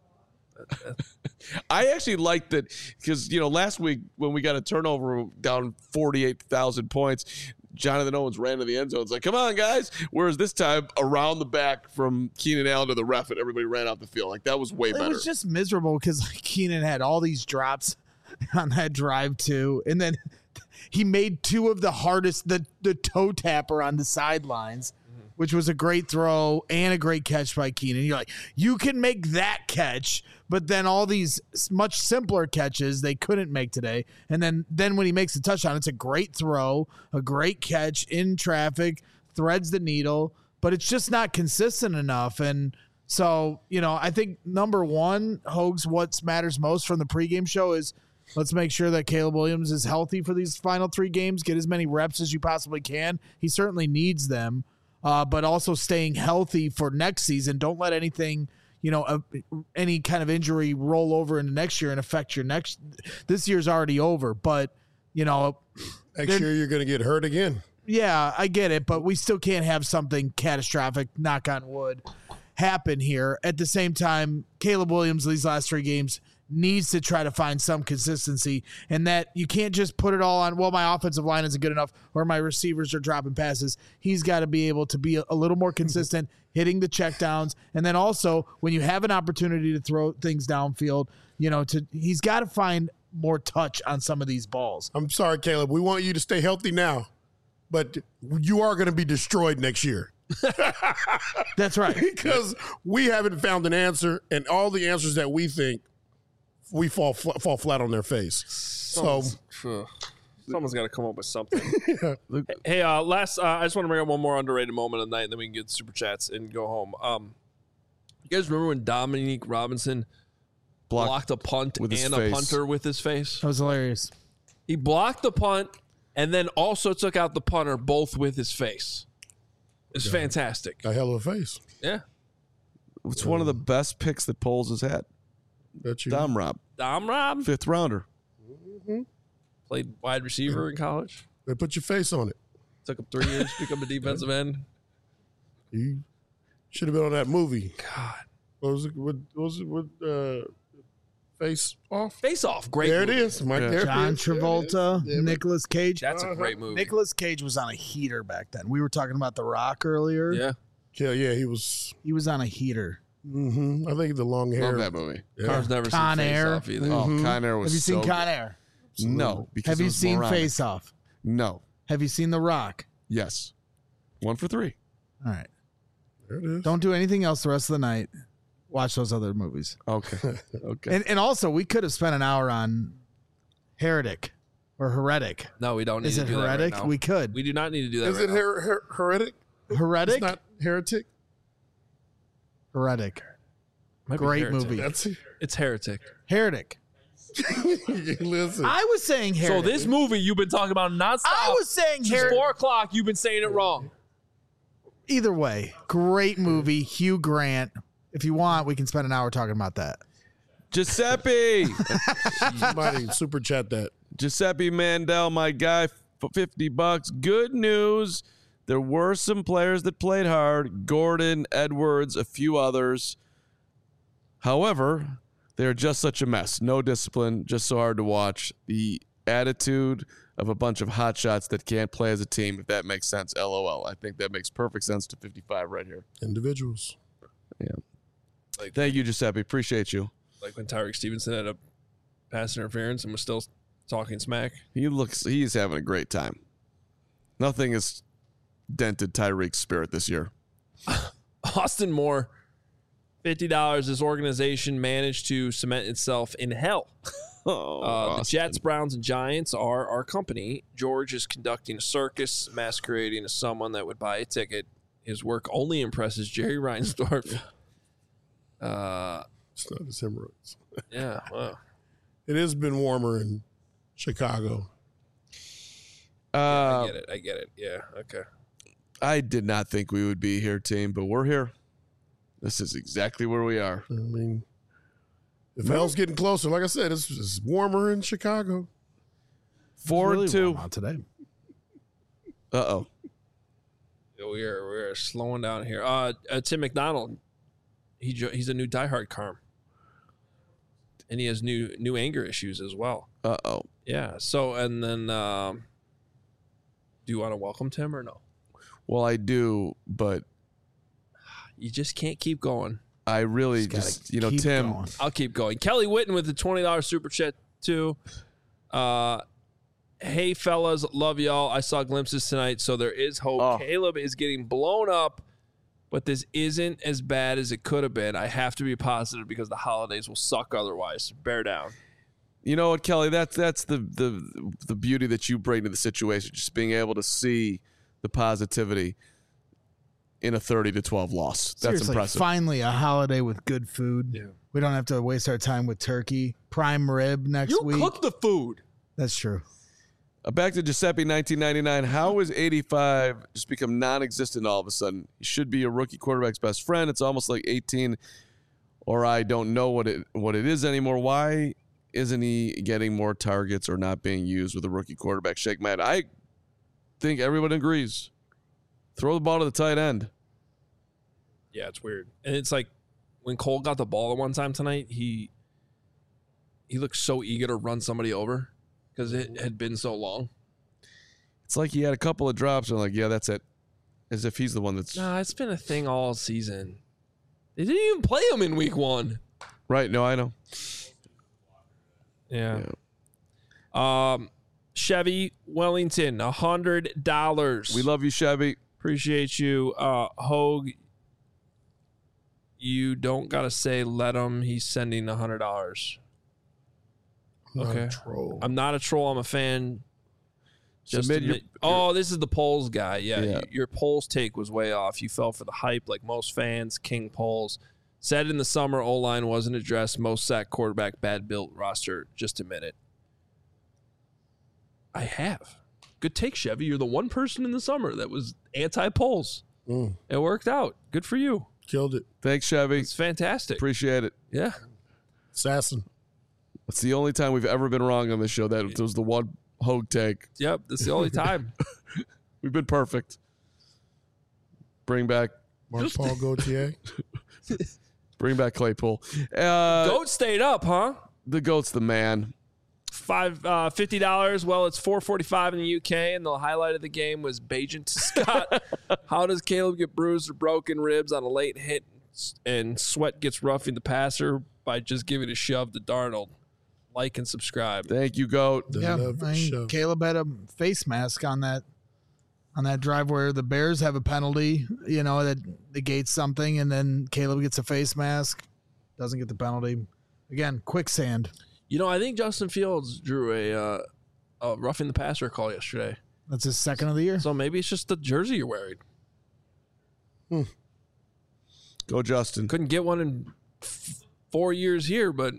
I actually liked it because, last week when we got a turnover down 48,000 points, Jonathan Owens ran to the end zone. It's like, come on, guys. Whereas this time, around the back from Keenan Allen to the ref, and everybody ran out the field. Like, that was way better. It was just miserable because Keenan had all these drops on that drive, too. And then he made two of the hardest, the toe tapper on the sidelines, which was a great throw and a great catch by Keenan. You're like, you can make that catch, but then all these much simpler catches they couldn't make today. And then when he makes a touchdown, it's a great throw, a great catch in traffic, threads the needle, but it's just not consistent enough. And so, I think number one, Hogs, what matters most from the pregame show is let's make sure that Caleb Williams is healthy for these final 3 games, get as many reps as you possibly can. He certainly needs them. But also staying healthy for next season. Don't let anything, any kind of injury roll over into next year and affect your this year's already over. But, next year you're going to get hurt again. Yeah, I get it. But we still can't have something catastrophic, knock on wood, happen here. At the same time, Caleb Williams, these last 3 games, needs to try to find some consistency, and that you can't just put it all on, well, my offensive line isn't good enough or my receivers are dropping passes. He's got to be able to be a little more consistent, hitting the checkdowns, and then also when you have an opportunity to throw things downfield, he's got to find more touch on some of these balls. I'm sorry, Caleb. We want you to stay healthy now, but you are going to be destroyed next year. That's right. Because we haven't found an answer, and all the answers that we think, we fall flat on their face. Someone's got to come up with something. Hey, I just want to bring up one more underrated moment of the night, and then we can get super chats and go home. You guys remember when Dominique Robinson blocked a punt and a punter with his face? That was hilarious. He blocked the punt and then also took out the punter both with his face. It's fantastic. A hell of a face. Yeah. It's one of the best picks that Poles has had. Dom Rob. 5th rounder. Mm-hmm. Played wide receiver in college. They put your face on it. Took him 3 years to become a defensive end. You should have been on that movie. God. What was it? Face Off? Face Off. Great There movie. it is. Mike, there John it is. Travolta, Nicolas Cage. That's a great movie. Nicolas Cage was on a heater back then. We were talking about The Rock earlier. Yeah. Yeah, he was. He was on a heater. Mm-hmm. I think the long hair. Love that movie. Yeah. Car's never Con seen Face Air. Off either. Oh, Con Air was Have you seen so Con good. Air? No. Because Have it you was seen moronic. Face Off? No. Have you seen The Rock? Yes. 1 for 3. All right. There it is. Don't do anything else the rest of the night. Watch those other movies. Okay. Okay. And also, we could have spent an hour on Heretic or Heretic. No, we don't need Is to it do that right Heretic? now. We could. We do not need to do that Is right it now. heretic? Heretic? It's not heretic. Heretic. Might be Great Heretic. movie. It's Heretic. Heretic. Listen. I was saying Heretic. So this movie you've been talking about nonstop. I was saying since Heretic. 4 o'clock. You've been saying it wrong. Either way, great movie. Hugh Grant. If you want, we can spend an hour talking about that. Giuseppe. Somebody super chat that. Giuseppe Mandel, my guy, for $50. Good news. There were some players that played hard. Gordon, Edwards, a few others. However, they're just such a mess. No discipline, just so hard to watch. The attitude of a bunch of hotshots that can't play as a team, if that makes sense. LOL. I think that makes perfect sense to 55 right here. Individuals. Yeah. Like, Thank you, Giuseppe. Appreciate you. like when Tyreek Stevenson had a pass interference and was still talking smack. He's having a great time. Nothing is dented Tyreek's spirit this year. Austin Moore, $50. This organization managed to cement itself in hell. The Jets, Browns, and Giants are our company. George is conducting a circus, masquerading as someone that would buy a ticket. His work only impresses Jerry Reinsdorf. It's not his hemorrhoids. Yeah, wow. It has been warmer in Chicago. I get it. Yeah, okay. I did not think we would be here, team, but we're here. This is exactly where we are. I mean, if hell's getting closer, like I said, it's warmer in Chicago. 4-2 out today. Uh-oh. We're slowing down here. Tim McDonald, he's a new diehard Carm. And he has new anger issues as well. Uh-oh. Yeah. So, and then, do you want to welcome Tim or no? Well, I do, but you just can't keep going. I really just Tim. Going. I'll keep going. Kelly Witten with the $20 super chat too. Hey fellas, love y'all. I saw glimpses tonight, so there is hope. Caleb is getting blown up, but this isn't as bad as it could have been. I have to be positive because the holidays will suck otherwise. Bear down. You know what, Kelly? That's the beauty that you bring to the situation. Just being able to see the positivity in a 30-12 loss. That's Seriously, impressive. Finally, a holiday with good food. Yeah. We don't have to waste our time with turkey. Prime rib next week. You cook the food. That's true. Back to Giuseppe, 1999. How has 85 just become non-existent all of a sudden? He should be a rookie quarterback's best friend. It's almost like 18, or I don't know what it is anymore. Why isn't he getting more targets or not being used with a rookie quarterback? Shake my head. I think everyone agrees. Throw the ball to the tight end. Yeah, it's weird. And it's like when Cole got the ball one time tonight, he looked so eager to run somebody over because it had been so long. It's like he had a couple of drops and like, yeah, that's it. As if he's the one that's... Nah, it's been a thing all season. They didn't even play him in week 1. Right, no, I know. Yeah. Chevy Wellington, $100. We love you, Chevy. Appreciate you. Hogue, you don't got to say let him. He's sending $100. Okay. I'm not a troll. I'm a fan. Just admit, this is the polls guy. Yeah. Your polls take was way off. You fell for the hype like most fans. King polls. Said in the summer, O-line wasn't addressed. Most sacked quarterback, bad built roster. Just admit it. I have. Good take, Chevy. You're the one person in the summer that was anti-polls. It worked out. Good for you. Killed it. Thanks, Chevy. It's fantastic. Appreciate it. Yeah. Assassin. It's the only time we've ever been wrong on this show. That was the one Hogue take. Yep, that's the only time. We've been perfect. Bring back Mark Paul Gauthier. Bring back Claypool. Goat stayed up, huh? The Goat's the man. $50. Well, it's $4.45 in the UK, and the highlight of the game was Bajan to Scott. How does Caleb get bruised or broken ribs on a late hit, and Sweat gets roughing the passer by just giving a shove to Darnold? Like and subscribe. Thank you, Goat. Caleb had a face mask on that drive where the Bears have a penalty, that negates something, and then Caleb gets a face mask, doesn't get the penalty. Again, quicksand. I think Justin Fields drew a roughing the passer call yesterday. That's his second of the year. So maybe it's just the jersey you're wearing. Go, Justin. Couldn't get one in 4 years here, but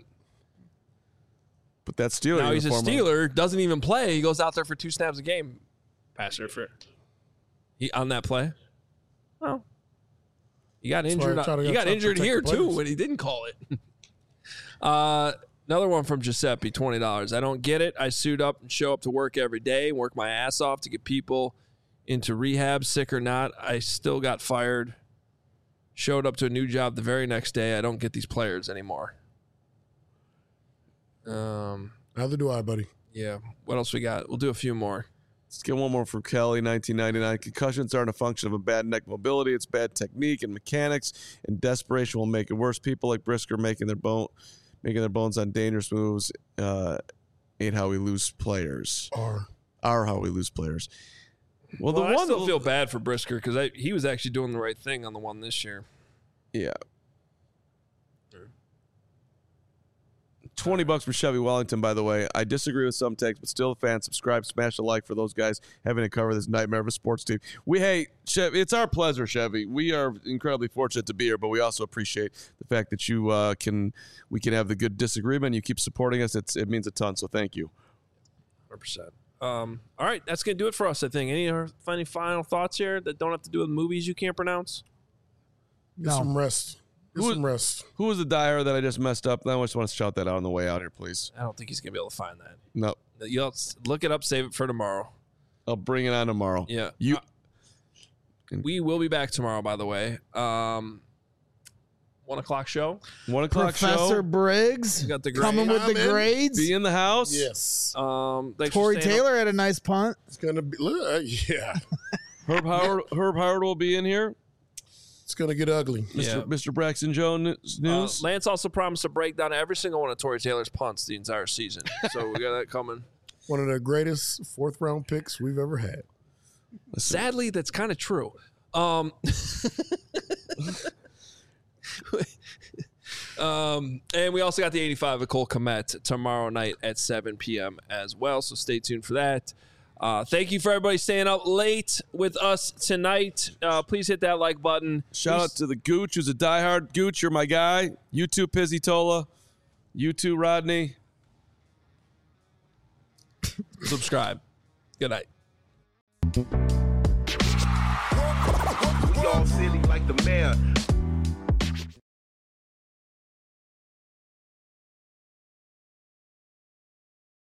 that Steeler. Now he's a Steeler, doesn't even play. He goes out there for 2 snaps a game. Passer for on that play. Well, he got injured. He got injured here too when he didn't call it. Another one from Giuseppe, $20. I don't get it. I suit up and show up to work every day, work my ass off to get people into rehab, sick or not. I still got fired. Showed up to a new job the very next day. I don't get these players anymore. Neither do I, buddy. Yeah. What else we got? We'll do a few more. Let's get one more from Kelly, 1999. Concussions aren't a function of a bad neck mobility. It's bad technique and mechanics, and desperation will make it worse. People like Brisker making their bones on dangerous moves ain't how we lose players. Are how we lose players. Well, I still feel bad for Brisker because he was actually doing the right thing on the one this year. Yeah. $20 for Chevy Wellington, by the way. I disagree with some takes, but still a fan. Subscribe, smash a like for those guys having to cover this nightmare of a sports team. Chevy, it's our pleasure, Chevy. We are incredibly fortunate to be here, but we also appreciate the fact that we can have the good disagreement. You keep supporting us. It means a ton, so thank you. 100%. All right, that's going to do it for us, I think. Any final thoughts here that don't have to do with movies you can't pronounce? Get some rest. Who was the dyer that I just messed up? I just want to shout that out on the way out here, please. I don't think he's going to be able to find that. No. You'll look it up, save it for tomorrow. I'll bring it on tomorrow. Yeah. We will be back tomorrow, by the way. 1 o'clock show. 1 o'clock show. Professor Briggs got the coming with the grades. Be in the house. Yes. Corey Taylor had a nice punt. It's going to be, yeah. Herb Howard will be in here. It's going to get ugly. Mr. Braxton Jones news. Lance also promised to break down every single one of Tory Taylor's punts the entire season. So we got that coming. One of the greatest 4th-round picks we've ever had. Sadly, that's kind of true. And we also got the 85 of Cole Kmet tomorrow night at 7 p.m. as well. So stay tuned for that. Thank you for everybody staying up late with us tonight. Please hit that like button. Shout out to the Gooch, who's a diehard. Gooch, you're my guy. You too, Pizzy Tola. You too, Rodney. Subscribe. Good night. We all silly like the mayor.